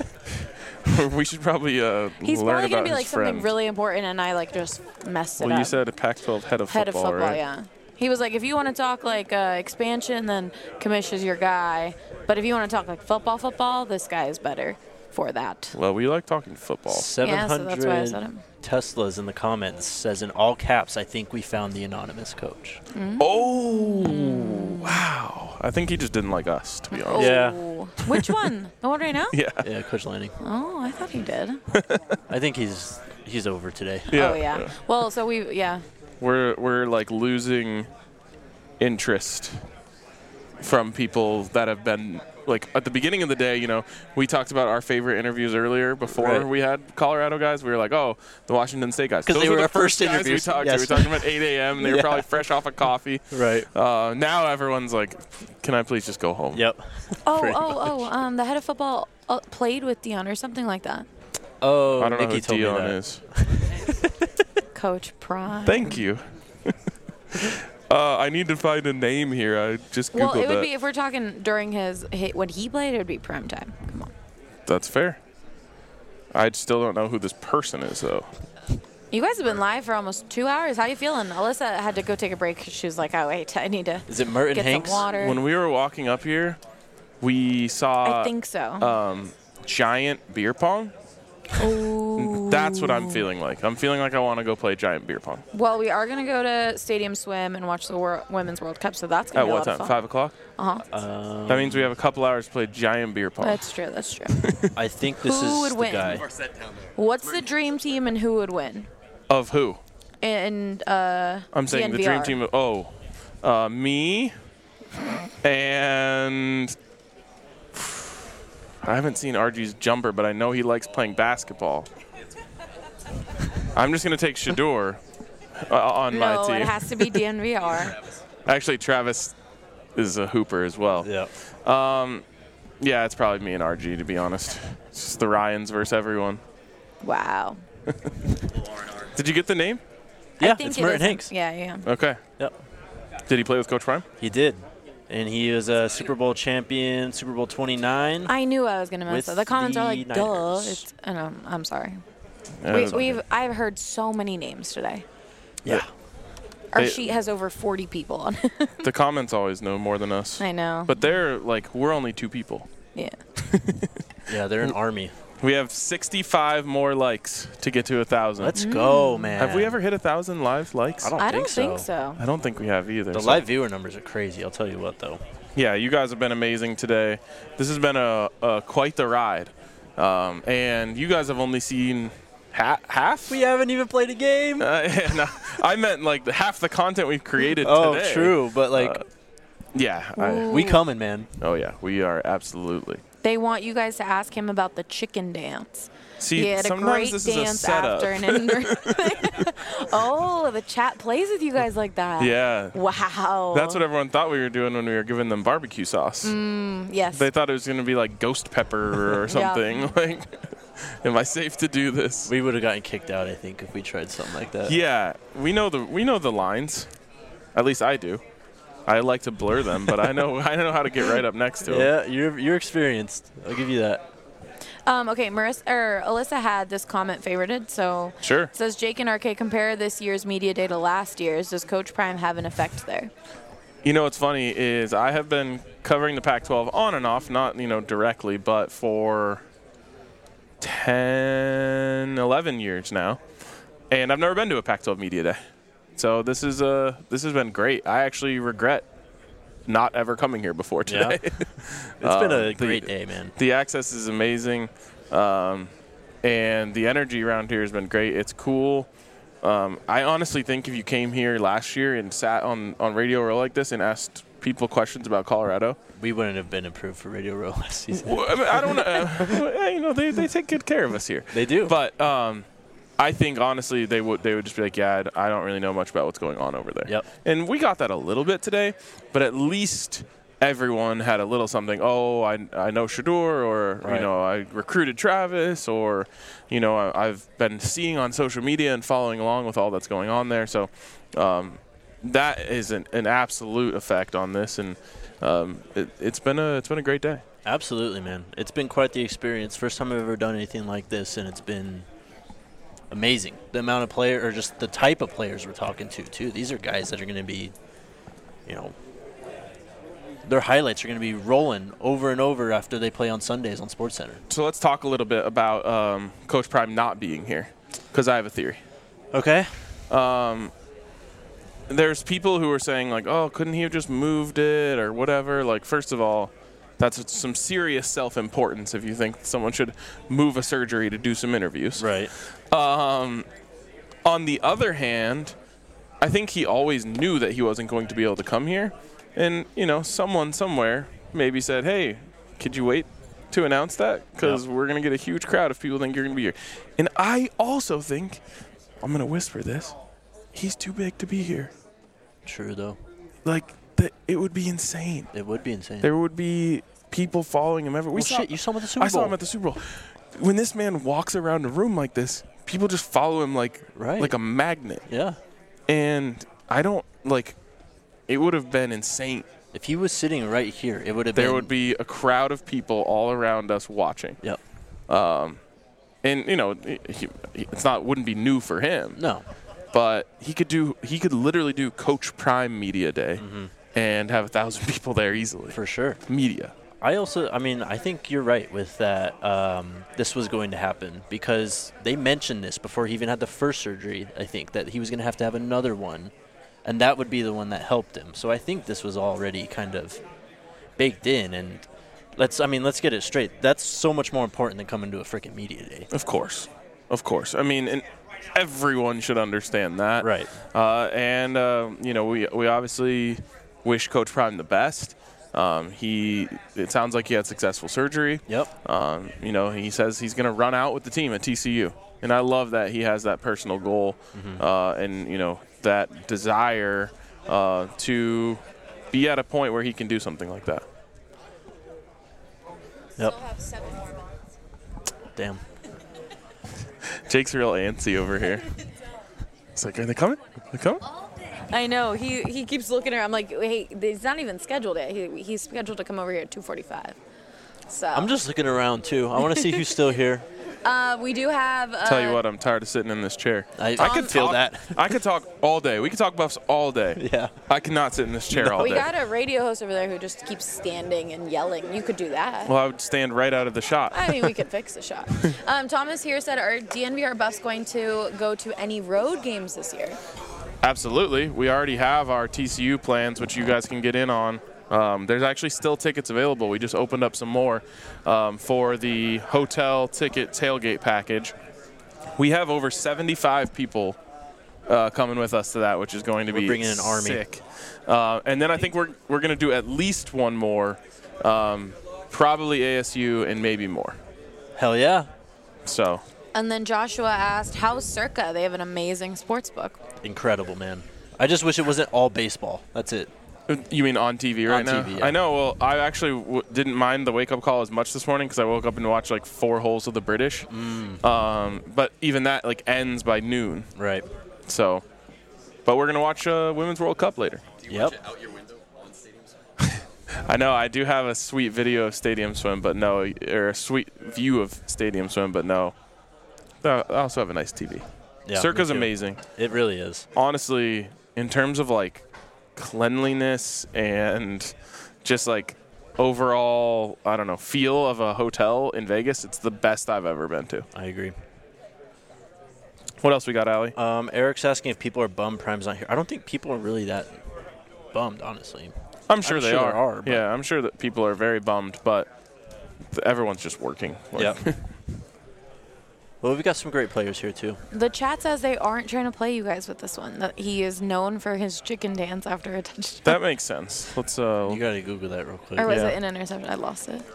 We should probably uh, He's learn probably about gonna be his like friend. something really important, and I like just messed it well, up. you said a Pac twelve head of Head football, of football, right? yeah. He was like, if you want to talk like uh, expansion, then Commish is your guy. But if you want to talk like football, football, this guy is better for that. Well, we like talking football. seven Yeah, so that's why I said hundred him. Teslas in the comments says in all caps, I think we found the anonymous coach. Oh, wow. I think he just didn't like us, to be honest. Yeah. Oh. Which one? The one right now? Yeah. Yeah, Coach Lanning. Oh, I thought he did. I think he's he's over today. Yeah. Oh, yeah. Well, so we, yeah. We're we're like losing interest from people that have been like at the beginning of the day. You know, we talked about our favorite interviews earlier before Right. we had Colorado guys. We were like, oh, the Washington State guys, 'Cause those they were were the our first guys interviews. we talked Yes. to. We were talking about eight a.m. and they were Yeah. probably fresh off a coffee. Right. Uh, now everyone's like, can I please just go home? Yep. Oh, Pretty oh, much. oh, um, the head of football uh, played with Dion or something like that. Oh, I don't Nikki know told who me Dion that. is. Coach Prime. Thank you. uh, I need to find a name here. I just googled Well, it would that. be if we're talking during his, his when he played, it would be prime time. Come on. That's fair. I still don't know who this person is, though. You guys have been live for almost two hours. How you feeling? Alyssa had to go take a break. She was like, "Oh wait, I need to Is it Merton get Hanks? some water." When we were walking up here, we saw I think so. um, giant beer pong. Ooh. That's what I'm feeling like. I'm feeling like I want to go play giant beer pong. Well, we are gonna go to Stadium Swim and watch the Wor- Women's World Cup, so that's gonna At be a what lot time? of fun. Five o'clock? Uh huh. Um, That means we have a couple hours to play giant beer pong. That's true. That's true. I think this Who is would the win? guy. What's the dream team and who would win? Of who? And uh, I'm saying the D N V R. dream team. Of, oh, uh, me and I haven't seen R G's jumper, but I know he likes playing basketball. I'm just gonna take Shador uh, on no, my team. it has to be D N V R. Actually, Travis is a hooper as well. Yeah. Um, yeah, it's probably me and R G, to be honest. It's just the Ryans versus everyone. Wow. Did you get the name? Yeah, I think it's it Merton is- Hanks. Yeah, yeah. Okay. Yep. Did he play with Coach Prime? He did. And he was a Super Bowl champion, Super Bowl twenty-nine. I knew I was gonna mess With up. The comments are the like, "Duh." Niners. It's, and um, I'm sorry. Yeah, we, it's we've I've heard so many names today. Yeah. Our They- sheet has over forty people on it. The comments always know more than us. I know. But they're like, we're only two people. Yeah. Yeah, they're an army. We have sixty-five more likes to get to a thousand. Let's go, man. Have we ever hit a thousand live likes? I don't, I think, don't so. think so. I don't think we have either. The so- live viewer numbers are crazy. I'll tell you what, though. Yeah, you guys have been amazing today. This has been a, a quite the ride, um, and you guys have only seen ha- half. We haven't even played a game. Uh, yeah, no, I meant like the, half the content we've created Oh, today. true, but like, Uh, yeah, I, we coming, man. oh yeah, we are absolutely. They want you guys to ask him about the chicken dance. See, he had a sometimes great this is a dance setup. after an Oh, the chat plays with you guys like that. Yeah. Wow. That's what everyone thought we were doing when we were giving them barbecue sauce. Mm, yes. They thought it was going to be like ghost pepper or something. Like, am I safe to do this? We would have gotten kicked out, I think, if we tried something like that. Yeah, we know the we know the lines. At least I do. I like to blur them, but I know I know how to get right up next to them. Yeah, you're you're experienced. I'll give you that. Um, okay, Marissa or Alyssa had this comment favorited, so Sure. it says Jake and R K compare this year's media day to last year's. Does Coach Prime have an effect there? You know what's funny is I have been covering the Pac twelve on and off, not you know directly, but for ten, eleven years now, and I've never been to a Pac twelve media day. So this is uh this has been great. I actually regret not ever coming here before today. Yeah. It's been a Um, the- great day, man. The access is amazing, um, and the energy around here has been great. It's cool. Um, I honestly think if you came here last year and sat on, on Radio Row like this and asked people questions about Colorado, We wouldn't have been approved for Radio Row last season. well, I, mean, I don't know. Uh, you know, they, they take good care of us here. They do. But um, I think honestly they would they would just be like, yeah, I don't really know much about what's going on over there. Yep. And we got that a little bit today, but at least everyone had a little something. Oh, I, I know Shador, or Right. you know, I recruited Travis, or you know, I, I've been seeing on social media and following along with all that's going on there. So um, that is an, an absolute effect on this, and um, it, it's been a it's been a great day. Absolutely, man. It's been quite the experience. First time I've ever done anything like this, and it's been amazing. The amount of player, or just the type of players we're talking to, too. These are guys that are going to be, you know, their highlights are going to be rolling over and over after they play on Sundays on SportsCenter. So let's talk a little bit about um, Coach Prime not being here, because I have a theory. Okay. Um, there's people who are saying, like, oh, couldn't he have just moved it or whatever? Like, first of all, that's some serious self-importance if you think someone should move a surgery to do some interviews. Right. Um, on the other hand, I think he always knew that he wasn't going to be able to come here. And, you know, someone somewhere maybe said, hey, could you wait to announce that? Because Yep. we're going to get a huge crowd if people think you're going to be here. And I also think, I'm going to whisper this, he's too big to be here. True, though. Like, the, it would be insane. It would be insane. There would be people following him everywhere. We Well, saw, shit, you saw him at the Super I saw Bowl. him at the Super Bowl. when this man walks around a room like this, people just follow him like right. like a magnet. Yeah. And I don't like. It would have been insane if he was sitting right here. It would have. There been... would be a crowd of people all around us watching. Yep. Um, and you know, he, it's not wouldn't be new for him. No. But he could do. He could literally do Coach Prime Media Day, mm-hmm. and have a thousand people there easily. For sure. Media. I also, I mean, I think you're right with that. Um, this was going to happen because they mentioned this before he even had the first surgery. I think that he was going to have to have another one, and that would be the one that helped him. So I think this was already kind of baked in. And let's, I mean, let's get it straight. That's so much more important than coming to a freaking media day. Of course, of course. I mean, and everyone should understand that. Right. Uh, and uh, you know, we we obviously wish Coach Prime the best. Um, he, it sounds like he had successful surgery. Yep. Um, you know, he says he's going to run out with the team at T C U. And I love that he has that personal goal mm-hmm. uh, and, you know, that desire uh, to be at a point where he can do something like that. Yep. Damn. Jake's real antsy over here. It's like, are they coming? Are they coming? I know. He he keeps looking around. I'm like, wait, he's not even scheduled yet. He, he's scheduled to come over here at two forty-five. So. I'm just looking around, too. I want to see who's still here. Uh, we do have. Uh, Tell you what, I'm tired of sitting in this chair. I, I could feel talk, that. I could talk all day. We could talk Buffs all day. Yeah. I cannot sit in this chair all we day. got a radio host over there who just keeps standing and yelling. You could do that. Well, I would stand right out of the shot. I mean, we could fix the shot. Um, Thomas here said, are D N V R Buffs going to go to any road games this year? Absolutely. We already have our T C U plans, which you guys can get in on. Um, there's actually still tickets available. We just opened up some more um, for the hotel ticket tailgate package. We have over seventy-five people uh, coming with us to that, which is going to we're be bringing an army. Sick. Uh, and then I think we're we're going to do at least one more, um, probably A S U and maybe more. Hell yeah. So. And then Joshua asked, how's Circa? They have an amazing sports book. Incredible, man. I just wish it wasn't all baseball. That's it. You mean on T V right on now? T V, yeah. I know. Well, I actually w- didn't mind the wake-up call as much this morning because I woke up and watched like four holes of the British. Mm. Um, but even that like ends by noon. Right. So, but we're gonna watch uh, Women's World Cup later. Do you yep. watch it out your window on Stadium Swim? I know. I do have a sweet video of Stadium Swim, but no, or a sweet view of Stadium Swim, but no. I also have a nice T V. Yeah, Circa's amazing. It really is. Honestly, in terms of like cleanliness and just like overall, I don't know, feel of a hotel in Vegas, it's the best I've ever been to. I agree. What else we got, Allie? Um, Eric's asking if people are bummed Prime's not here. I don't think people are really that bummed, honestly. I'm sure I'm they sure are. there are but yeah, I'm sure that people are very bummed, but th- everyone's just working. Like, Yep. Well, we've got some great players here, too. The chat says they aren't trying to play you guys with this one. That he is known for his chicken dance after a touchdown. That makes sense. Let's. Uh, you got to Google that real quick. Or was yeah. it an interception? I lost it.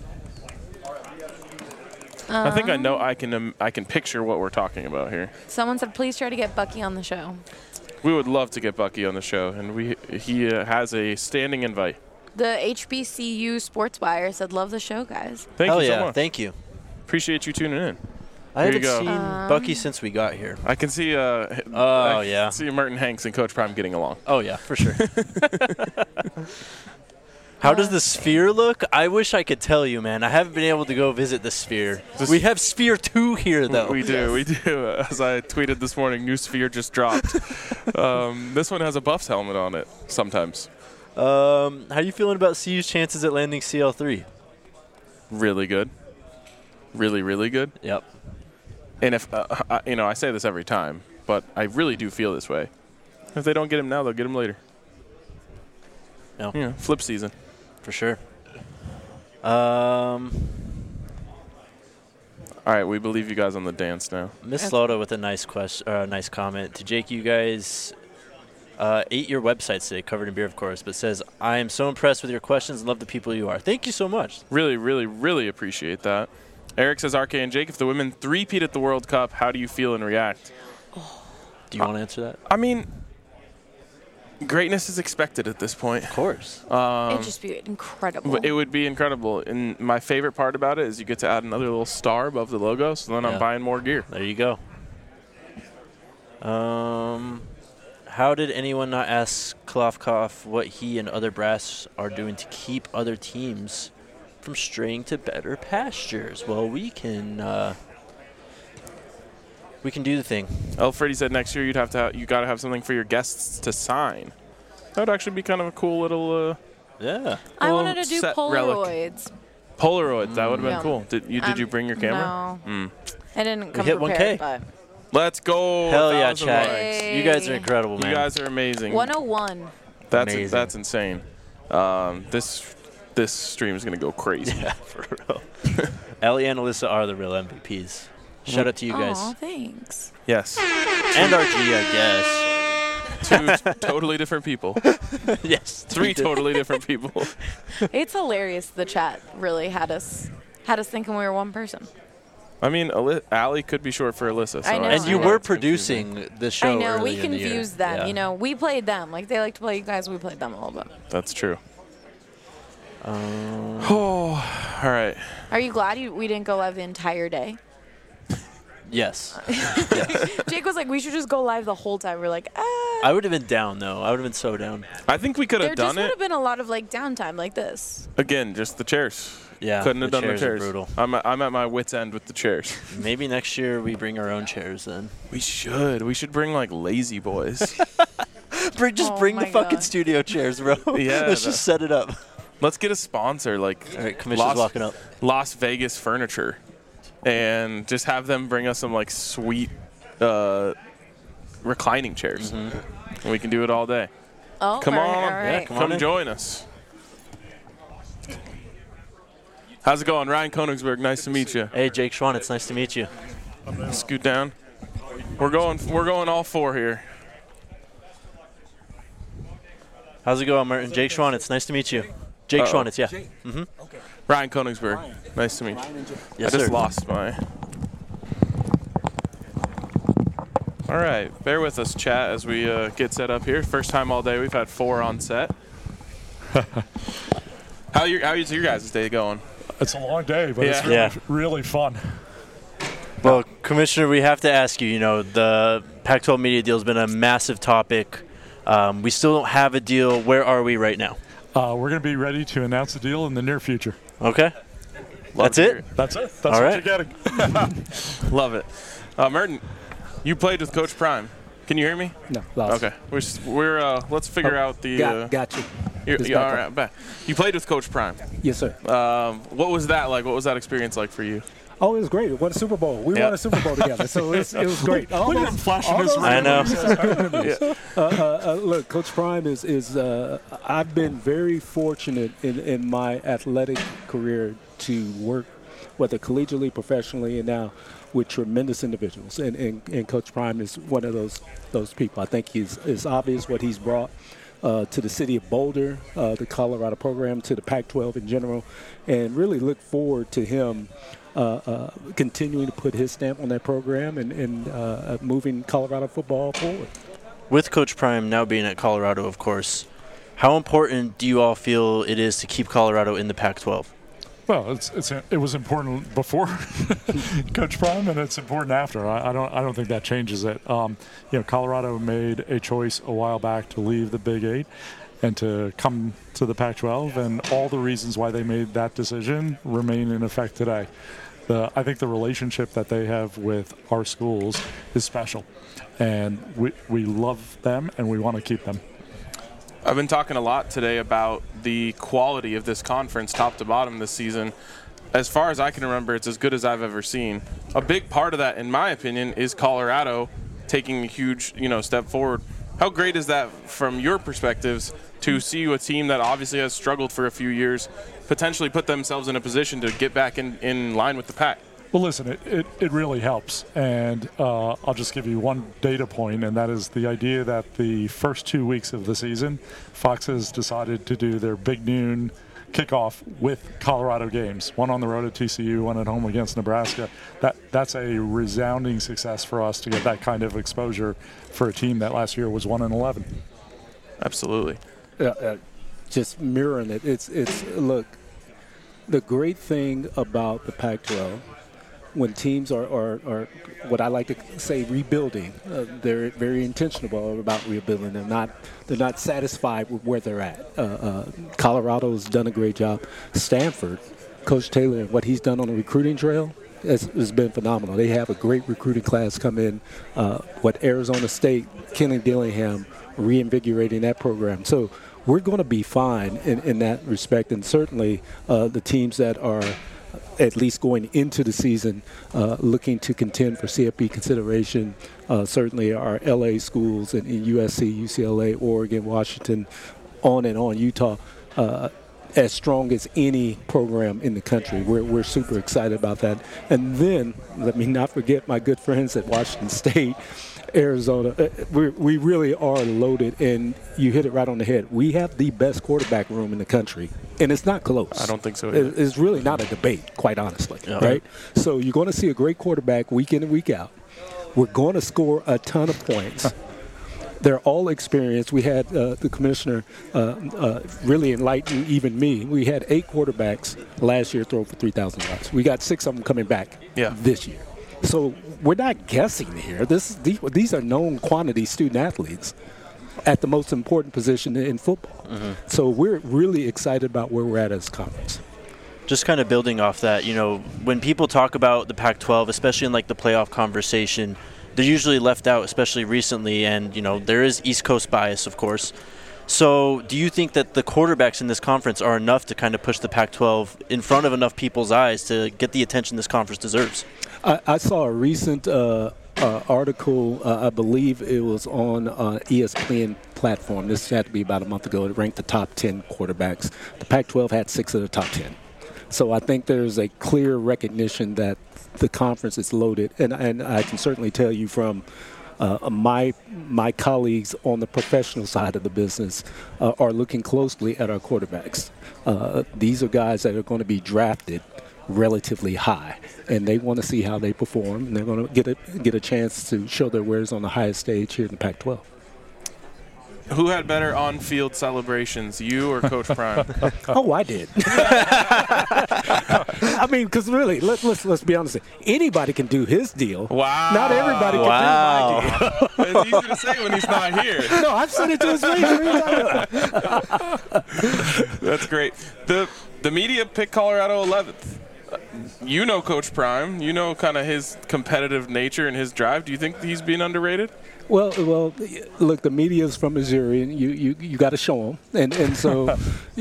I think I know. Um, I can. Um, I can picture what we're talking about here. Someone said, please try to get Bucky on the show. We would love to get Bucky on the show, and we he uh, has a standing invite. The H B C U Sports Wire said, love the show, guys. Thank Hell you yeah, so much. Thank you. Appreciate you tuning in. I Here you haven't go. seen Um, Bucky since we got here. I can see. Uh, Oh, I yeah. can see Merton Hanks and Coach Prime getting along. Oh, yeah, for sure. How does the Sphere look? I wish I could tell you, man. I haven't been able to go visit the Sphere. This- we have Sphere two here, though. We do, we do. As I tweeted this morning, new Sphere just dropped. um, this one has a Buffs helmet on it sometimes. Um, how you feeling about C U's chances at landing C L three? Really good. Really, really good. Yep. And if, uh, I, you know, I say this every time, but I really do feel this way. If they don't get him now, they'll get him later. No. Yeah, flip season. For sure. Um, All right, we believe you guys on the dance now. Miss Loda with a nice question, uh, nice comment to Jake. You guys uh, ate your website today, covered in beer, of course, but says, I am so impressed with your questions and love the people you are. Thank you so much. Really, really, really appreciate that. Eric says, R K and Jake, if the women three-peat at the World Cup, how do you feel and react? Do you want to answer that? I mean, greatness is expected at this point. Of course. Um, It'd just be incredible. But it would be incredible. And my favorite part about it is you get to add another little star above the logo, so then Yeah. I'm buying more gear. There you go. Um, how did anyone not ask Klofkoff what he and other brass are doing to keep other teams from straying to better pastures? Well, we can uh, we can do the thing. El Freddy said next year you'd have to have, you got to have something for your guests to sign. That would actually be kind of a cool little uh, yeah. I little wanted to do set relic. Polaroids. Polaroids. That would have been Yeah. cool. Did you did Um, you bring your camera? no. Mm. I didn't come hit one K. prepared, but Let's go. Hell yeah, thousand chat. likes. You guys are incredible, man. You guys are amazing. one oh one. That's Amazing. that's insane. Um, this this stream is gonna go crazy. Yeah, for real. Ellie and Alyssa are the real M V Ps. Shout out to you guys. Aw, thanks. Yes. And R G, I guess. Two totally different people. Yes. Three totally different people. It's hilarious. The chat really had us had us thinking we were one person. I mean, Ali- Allie could be short for Alyssa. So I know. And you I know. were producing the show I know. We earlier in the year. confused them. Yeah. You know, we played them. Like they like to play you guys. We played them a little bit. That's true. Um, Oh, all right. Are you glad you, we didn't go live the entire day? yes. Jake was like, we should just go live the whole time. We're like, ah. I would have been down, though. I would have been so down. I think we could There have just done would it have been a lot of like downtime like this. again. Just the chairs. Yeah, Couldn't have the done the chairs are chairs. brutal. I'm at, I'm at my wit's end with the chairs. Maybe next year we bring our own chairs then. We should. We should bring like lazy boys. Bring, just Oh bring the my fucking God. studio chairs, bro. Yeah, Let's the- just set it up. Let's get a sponsor like All right, Commissioner's Las, walking up. Las Vegas Furniture, and just have them bring us some like sweet uh, reclining chairs, Mm-hmm. and we can do it all day. Oh, Come all on, right, all right. Yeah, come come on in. join us. How's it going, Ryan Konigsberg? Nice to meet you. Hey, Jake Schwan, it's nice to meet you. Scoot down. We're going. We're going all four here. How's it going, Martin? Jake Schwan, it's nice to meet you. Jake Uh-oh. Schwan, it's yeah. Mm-hmm. Ryan Konigsberg. Nice to meet you. Yes, I just sir. lost my. All right, bear with us, chat, as we uh, get set up here. First time all day we've had four on set. how your how's your guys' day going? It's a long day, but it's Yeah. really, Yeah. really fun. Well, Commissioner, we have to ask you, you know, the Pac twelve media deal has been a massive topic. Um, we still don't have a deal. Where are we right now? Uh, we're going to be ready to announce a deal in the near future. Okay. That's to hear it? That's it. That's All what right. you're getting. Love it. Uh, Merton, you played with Coach Prime. Can you hear me? No, lost. Okay. We're s- we're uh, let's figure Oh, out the. got, uh, got you. you're- It's yeah, back all on. right, back. You played with Coach Prime. Yes, sir. Um, what was that like? What was that experience like for you? Oh, it was great. We won a Super Bowl. We Yeah. won a Super Bowl together, so it was, it was great. All Look at those- him flashing all his those I know. memories are good memories. uh, uh, uh, look, Coach Prime is is. Uh, I've been very fortunate in, in my athletic career to work, whether collegiately, professionally, and now with tremendous individuals. And, and, and Coach Prime is one of those those people. I think he's it's obvious what he's brought uh, to the city of Boulder, uh, the Colorado program, to the Pac twelve in general, and really look forward to him uh, uh, continuing to put his stamp on that program and, and uh, moving Colorado football forward. With Coach Prime now being at Colorado, of course, how important do you all feel it is to keep Colorado in the Pac twelve? Well, it's, it's it was important before Coach Prime, and it's important after. I, I don't I don't think that changes it. Um, you know, Colorado made a choice a while back to leave the Big Eight and to come to the Pac twelve, and all the reasons why they made that decision remain in effect today. The, I think the relationship that they have with our schools is special, and we we love them and we want to keep them. I've been talking a lot today about the quality of this conference, top to bottom, this season. As far as I can remember, it's as good as I've ever seen. A big part of that, in my opinion, is Colorado taking a huge, you know, step forward. How great is that from your perspectives to see a team that obviously has struggled for a few years potentially put themselves in a position to get back in, in line with the pack? Well, listen, it, it, it really helps. And uh, I'll just give you one data point, and that is the idea that the first two weeks of the season, Fox has decided to do their big noon kickoff with Colorado games, one on the road at T C U, one at home against Nebraska. That That's a resounding success for us to get that kind of exposure for a team that last year was one and eleven. Absolutely. Uh, uh, just mirroring it. It's it's look. The great thing about the Pac twelve, when teams are, are, are what I like to say rebuilding, uh, they're very intentional about rebuilding. They're not they're not satisfied with where they're at. Uh, uh, Colorado's done a great job. Stanford, Coach Taylor, and what he's done on the recruiting trail has, has been phenomenal. They have a great recruiting class come in. Uh, what Arizona State, Kenny Dillingham, reinvigorating that program. So we're going to be fine in, in that respect, and certainly uh, the teams that are at least going into the season uh, looking to contend for C F P consideration, uh, certainly our L A schools and, and U S C, U C L A, Oregon, Washington, on and on, Utah, uh, as strong as any program in the country. We're, we're super excited about that. And then, let me not forget my good friends at Washington State, Arizona. We we really are loaded, and you hit it right on the head. We have the best quarterback room in the country, and it's not close. I don't think so either. It's really not a debate, quite honestly, Yeah. right? So you're going to see a great quarterback week in and week out. We're going to score a ton of points. They're all experienced. We had uh, the commissioner uh, uh, really enlighten even me. We had eight quarterbacks last year throw for three thousand yards. We got six of them coming back Yeah. this year. So we're not guessing here. This these, these are known quantity student athletes at the most important position in football. Mm-hmm. So we're really excited about where we're at as a conference. Just kind of building off that, you know, when people talk about the Pac twelve, especially in like the playoff conversation, they're usually left out, especially recently. And, you know, there is East Coast bias, of course. So do you think that the quarterbacks in this conference are enough to kind of push the Pac twelve in front of enough people's eyes to get the attention this conference deserves? I, I saw a recent uh, uh, article, uh, I believe it was on uh, E S P N platform. This had to be about a month ago. It ranked the top ten quarterbacks. The Pac twelve had six of the top ten. So I think there's a clear recognition that the conference is loaded. And, and I can certainly tell you from uh, my my colleagues on the professional side of the business uh, are looking closely at our quarterbacks. Uh, these are guys that are going to be drafted relatively high, and they want to see how they perform, and they're going to get a get a chance to show their wares on the highest stage here in the Pac twelve. Who had better on-field celebrations, you or Coach Prime? Oh, I did. I mean, because really, let, let's let's be honest. Anybody can do his deal. Wow. Not everybody Wow. can do my deal. It's easy to say when he's not here. No, I've said it to his face. What are you talking about? That's great. The the media picked Colorado eleventh. You know Coach Prime. You know kind of his competitive nature and his drive. Do you think he's being underrated? Well, well, look, the media's from Missouri, and you you, you got to show them, and and so.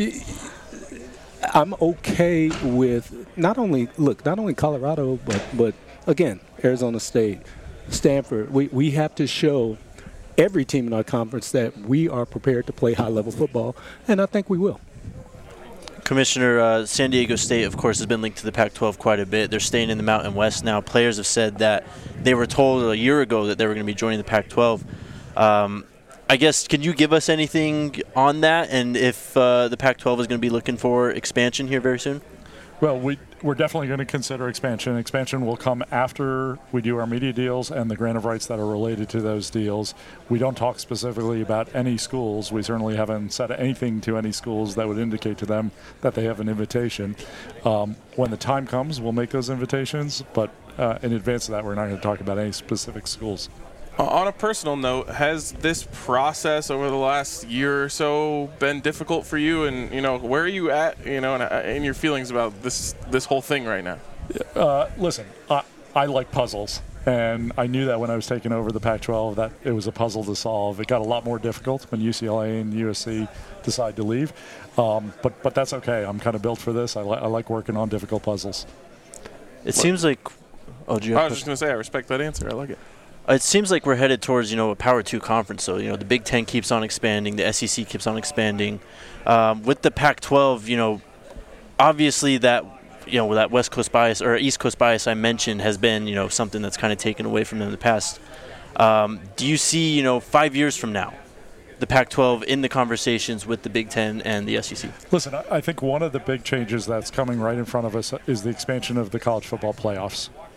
I'm okay with not only look not only Colorado, but but again Arizona State, Stanford. We we have to show every team in our conference that we are prepared to play high level football, and I think we will. Commissioner, uh, San Diego State, of course, has been linked to the Pac twelve quite a bit. They're staying in the Mountain West now. Players have said that they were told a year ago that they were going to be joining the Pac twelve. Um, I guess, can you give us anything on that, and if uh, the Pac twelve is going to be looking for expansion here very soon? Well, we, we're definitely going to consider expansion. Expansion will come after we do our media deals and the grant of rights that are related to those deals. We don't talk specifically about any schools. We certainly haven't said anything to any schools that would indicate to them that they have an invitation. Um, when the time comes, we'll make those invitations, but uh, in advance of that, we're not going to talk about any specific schools. On a personal note, has this process over the last year or so been difficult for you? And, you know, where are you at, you know, in your feelings about this this whole thing right now? Uh, listen, I, I like puzzles. And I knew that when I was taking over the Pac twelve that it was a puzzle to solve. It got a lot more difficult when U C L A and U S C decide to leave. Um, but but that's okay. I'm kind of built for this. I, li- I like working on difficult puzzles. It what? seems like – oh, do you have I was just going to say, I respect that answer. I like it. It seems like we're headed towards, you know, a Power Two conference. So, you know, the Big Ten keeps on expanding, the S E C keeps on expanding. Um, with the Pac twelve, you know, obviously that, you know, that West Coast bias or East Coast bias I mentioned has been, you know, something that's kind of taken away from them in the past. Um, do you see, you know, five years from now, the Pac twelve in the conversations with the Big Ten and the S E C? Listen, I think one of the big changes that's coming right in front of us is the expansion of the college football playoffs.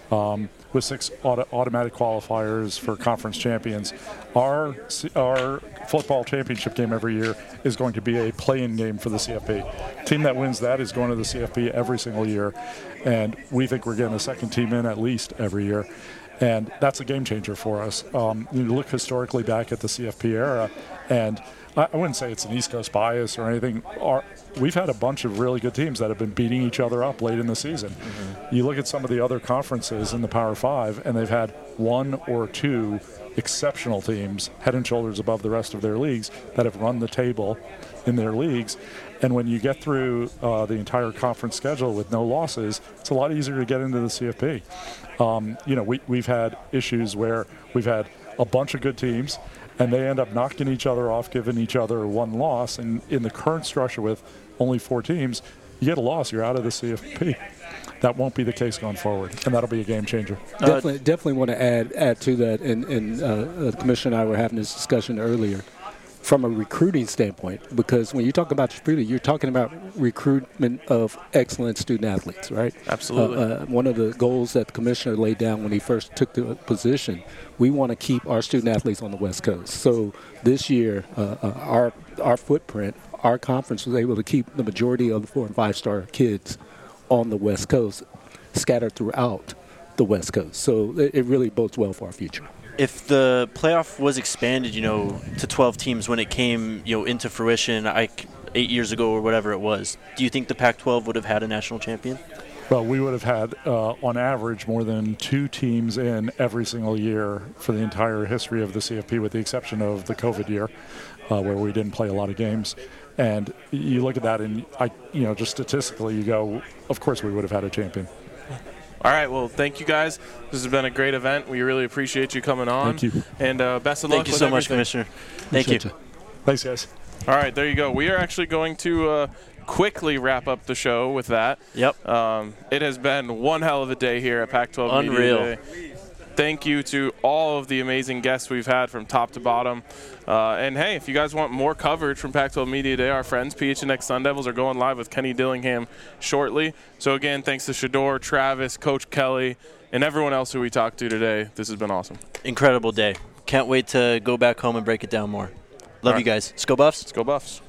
um, with six auto- automatic qualifiers for conference champions. Our our football championship game every year is going to be a play-in game for the C F P. Team that wins that is going to the C F P every single year, and we think we're getting a second team in at least every year. And that's a game changer for us. Um, you look historically back at the C F P era, and I, I wouldn't say it's an East Coast bias or anything. Our, we've had a bunch of really good teams that have been beating each other up late in the season. Mm-hmm. You look at some of the other conferences in the Power Five, and they've had one or two exceptional teams head and shoulders above the rest of their leagues that have run the table in their leagues. And when you get through uh, the entire conference schedule with no losses, it's a lot easier to get into the C F P. Um, you know, we, we've had issues where we've had a bunch of good teams, and they end up knocking each other off, giving each other one loss. And in the current structure with only four teams, you get a loss, you're out of the C F P. That won't be the case going forward, and that'll be a game changer. Definitely, definitely want to add add to that. And, and uh, the commissioner and I were having this discussion earlier. From a recruiting standpoint, because when you talk about recruiting, you're talking about recruitment of excellent student athletes, right? Absolutely. Uh, uh, one of the goals that the commissioner laid down when he first took the position, we want to keep our student athletes on the West Coast. So this year, uh, uh, our our footprint, our conference was able to keep the majority of the four and five star kids on the West Coast, scattered throughout the West Coast. So it, it really bodes well for our future. If the playoff was expanded, you know, to twelve teams when it came, you know, into fruition, I, eight years ago or whatever it was, do you think the Pac twelve would have had a national champion? Well, we would have had, uh, on average, more than two teams in every single year for the entire history of the C F P, with the exception of the COVID year, uh, where we didn't play a lot of games. And you look at that, and I, you know, just statistically, you go, of course, we would have had a champion. All right, well, thank you guys. This has been a great event. We really appreciate you coming on. Thank you. And uh, best of Thank luck you with so everything. much, Commissioner. Thank Appreciate you. you. Thanks, guys. All right, there you go. We are actually going to uh, quickly wrap up the show with that. Yep. Um, it has been one hell of a day here at Pac twelve Unreal. Media Day. Thank you to all of the amazing guests we've had from top to bottom. Uh, and, hey, if you guys want more coverage from Pac twelve Media Day, our friends P H N X Sun Devils are going live with Kenny Dillingham shortly. So, again, thanks to Shedeur, Travis, Coach Kelly, and everyone else who we talked to today. This has been awesome. Incredible day. Can't wait to go back home and break it down more. Love All you right. guys. Let's go Buffs. Let's go Buffs.